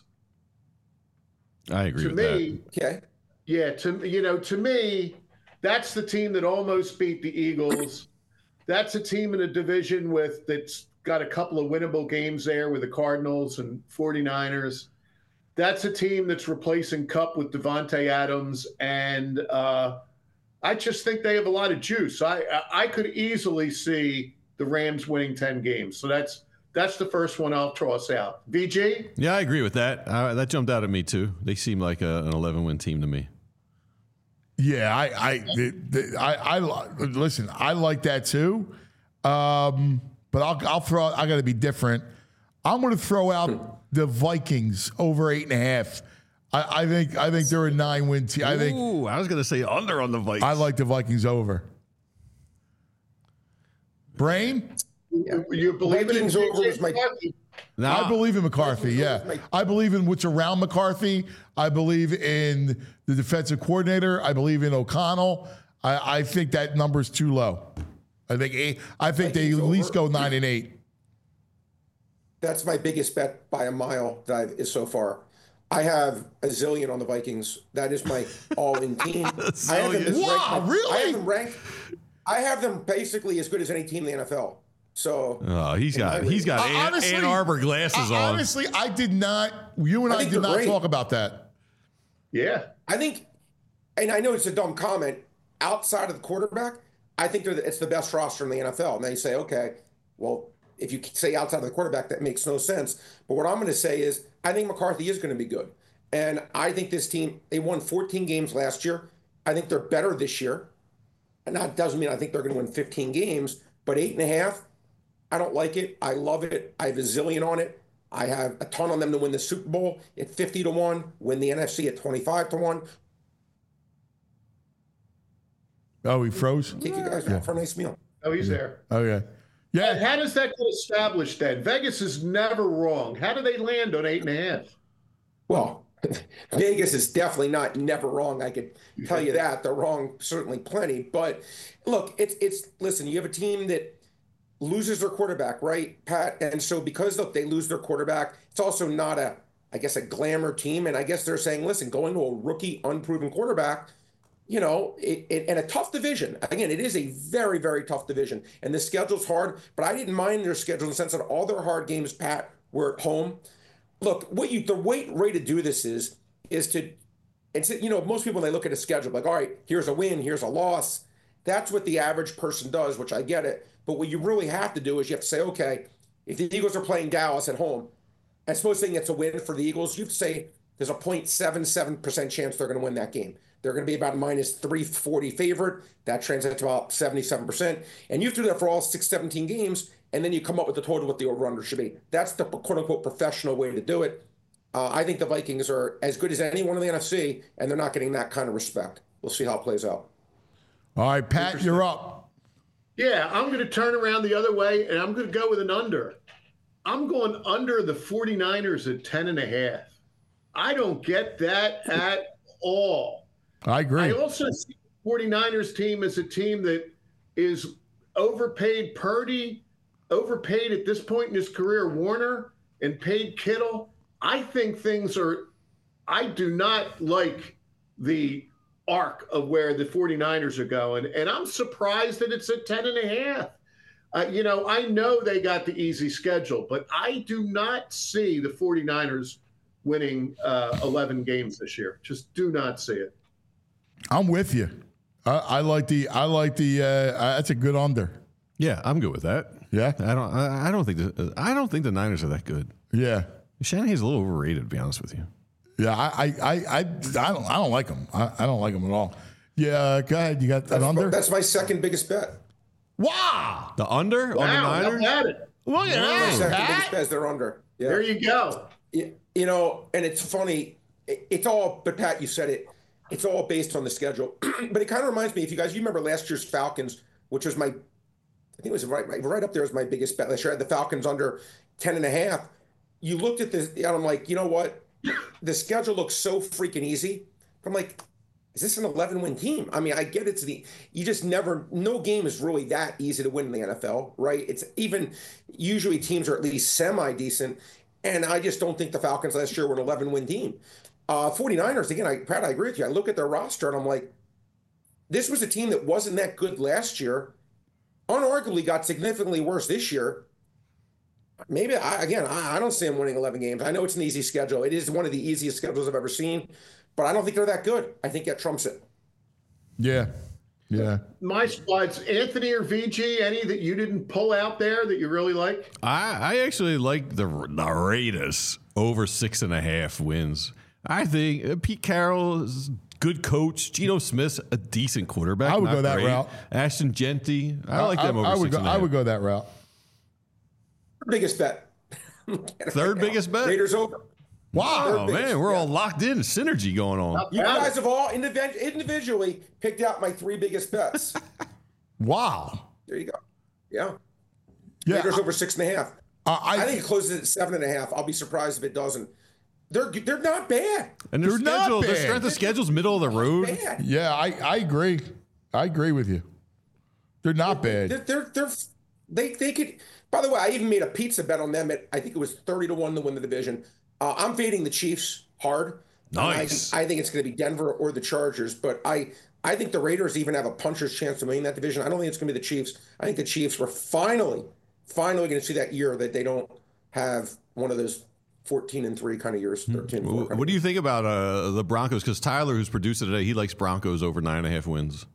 I agree to with me, that. Okay. Yeah, to you know, to me, that's the team that almost beat the Eagles. That's a team in a division with that's got a couple of winnable games there with the Cardinals and forty-niners. That's a team that's replacing Kupp with Devontae Adams, and uh, I just think they have a lot of juice. I I could easily see the Rams winning ten games. So that's that's the first one I'll toss out. V G? Yeah, I agree with that. Uh, that jumped out at me too. They seem like a, an eleven-win team to me. Yeah, I I, the, the, I I listen. I like that too, um, but I'll I'll throw. I got to be different. I'm going to throw out the Vikings over eight and a half. I, I think I think they're a nine-win team. I think. Ooh, I was going to say under on the Vikings. I like the Vikings over. Brain? Yeah. You believe Vikings in over was my. Nah. I believe in McCarthy, yeah. I believe in what's around McCarthy. I believe in the defensive coordinator. I believe in O'Connell. I, I think that number's too low. I think eight, I think Vikings they at least go nine and eight. That's my biggest bet by a mile that I've is so far. I have a zillion on the Vikings. That is my all-in team. I have them wow, ranked, really? I have them ranked. I have them basically as good as any team in the N F L. So Oh, he's got he's got Uh, Ann, honestly, Ann Arbor glasses uh, on. Honestly, I did not. You and I I, think did they're not great. talk about that. Yeah. I think, and I know it's a dumb comment, outside of the quarterback, I think they're the, it's the best roster in the N F L. And then you say, okay, well, if you say outside of the quarterback, that makes no sense. But what I'm going to say is, I think McCarthy is going to be good. And I think this team, they won fourteen games last year. I think they're better this year. And that doesn't mean I think they're going to win fifteen games, but eight and a half, I don't like it. I love it. I have a zillion on it. I have a ton on them to win the Super Bowl at fifty to one, win the N F C at twenty-five to one. Oh, he froze? Take you guys out for a nice meal. Oh, he's there. Okay. Yeah. How does that get established then? Vegas is never wrong. How do they land on eight and a half? Well, Vegas is definitely not never wrong. I could tell you that. They're wrong certainly plenty. But look, it's it's listen, you have a team that loses their quarterback, right, Pat? And so because look, they lose their quarterback, it's also not a, I guess, a glamour team. And I guess they're saying, listen, going to a rookie, unproven quarterback, you know, it, it, and a tough division. Again, it is a very, very tough division. And the schedule's hard, but I didn't mind their schedule in the sense that all their hard games, Pat, were at home. Look, what you the way, way to do this is, is to, it's, you know, most people, when they look at a schedule, like, all right, here's a win, here's a loss. That's what the average person does, which I get it. But what you really have to do is you have to say, okay, if the Eagles are playing Dallas at home, and supposing it's a win for the Eagles, you have to say there's a zero point seven seven percent chance they're going to win that game. They're going to be about minus three forty favorite. That translates to about seventy-seven percent. And you have to do that for all six, seventeen games, and then you come up with the total what the over-under should be. That's the quote-unquote professional way to do it. Uh, I think the Vikings are as good as anyone in the N F C, and they're not getting that kind of respect. We'll see how it plays out. All right, Pat, you're up. Yeah, I'm going to turn around the other way, and I'm going to go with an under. I'm going under the 49ers at ten and a half. I don't get that at all. I agree. I also see the 49ers team as a team that is overpaid Purdy, overpaid at this point in his career Warner, and paid Kittle. I think things are – I do not like the arc of where the 49ers are going, and I'm surprised that it's at ten and a half. Uh, you know, I know they got the easy schedule, but I do not see the 49ers winning uh, eleven games this year. Just do not see it. I'm with you. I, I like the. I like the. Uh, uh, that's a good under. Yeah, I'm good with that. Yeah, I don't. I, I don't think. The, I don't think the Niners are that good. Yeah, Shanahan's a little overrated, to be honest with you. Yeah, I, I, I, I, I don't. I don't like them. I, I don't like them at all. Yeah, go ahead. You got that That's, under? that's my second biggest bet. Wow. The under on the Niners? Look at it. Look at My that. second Pat. biggest bet is they're under. Yeah. There you go. You, you know, and it's funny. It, it's all, but Pat, you said it. It's all based on the schedule. But it kind of reminds me, if you guys, you remember last year's Falcons, which was my, I think it was right, right, right up there as my biggest bet. Last year I had the Falcons under ten and a half. You looked at this, and I'm like, you know what? The schedule looks so freaking easy. I'm like, is this an eleven-win team? I mean, I get it's the, you just never, no game is really that easy to win in the N F L, right? It's even, usually teams are at least semi-decent, and I just don't think the Falcons last year were an eleven-win team. Uh, 49ers, again, I, Pat, I agree with you. I look at their roster, and I'm like, this was a team that wasn't that good last year, unarguably got significantly worse this year. Maybe, I, again, I, I don't see them winning eleven games. I know it's an easy schedule. It is one of the easiest schedules I've ever seen, but I don't think they're that good. I think that trumps it. Yeah. Yeah. My spots, Anthony or V G, any that you didn't pull out there that you really like? I, I actually like the, the Raiders over six and a half wins. I think uh, Pete Carroll is a good coach. Geno Smith's a decent quarterback. I would not go that great. route. Ashton Genty, I, I like them over I would six go, and a I half. would go that route. Biggest bet. Third biggest bet? Raiders over. Wow, biggest, man, we're yeah. all locked in. Synergy going on. You guys have all indiv- individually picked out my three biggest bets. Wow. There you go. Yeah. Yeah. Raiders I- over six and a half. Uh, I, I think it closes at seven and a half. I'll be surprised if it doesn't. They're they're not bad. And their They're not schedule, their bad. strength of schedule's middle of the road. Bad. Yeah, I, I agree. I agree with you. They're not bad. They're, they're they're they they could. By the way, I even made a pizza bet on them at I think it was thirty to one to win the division. Uh, I'm fading the Chiefs hard. Nice. I, I think it's going to be Denver or the Chargers, but I I think the Raiders even have a puncher's chance to win that division. I don't think it's going to be the Chiefs. I think the Chiefs were finally finally going to see that year that they don't have one of those fourteen and three kind of years, thirteen and four. What, what do you think about uh, the Broncos? Because Tyler, who's produced it today, he likes Broncos over nine and a half wins.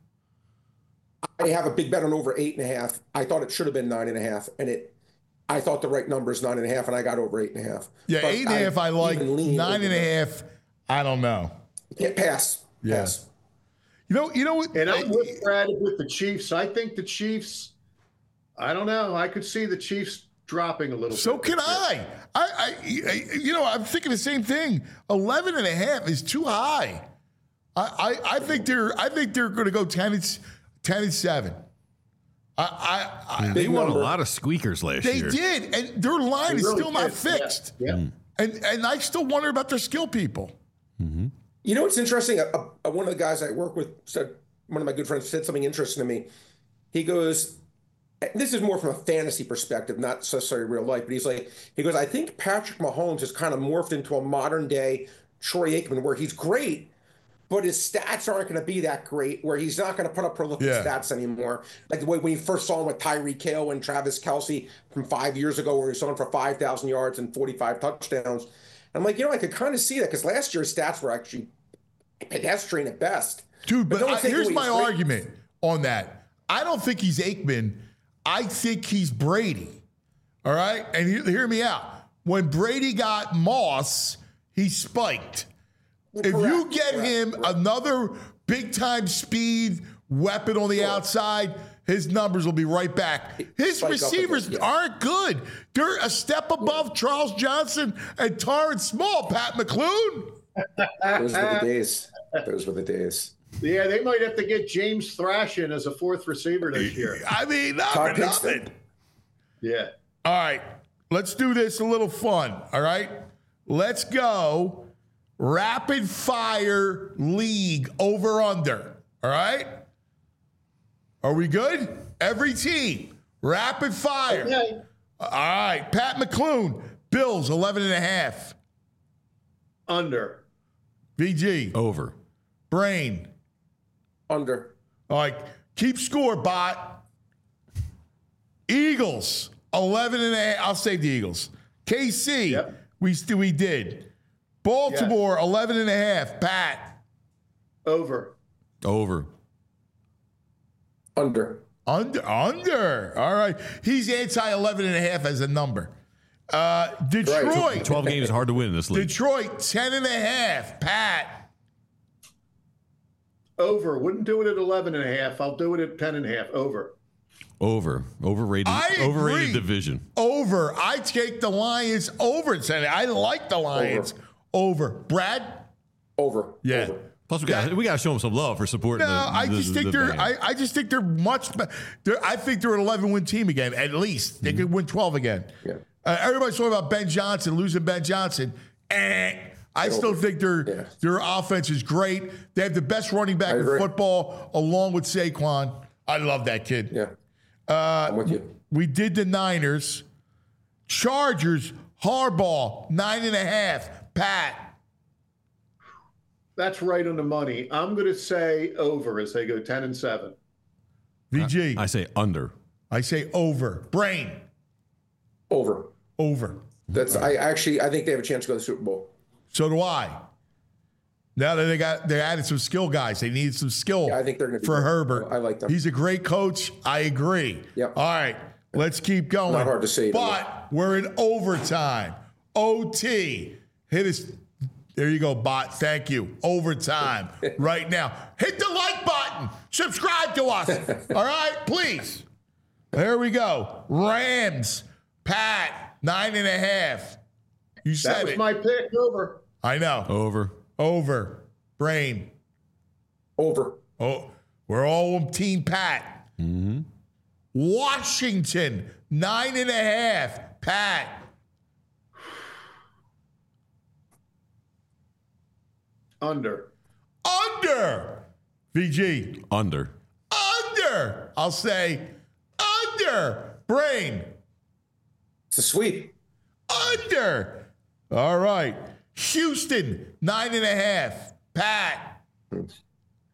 I have a big bet on over eight and a half. I thought it should have been nine and a half, and it. I thought the right number is nine and a half, and I got over eight and a half. Yeah, But eight and a half I like. even lean Nine over and a that. half, I don't know. Yeah, pass. Yeah. Pass. You know, you know what? And I'm with Brad with the Chiefs. I think the Chiefs, I don't know. I could see the Chiefs dropping a little So bit. can I. I, I, I. You know, I'm thinking the same thing. Eleven and a half is too high. I, I, I think they're. I think they're going to go ten and ten and seven. I, I, I They won number. a lot of squeakers last They year. did, and their line They is really still not did. Yeah. fixed. Yeah. And and I still wonder about their skill people. You know what's interesting? A, a, one of the guys I work with said, one of my good friends said something interesting to me. He goes, and this is more from a fantasy perspective, not necessarily real life, but he's like, he goes, I think Patrick Mahomes has kind of morphed into a modern day Troy Aikman where he's great, but his stats aren't going to be that great, where he's not going to put up prolific Yeah. stats anymore. Like the way when you first saw him with Tyreek Hill and Travis Kelce from five years ago, where he saw him for five thousand yards and forty-five touchdowns. I'm like, you know, I could kind of see that because last year's stats were actually pedestrian at best. Dude, but, don't I, take here's away my his great- argument on that. I don't think he's Aikman. I think he's Brady. All right? And hear, hear me out. When Brady got Moss, he spiked. If you Correct, get correct, him another big-time speed weapon on the Sure. outside, his numbers will be right back. His Spike up receivers again, yeah. aren't good. They're a step above Charles Johnson and Torrance Small, Pat McClune. Those were the days. Those were the days. Yeah, they might have to get James Thrash in as a fourth receiver this year. I mean, not Todd for nothing. Pinston. Yeah. All right, let's do this a little fun. All right, let's go rapid fire league over under. All right, are we good? Every team rapid fire. Okay. All right, Pat McClune, Bills eleven and a half. Under. V G Over. Brain. Under. All right, keep score, bot. Eagles eleven and a half. I'll save the Eagles. K C, Yep. we st- we did. Baltimore eleven and a half. Pat. Over. Over. Under. Under. Under. All right. He's anti eleven and a half as a number. Uh, Detroit. twelve games is hard to win in this league. Detroit ten and a half. Pat. Over. Wouldn't do it at eleven and a half. I'll do it at ten and a half. Over. Over. Overrated. I Overrated agree. division. Over. I take the Lions over. I like the Lions over. Brad. Over. Yeah. Over. Plus, we got we got to show them some love for supporting. No, the, I the- just the think they're. band. I, I just think they're much. be- They're, I think they're an eleven win team again. At least they could win twelve again. Yeah. Uh, everybody's talking about Ben Johnson losing Ben Johnson. Eh, I still think their Yeah. their offense is great. They have the best running back I in agree. football, along with Saquon. I love that kid. Yeah. I'm with you. We did the Niners, Chargers, Harbaugh nine and a half. Pat. That's right on the money. I'm going to say over as they go ten and seven. V G. I say under. I say over. Brain. Over. Over. That's. I actually. I think they have a chance to go to the Super Bowl. So do I. Now that they got they added some skill guys, they need some skill. Yeah, I think they're gonna be for good. Herbert. I like them. He's a great coach. I agree. Yep. All right, let's keep going. Not hard to say, But we're in overtime. O T. Hit us. There you go, bot. Thank you. Overtime right now. Hit the like button. Subscribe to us. All right, please. There we go. Rams. Pat. Nine and a half. You said That was it. my pick. Over. I know. Over. Over. Brain. Over. Oh, we're all on Team Pat. Mm-hmm. Washington, nine and a half. Pat. Under. Under. V G. Under. Under. I'll say under. Brain. It's a sweep. Under. All right. Houston, nine and a half. Pat.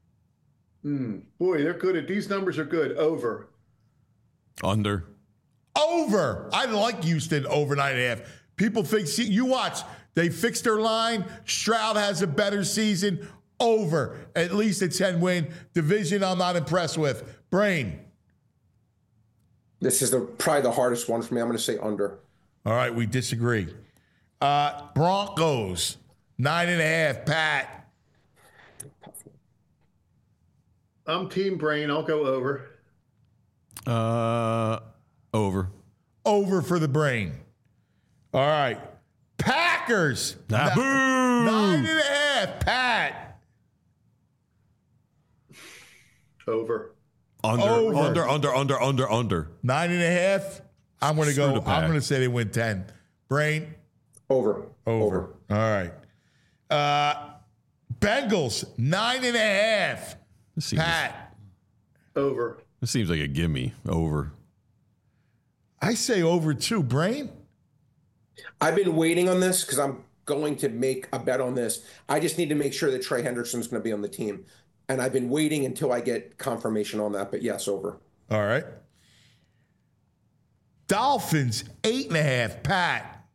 Mm, boy, they're good at these numbers are good. Over. Under. Over. I like Houston over nine and a half. People think, see, you watch, they fixed their line. Stroud has a better season. Over. At least a ten win. Division I'm not impressed with. Brain. This is the probably the hardest one for me. I'm going to say under. All right, we disagree. Uh, Broncos, nine and a half. Pat. I'm team Brain. I'll go over. Uh, over. Over for the Brain. All right. Packers. Ah, N- boo! Nine and a half. Pat. Over. Under, Over. under, under, under, under, under. Nine and a half. I'm going to Screw go. the Pack. I'm going to say they win ten. Brain. Over. Over. All right. Uh, Bengals, nine and a half. This seems, Pat. Over. this seems like a gimme. Over. I say over two. Brain. I've been waiting on this because I'm going to make a bet on this. I just need to make sure that Trey Henderson's going to be on the team. And I've been waiting until I get confirmation on that. But yes, over. All right. Dolphins, eight and a half. Pat.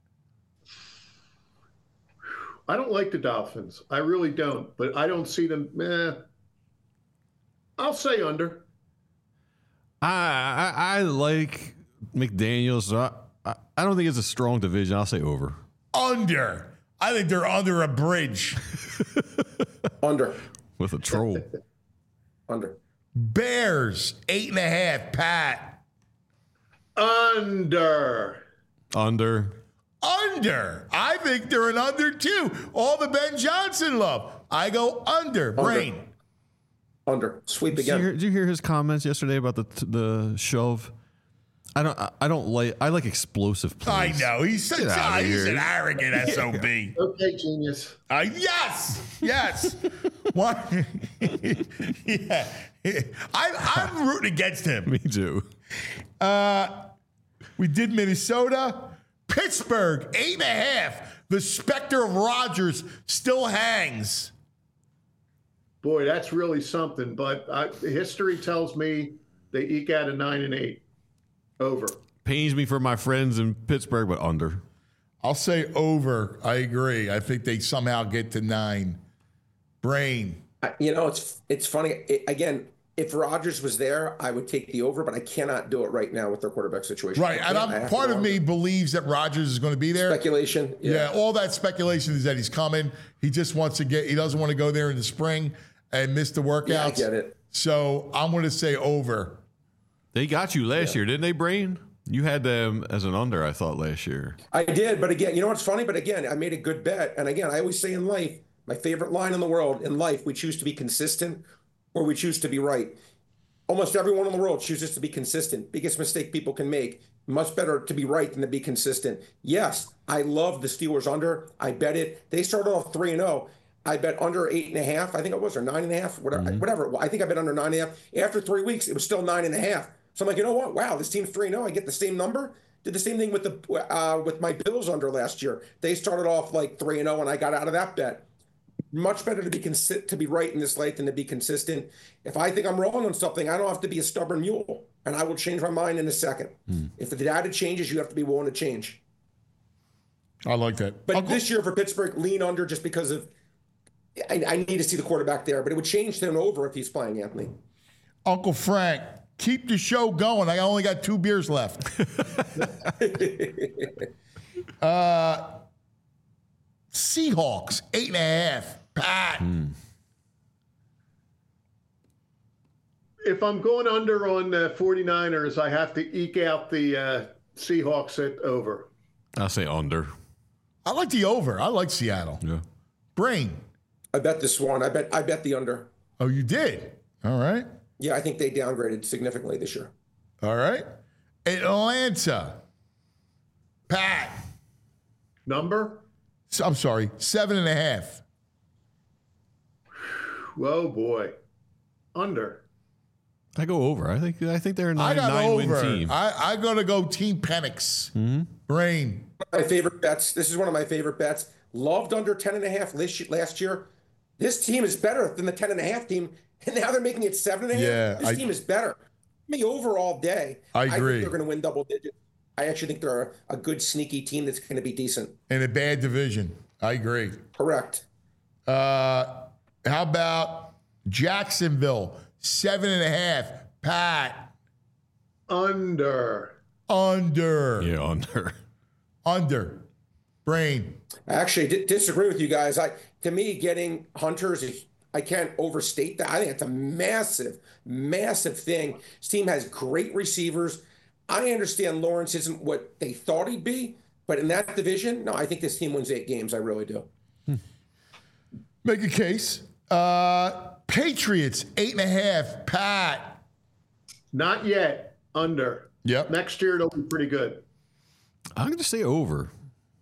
I don't like the Dolphins. I really don't. But I don't see them. Eh. I'll say under. I I, I like McDaniels. So I, I, I don't think it's a strong division. I'll say over. Under. I think they're under a bridge. Under. With a troll. Under. Bears, eight and a half. Pat. Under. Under. Under. I think they're an under too. All the Ben Johnson love. I go under. Brain. Under. Sweep Did you, again. hear, did you hear his comments yesterday about the the shove? I don't. I, I don't like. I like explosive I plays. know. He's such Get a, outta he's here. an arrogant S O B. Okay, genius. Uh, yes, yes. What? Yeah, I, I'm rooting against him. Me too. Uh, we did Minnesota, Pittsburgh, eight and a half. The specter of Rodgers still hangs. Boy, that's really something. But I, history tells me they eke out a nine and eight. Over. Pains me for my friends in Pittsburgh, but under. I'll say over. I agree. I think they somehow get to nine. Brain. I- You know, it's it's funny. It, again, if Rodgers was there, I would take the over, but I cannot do it right now with their quarterback situation. Right, I and can't. I I'm have to part go of under. me believes that Rodgers is going to be there. Speculation. Yeah. all that speculation is that he's coming. He just wants to get. He doesn't want to go there in the spring and miss the workouts. Yeah, I get it. So I'm going to say over. They got you last year, didn't they, Brain? You had them as an under, I thought, last year. I did, but again, you know what's funny? But again, I made a good bet. And again, I always say in life, my favorite line in the world, in life, we choose to be consistent or we choose to be right. Almost everyone in the world chooses to be consistent. Biggest mistake people can make. Much better to be right than to be consistent. Yes, I love the Steelers under. I bet it. They started off three and oh. I bet under eight and a half. I think it was, or nine and a half, whatever. Mm-hmm. whatever. I think I bet under nine and a half. After three weeks, it was still nine and a half. So I'm like, you know what? Wow, this team's three and oh. I get the same number. Did the same thing with the uh, with my Bills under last year. They started off like three and oh, and I got out of that bet. Much better to be consi- to be right in this life than to be consistent. If I think I'm wrong on something, I don't have to be a stubborn mule, and I will change my mind in a second. Hmm. If the data changes, you have to be willing to change. I like that. But Uncle, this year for Pittsburgh, lean under just because of I, I need to see the quarterback there. But it would change to an over if he's playing, Anthony. Uncle Frank, keep the show going. I only got two beers left. uh, Seahawks, eight and a half. Pat. If I'm going under on the 49ers, I have to eke out the uh, Seahawks at over. I'll say under. I like the over. I like Seattle. Yeah. Brain. I bet this one. I bet I bet the under. Oh, you did? All right. Yeah, I think they downgraded significantly this year. All right. Atlanta. Pat. Number? I'm sorry, seven and a half. Whoa, boy. Under. I go over. I think I think they're a I nine, got nine over. win team. I, I'm going to go Team Penix. Mm-hmm. Brain. My favorite bets. This is one of my favorite bets. Loved under ten and a half last year. This team is better than the ten and a half team, and now they're making it seven and a half. Yeah, this I- team is better. Me over all day. I I agree. think they're going to win double digits. I actually think they're a, a good sneaky team that's going to be decent. In a bad division. I agree. Correct. Uh, how about Jacksonville? Seven and a half. Pat. Under. Under. Yeah, under. Under. Brain. I actually d- disagree with you guys. I to me, getting Hunters, I can't overstate that. I think it's a massive, massive thing. This team has great receivers. I understand Lawrence isn't what they thought he'd be, but in that division, no, I think this team wins eight games. I really do. Hmm. Make a case. Uh, Patriots, eight and a half. Pat. Not yet. Under. Yep. Next year, it'll be pretty good. I'm going to say over.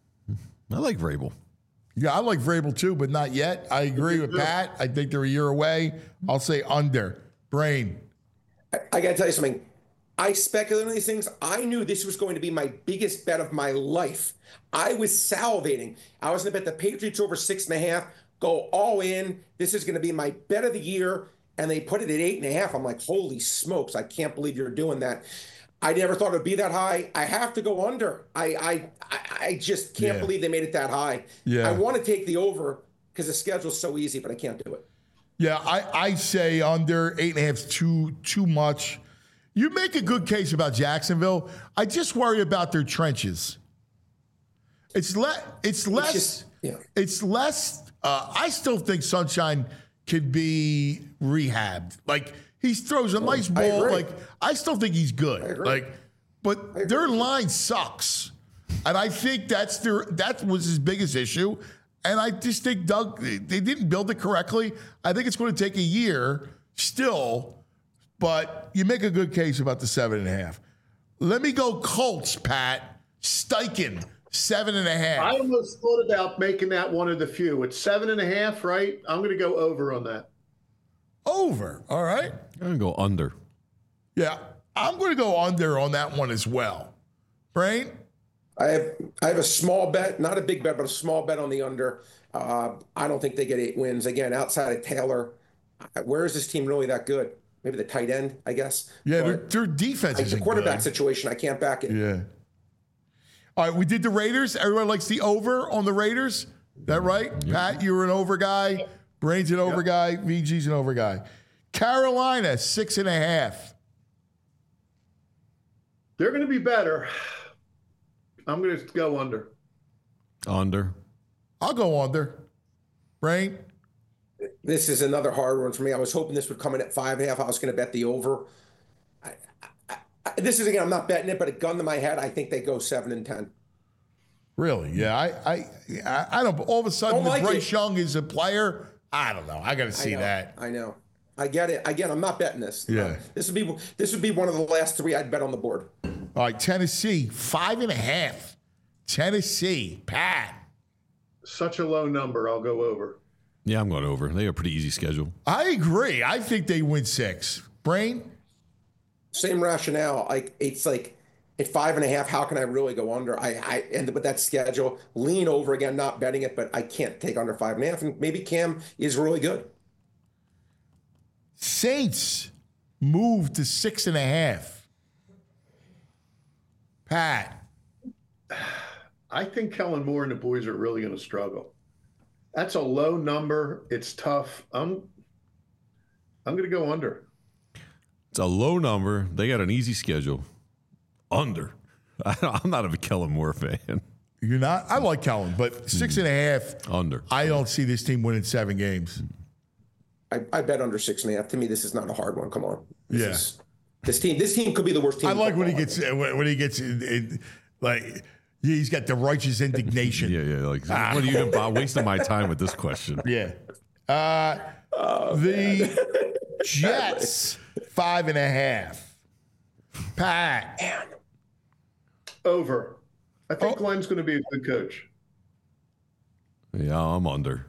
I like Vrabel. Yeah, I like Vrabel too, but not yet. I agree with Pat. I think they're a year away. I'll say under. Brain. I, I got to tell you something. I speculate on these things. I knew this was going to be my biggest bet of my life. I was salivating. I was going to bet the Patriots over six and a half, go all in. This is going to be my bet of the year. And they put it at eight and a half. I'm like, holy smokes, I can't believe you're doing that. I never thought it would be that high. I have to go under. I I, I just can't Yeah. believe they made it that high. Yeah. I want to take the over because the schedule's so easy, but I can't do it. Yeah, I, I say under. Eight and a half is too, too much. You make a good case about Jacksonville. I just worry about their trenches. It's, le- it's less. just- yeah. It's less. Uh, I still think Sunshine could be rehabbed. Like, he throws a nice I ball. agree. Like, I still think he's good. agree. Like, but their line sucks, and I think that's their that was his biggest issue. And I just think Doug they didn't build it correctly. I think it's going to take a year still, but you make a good case about the seven and a half. Let me go Colts, Pat. Steichen, seven and a half. I almost thought about making that one of the few. It's seven and a half, right? I'm going to go over on that. Over. All right. I'm going to go under. Yeah, I'm going to go under on that one as well. Brain? I have I have a small bet, not a big bet, but a small bet on the under. Uh, I don't think they get eight wins. Again, outside of Taylor, where is this team really that good? Maybe the tight end, I guess. Yeah, their, But their defense like is the quarterback situation. I can't back it. Yeah. All right, we did the Raiders. Everyone likes the over on the Raiders. That right? Pat, you were an over guy. Brain's an over guy. V G's an over guy. Carolina, six and a half. They're going to be better. I'm going to go under. Under. I'll go under. Brain? This is another hard one for me. I was hoping this would come in at five and a half. I was going to bet the over. I, I, I, this is again, I'm not betting it, but a gun to my head, I think they go seven and ten. Really? Yeah. I I I, I don't. All of a sudden, Don't like Bryce it. Young is a player. I don't know. I got to see I know, that. I know. I get it. Again, I'm not betting this. Yeah. Uh, this would be this would be one of the last three I'd bet on the board. All right, Tennessee, five and a half. Tennessee, Pat. Such a low number. I'll go over. Yeah, I'm going over. They have a pretty easy schedule. I agree. I think they win six. Brain? Same rationale. Like it's like at five and a half. How can I really go under? I I end up with that schedule. Lean over again. Not betting it, but I can't take under five and a half. And maybe Cam is really good. Saints moved to six and a half. Pat. I think Kellen Moore and the boys are really going to struggle. That's a low number. It's tough. I'm I'm going to go under. It's a low number. They got an easy schedule. Under. I, I'm not a Kellen Moore fan. You're not? I like Kellen, but six and a half. Under. I don't see this team winning seven games. I, I bet under six and a half. To me, this is not a hard one. Come on. This Yeah. is- this team. This team could be the worst team. I in like when he football. gets when when he gets in, in, like he's got the righteous indignation. Yeah, yeah. Like, what are you doing? I'm wasting my time with this question. Yeah. Uh, the Jets, five and a half. Pat. Over. I think Oh. Glenn's going to be a good coach. Yeah, I'm under.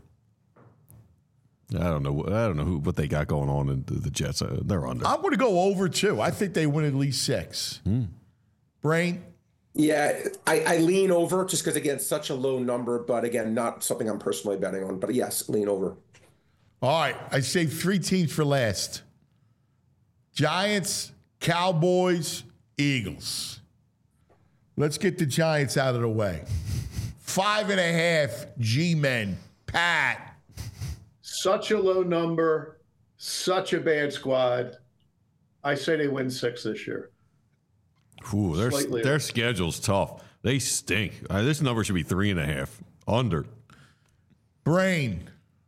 I don't know. I don't know who what they got going on in the, the Jets. Uh, they're under. I'm going to go over too. I think they win at least six. Brain. Yeah, I, I lean over just because again, such a low number, but again, not something I'm personally betting on. But yes, lean over. All right. I saved three teams for last. Giants, Cowboys, Eagles. Let's get the Giants out of the way. Five and a half G-men. Pat. Such a low number, such a bad squad. I say they win six this year. Ooh, their, Slightly. their schedule's tough. They stink. Uh, this number should be three and a half. Under. Brain.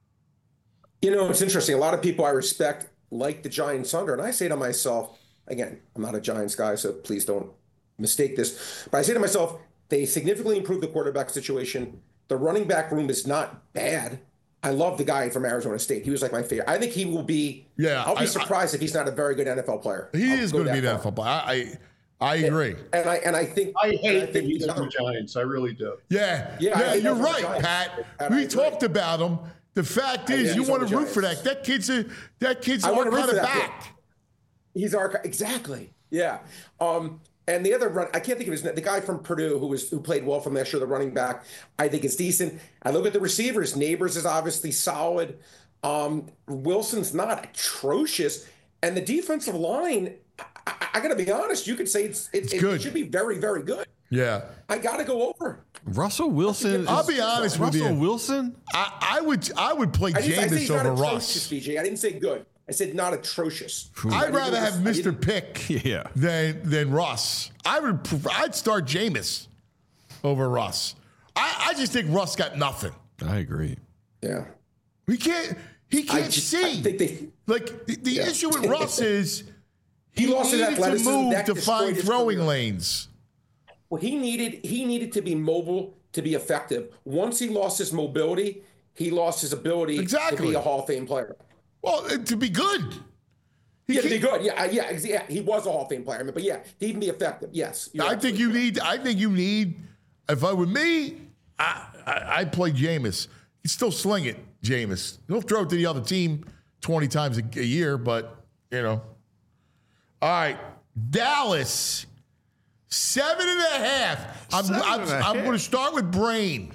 You know, it's interesting. A lot of people I respect like the Giants under, and I say to myself, again, I'm not a Giants guy, so please don't mistake this, but I say to myself, they significantly improved the quarterback situation. The running back room is not bad. I love the guy from Arizona State. He was like my favorite. I think he will be. Yeah, I'll be I- surprised if he's not a very good N F L player. He I'll is go going to be that an N F L far. player. I, I, I agree. And I and I think I and hate that think he's he's on the Giants. I really do. Yeah, Yeah, I yeah, think you're that's what right, the Giants- Pat. and I We agree. talked about him. The fact I is, think you he's on want the to root for Giants. that. That kid's a that kid's I our want to root kind for of that. back. He's our exactly. Yeah. Um, and the other run, I can't think of his name. The guy from Purdue who was who played well from last year, the running back, I think is decent. I look at the receivers. Neighbors is obviously solid. Um, Wilson's not atrocious, and the defensive line. I, I, I got to be honest. You could say it's, it's, It's good. it should be very very good. Yeah. I got to go over. Russell Wilson. I'll is- be honest with Russell you. Wilson? I, I would I would play I didn't I say Jameis he's not over atrocious, Russ. B J. I didn't say good. I said not atrocious. I I'd didn't rather go have with- I Mister didn't- Pick Yeah. than than Russ. I would prefer, I'd start Jameis over Russ. I, I just think Russ got nothing. I agree. Yeah. He can't he I can't just- see. I think they. like the, the Yeah. issue with Russ is He lost his needed to athleticism. move That to destroyed find his throwing career. lanes. Well, he needed he needed to be mobile to be effective. Once he lost his mobility, he lost his ability to Exactly. be a Hall of Fame player. Well, uh, to be good. He Yeah, to be can't- good. Yeah, yeah, ex- yeah. He was a Hall of Fame player, but yeah, to even be effective. Yes, you're I think you need. I think you need. If I were me, I, I I'd play Jameis. He'd still sling it, Jameis. He'll throw it to the other team twenty times a, a year, but you know. All right, Dallas, seven and a half. I'm Seven I'm, and a I'm half. going to start with Brain.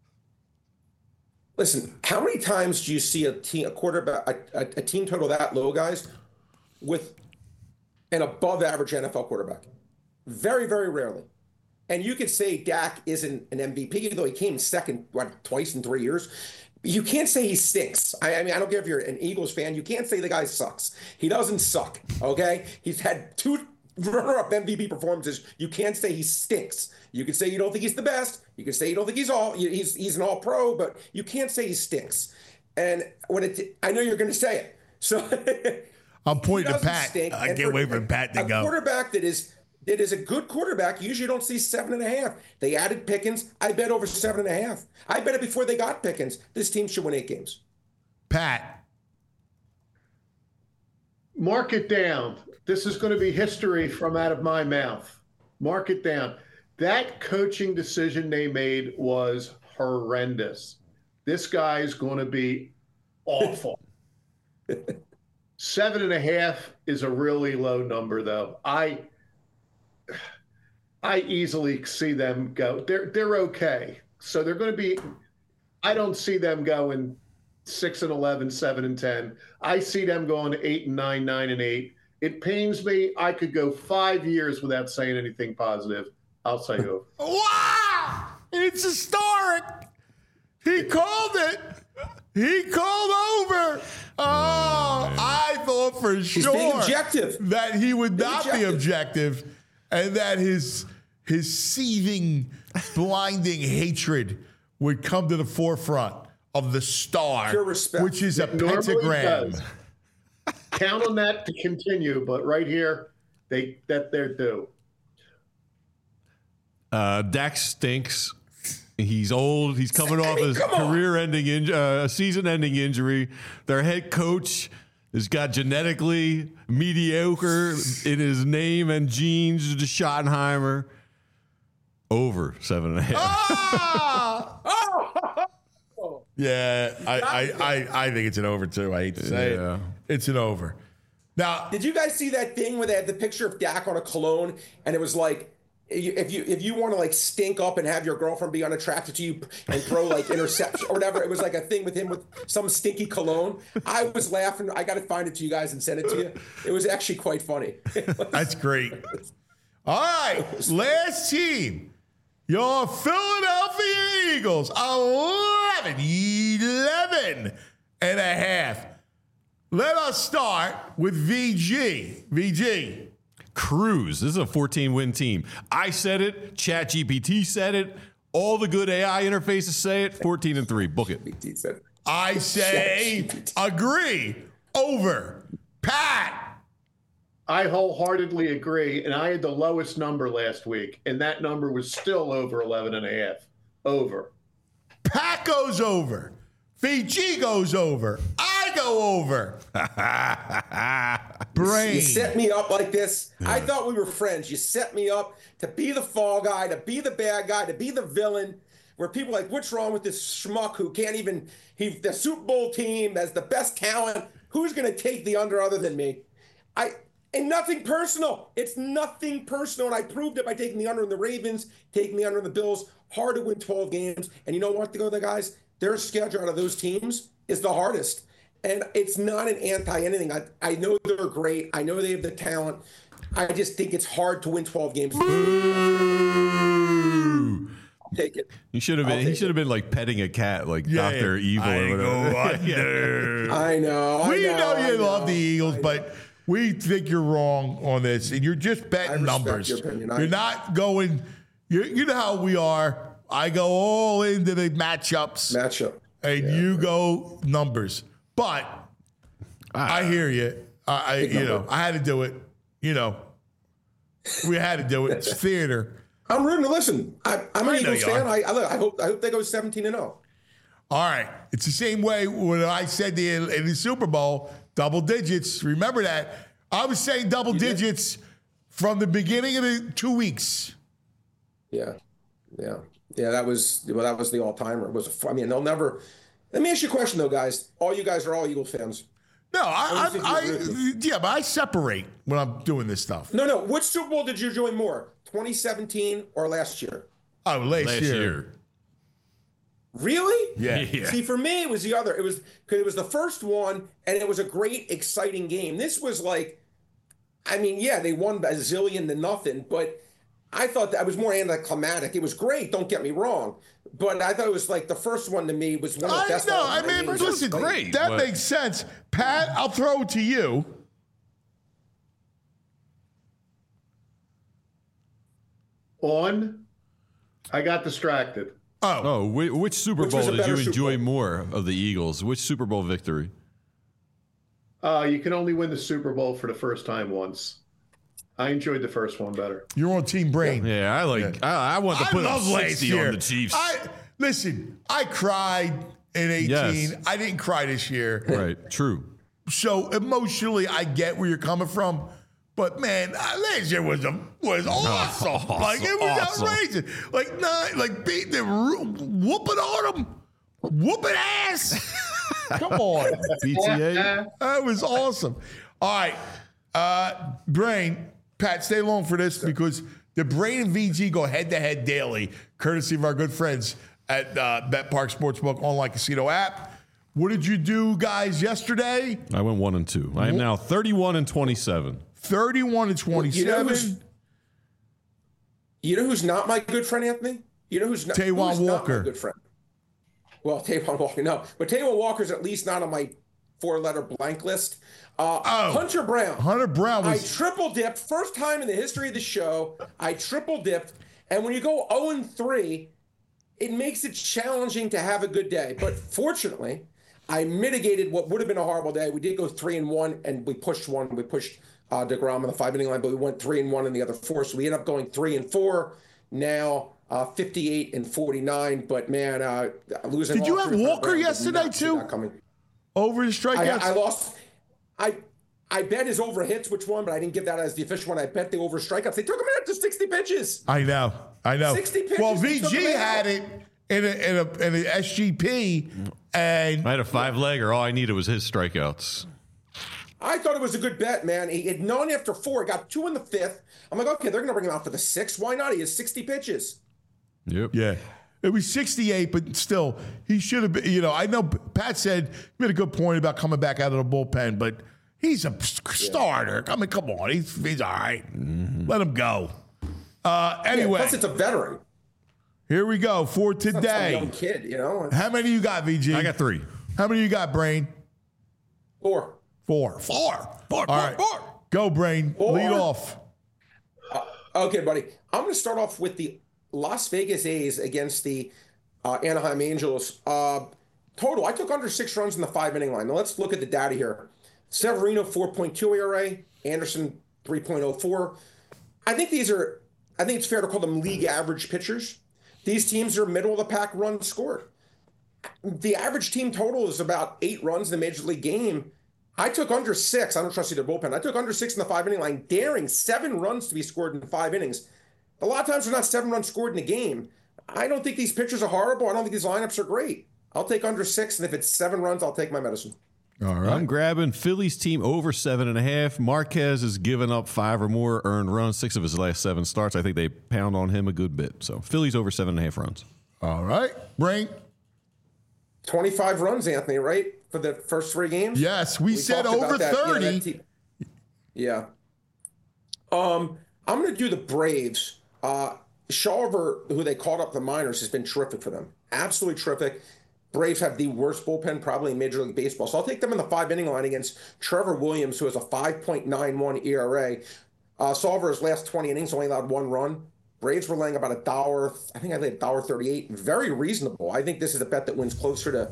Listen, how many times do you see a team, a quarterback, a, a, a team total that low, guys, with an above-average N F L quarterback? Very, very rarely. And you could say Dak isn't an M V P, though he came second, what, twice in three years. You can't say he stinks. I, I mean, I don't care if you're an Eagles fan. You can't say the guy sucks. He doesn't suck, okay? He's had two runner-up M V P performances. You can't say he stinks. You can say you don't think he's the best. You can say you don't think he's all he's he's an all-pro, but you can't say he stinks. And when it, I know you're going to say it, so I'm he pointing to doesn't Pat. stink. I And can't for wait for Pat to a go. quarterback that is that is a good quarterback. You usually don't see seven and a half. They added Pickens. I bet over seven and a half. I bet it before they got Pickens. This team should win eight games. Pat. Mark it down. This is going to be history from out of my mouth. Mark it down. That coaching decision they made was horrendous. This guy is going to be awful. Seven and a half is a really low number, though. I I easily see them go. They're they're okay. So they're going to be. I don't see them going six and eleven, seven and ten. I see them going eight and nine, nine and eight. It pains me. I could go five years without saying anything positive. I'll say over. Wow! It's historic. He called it. He called over. Oh, I thought for sure being objective. that he would Being not be objective. objective, and that his his seething, blinding hatred would come to the forefront of the star, Pure respect. which is a It normally pentagram. does. Count on that to continue, but right here, they that they're due. Uh, Dak stinks. He's old. He's coming off his come on. career-ending, in, uh, season-ending injury. Their head coach has got genetically mediocre in his name and genes. To Schottenheimer. Over seven and a half. Ah! Oh, Yeah, I, I, I, I think it's an over too. I hate to say Yeah. it. It's an over. Now, did you guys see that thing where they had the picture of Dak on a cologne, and it was like, if you if you want to like stink up and have your girlfriend be unattracted to you and throw like interception or whatever, it was like a thing with him with some stinky cologne. I was laughing. I got to find it to you guys and send it to you. It was actually quite funny. that's great. All right, last team. Your Philadelphia Eagles, eleven, eleven and a half. Let us start with V G. V G. Cruise. This is a fourteen-win team. I said it. ChatGPT said it. All the good A I interfaces say it. fourteen and three. Book it. I say agree. Over. Pat. I wholeheartedly agree, and I had the lowest number last week, and that number was still over eleven and a half. Over. Pat goes over. V G goes over. I go over. Brain. You set me up like this. I thought we were friends. You set me up to be the fall guy, to be the bad guy, to be the villain, where people are like, what's wrong with this schmuck who can't even, he, the Super Bowl team has the best talent. Who's going to take the under other than me? I... And nothing personal. It's nothing personal. And I proved it by taking the under in the Ravens, taking the under in the Bills. Hard to win twelve games. And you know what, to go there, guys? Their schedule out of those teams is the hardest. And it's not an anti-anything. I, I know they're great. I know they have the talent. I just think it's hard to win twelve games. Boo! Take it. He should have been. He should have been like petting a cat, like Yeah, Doctor yeah. Evil I or whatever. go under. I know. I We know, know I you know, love the Eagles, I know. but we think you're wrong on this, and you're just betting respect numbers. your opinion. I- You're not going. You you know how we are. I go all into the matchups, Matchup. and Yeah, you right. go numbers. But I hear you. I, I you know number. I had to do it. You know, we had to do it. It's theater. I'm rooting to listen. I, I'm an I know Eagles you fan. are. I, I, look, I hope I hope they go seventeen and oh. All right. It's the same way when I said the, in the Super Bowl, double digits. Remember that? I was saying double digits from the beginning of the two weeks. Yeah, yeah, yeah. That was well. That was the all timer. It was. A, I mean, they'll never. Let me ask you a question though, guys. All you guys are all Eagles fans. No, I I, don't think I, you agree with I yeah, but I separate when I'm doing this stuff. No, no. Which Super Bowl did you enjoy more, twenty seventeen or last year? Oh, last, Last year. year. Really? Yeah. Yeah. See, for me, it was the other. It was because it was the first one, and it was a great, exciting game. This was like, I mean, yeah, they won a zillion to nothing, but I thought that was more anticlimactic. It was great. Don't get me wrong, but I thought it was like the first one to me was one of the I best. know. all I time mean, games. listen, great, that but- makes sense. Pat, I'll throw it to you. On, I got distracted. Oh, Oh, which, which Super Which was Bowl a did you better Super enjoy Bowl? more of the Eagles? Which Super Bowl victory? Uh, you can only win the Super Bowl for the first time once. I enjoyed the first one better. you're on Team Brain. Yeah, I like. I, I want to I put up love last sixty year. on the Chiefs. I listen. I cried in eighteen. Yes. I didn't cry this year. right. True. So emotionally, I get where you're coming from. But man, uh, last year was a, was awesome. Awesome, Like it was awesome. outrageous. Like nine, like beating them, whooping on them, whooping ass. Come on, B T A. that was awesome. All right, uh, Brain, Pat, stay along for this because the Brain and V G go head to head daily, courtesy of our good friends at uh, Bet Park Sportsbook online casino app. What did you do, guys, yesterday? I went one and two. I am now thirty-one and twenty-seven. thirty-one and You know, twenty-seven. who's, you know who's not my good friend, Anthony? You know who's not, Taywan who's not Walker. my good friend? Well, Taywan Walker, no. But Taywan Walker's at least not on my four-letter blank list. Uh, Oh. Hunter Brown. Hunter Brown I was triple dipped. First time in the history of the show, I triple dipped. And when you go oh and three, it makes it challenging to have a good day. But fortunately, I mitigated what would have been a horrible day. We did go three and one, and we pushed one. We pushed uh, DeGrom on the five-inning line, but we went three and one in the other four. So we ended up going three and four. Now uh, fifty-eight and forty-nine. But man, uh, losing. Did you all have three for Walker Brown, did yesterday, not see too? that coming. over the I, strikeouts. I lost. I I bet his over hits which one, but I didn't give that as the official one. I bet the over strikeouts. They took him out to sixty pitches. I know, I know. sixty pitches, Well, they took V G him out. had it in a in a in a S G P, and I had a five legger. All I needed was his strikeouts. I thought it was a good bet, man. He had none after four. He got two in the fifth. I'm like, okay, they're going to bring him out for the sixth. Why not? He has sixty pitches. Yep. yeah, it was sixty-eight, but still, he should have been. You know, I know Pat said he made a good point about coming back out of the bullpen, but he's a starter. I mean, come on, he's he's all right. Let him go. Uh, anyway. Yeah, plus, it's a veteran. Here we go for It's not some today. young kid, you know. How many you got, V G? I got three. How many you got, Brain? Four. Four. Four. Four, All four, right. four. Go, Brain. Four. Lead off. Uh, okay, buddy. I'm going to start off with the Las Vegas A's against the uh, Anaheim Angels. Uh, total, I took under six runs in the five-inning line. Now, let's look at the data here. Severino, four point two E R A. Anderson, three point oh four. I think these are, I think it's fair to call them league average pitchers. These teams are middle-of-the-pack runs scored. The average team total is about eight runs in the Major League game. I took under six. I don't trust either bullpen. I took under six in the five-inning line, daring seven runs to be scored in five innings. A lot of times there's not seven runs scored in a game. I don't think these pitchers are horrible. I don't think these lineups are great. I'll take under six, and if it's seven runs, I'll take my medicine. All right. I'm grabbing Phillies team over seven and a half. Marquez has given up five or more earned runs, six of his last seven starts. I think they pound on him a good bit. So Phillies over seven and a half runs. All right. Brain. twenty-five runs, Anthony, right? For the first three games? Yes, we, we said talked about over that. thirty. Yeah, that te- yeah. Um, I'm going to do the Braves. Uh, Shawver, who they called up the minors, has been terrific for them. Absolutely terrific. Braves have the worst bullpen probably in Major League Baseball. So I'll take them in the five-inning line against Trevor Williams, who has a five point nine one E R A. Uh, Solver's last twenty innings only allowed one run. Braves were laying about a dollar. I think I laid a dollar thirty-eight. Very reasonable. I think this is a bet that wins closer to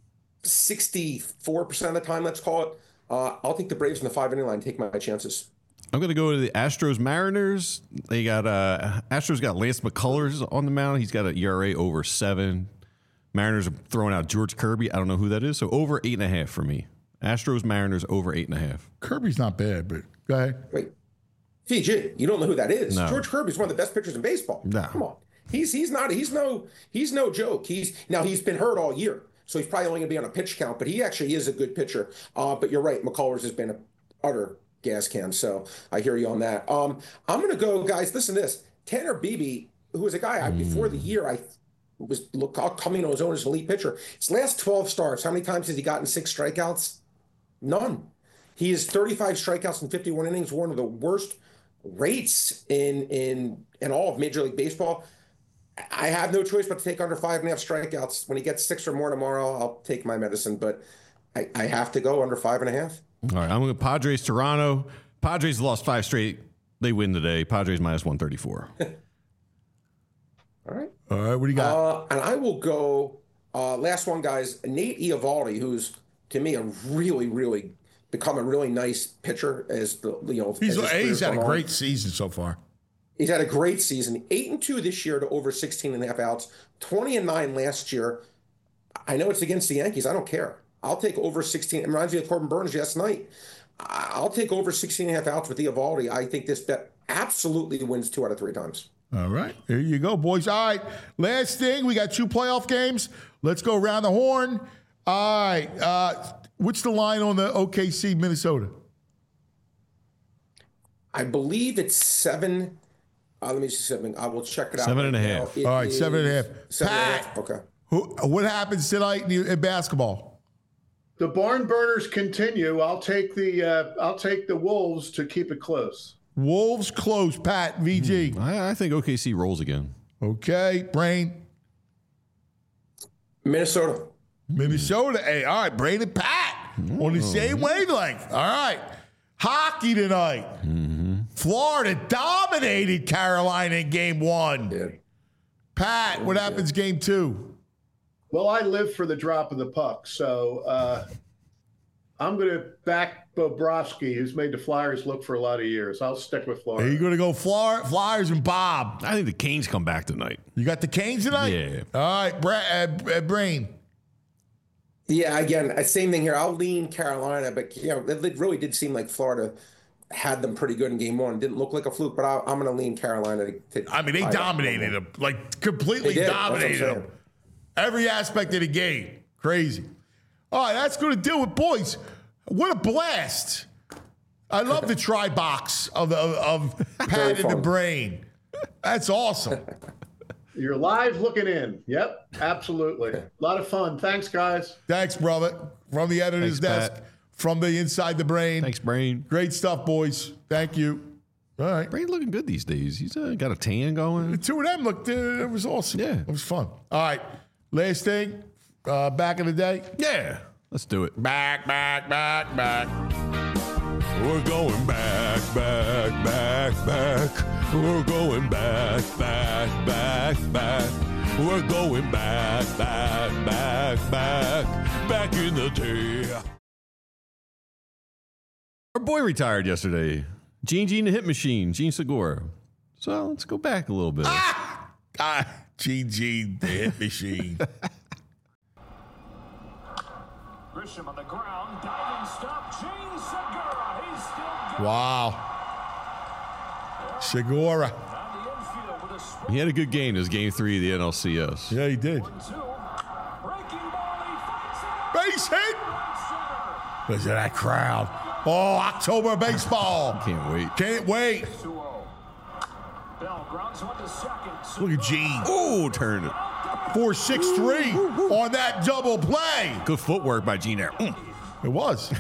sixty-four percent of the time, let's call it. Uh, I'll take the Braves in the five-inning line and take my chances. I'm going to go to the Astros Mariners. They got uh, Astros got Lance McCullers on the mound. He's got an E R A over seven. Mariners are throwing out George Kirby. I don't know who that is. So over eight and a half for me. Astros Mariners over eight and a half. Kirby's not bad, but go ahead. Wait, P G, you don't know who that is? No. George Kirby's one of the best pitchers in baseball. No. Come on, he's he's not he's no he's no joke. He's now he's been hurt all year, so he's probably only going to be on a pitch count. But he actually is a good pitcher. Uh, but you're right, McCullers has been an utter gas can. So I hear you on that. Um, I'm going to go, guys. Listen to this. Tanner Beebe, who was a guy I, before the year I was look coming on his own as an elite pitcher. His last twelve starts, how many times has he gotten six strikeouts? None. He has thirty-five strikeouts in fifty-one innings, one of the worst rates in in in all of Major League Baseball. I have no choice but to take under five and a half strikeouts. When he gets six or more tomorrow, I'll take my medicine, but I, I have to go under five and a half. All right, I'm going to Padres Toronto. Padres lost five straight. They win today. Padres minus one thirty-four. All right. All right, what do you got? Uh, and I will go, uh, last one, guys, Nate Eovaldi, who's, to me, a really, really, become a really nice pitcher as the, you know. He's, as his he's had a career's great gone on. season so far. He's had a great season. Eight and two this year to over sixteen and a half outs, twenty and nine last year. I know it's against the Yankees. I don't care. I'll take over sixteen. It reminds me of Corbin Burns last night. I'll take over sixteen and a half outs with Eovaldi. I think this bet absolutely wins two out of three times. All right. There you go, boys. All right. Last thing, we got two playoff games. Let's go around the horn. All right. Uh, what's the line on the O K C Minnesota? I believe it's seven. Uh, let me see something. I will check it out. Seven and a right half. now. It All right, seven and a half. Seven and a Pat. half. Okay. Who, what happens tonight in, in basketball? The barn burners continue. I'll take the uh, I'll take the Wolves to keep it close. Wolves close. Pat, V G. I, I think O K C rolls again. Okay. Brain. Minnesota. Minnesota. Hey, all right. Brain and Pat on the same wavelength. All right. Hockey tonight. Mm-hmm. Florida dominated Carolina in game one. Yeah. Pat, what happens game two? Well, I live for the drop of the puck, so uh, I'm going to back Bobrovsky, who's made the Flyers look for a lot of years. I'll stick with Are Florida. you going to go Fly- Flyers and Bob? I think the Canes come back tonight. You got the Canes tonight? Yeah. All right. Bra- uh, uh, Brain. Yeah, again, uh, same thing here. I'll lean Carolina, but you know, it, it really did seem like Florida had them pretty good in game one. Didn't look like a fluke, but I, I'm going to lean Carolina. To, to I mean, they I, dominated them. Like, completely They did. That's what I'm dominated saying. them. Every aspect of the game. Crazy. All right, that's going to do it, boys. What a blast. I love the try box of, of, of Pat in the Brain. That's awesome. You're live looking in. Yep, absolutely. A lot of fun. Thanks, guys. Thanks, brother. From the editor's Thanks, desk, Pat. from the inside the brain. Thanks, Brain. Great stuff, boys. Thank you. All right. Brady looking good these days. He's uh, got a tan going. The two of them looked, uh, it was awesome. Yeah. It was fun. All right. Last thing, uh, back in the day. Yeah. Let's do it. Back, back, back, back. We're going back, back, back, back. We're going back, back, back, back. We're going back, back, back, back. Back in the day. Our boy retired yesterday. Gene Gene the Hit Machine, Gene Segura. So let's go back a little bit. Ah! ah Gene Gene the Hit Machine. Grisham on the ground, diving stop, Gene Segura. He's still good. Wow. Segura. He had a good game. This game three of the N L C S. Yeah, he did. Base hit. Listen to that crowd. Oh, October baseball. Can't wait. Can't wait. Look at Gene. Ooh, turned it. four six three on that double play. Good footwork by Gene there. Mm. It was.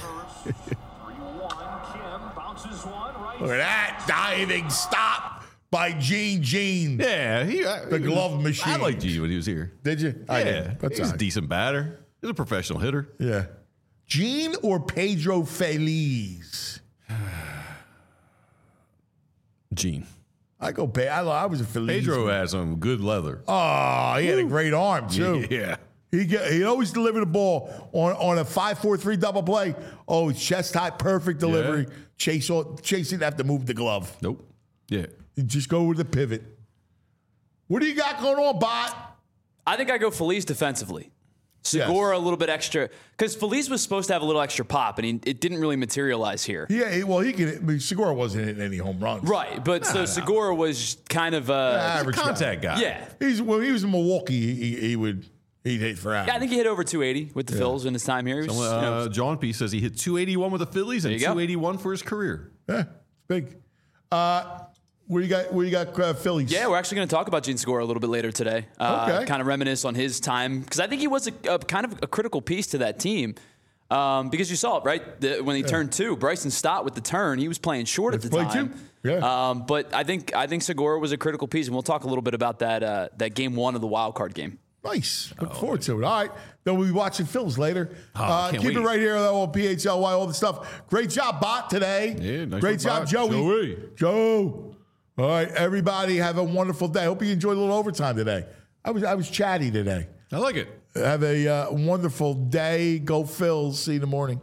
Look at that diving stop by Gene Gene. Yeah, he, uh, the glove machine. I liked Gene when he was here. Did you? Yeah, I did. That's he's a right. decent batter. He's a professional hitter. Yeah. Gene or Pedro Feliz? Gene. I go. Pe- I, I was a Feliz. Pedro had some good leather. Oh, he had a great arm too. Yeah. He get, he always delivered the ball on, on a five four three double play. Oh, chest high, perfect delivery. Yeah. Chase Chase didn't have to move the glove. Nope. Yeah. You just go with the pivot. What do you got going on, Bot? I think I go Feliz defensively. Segura Yes. a little bit extra because Feliz was supposed to have a little extra pop, and he, it didn't really materialize here. Yeah, he- well, he can. I mean, Segura wasn't hitting any home runs. Right, but so Segura was kind of a Average contact guy. Yeah, He's when he was in Milwaukee, he, he would he'd hit for average. yeah. I think he hit over two eighty with the Phils in his time here. He was, Someone, you know, uh, John P says he hit two eighty-one with the Phillies and There you go. two eighty-one for his career. Yeah, it's big. Uh, where you got? Where you got? Uh, Phillies. Yeah, we're actually going to talk about Gene Segura a little bit later today. Uh, Okay. Kind of reminisce on his time because I think he was a, a kind of a critical piece to that team. Um, because you saw it, right? The, when he turned two, Bryson Stott with the turn, he was playing short at the Played time. two. Yeah. Um, but I think I think Segura was a critical piece, and we'll talk a little bit about that uh, that game one of the wild card game. Nice. Look forward to it. All right. Then we'll be watching Phils later. Oh, uh, can't keep it wait. right here though, on P H L Y, all the stuff. Great job, Bot, today. Yeah, nice Great work, job, Bot. Joey. Joey. Joe. All right, everybody, have a wonderful day. Hope you enjoyed a little overtime today. I was I was chatty today. I like it. Have a uh, wonderful day. Go Phils. See you in the morning.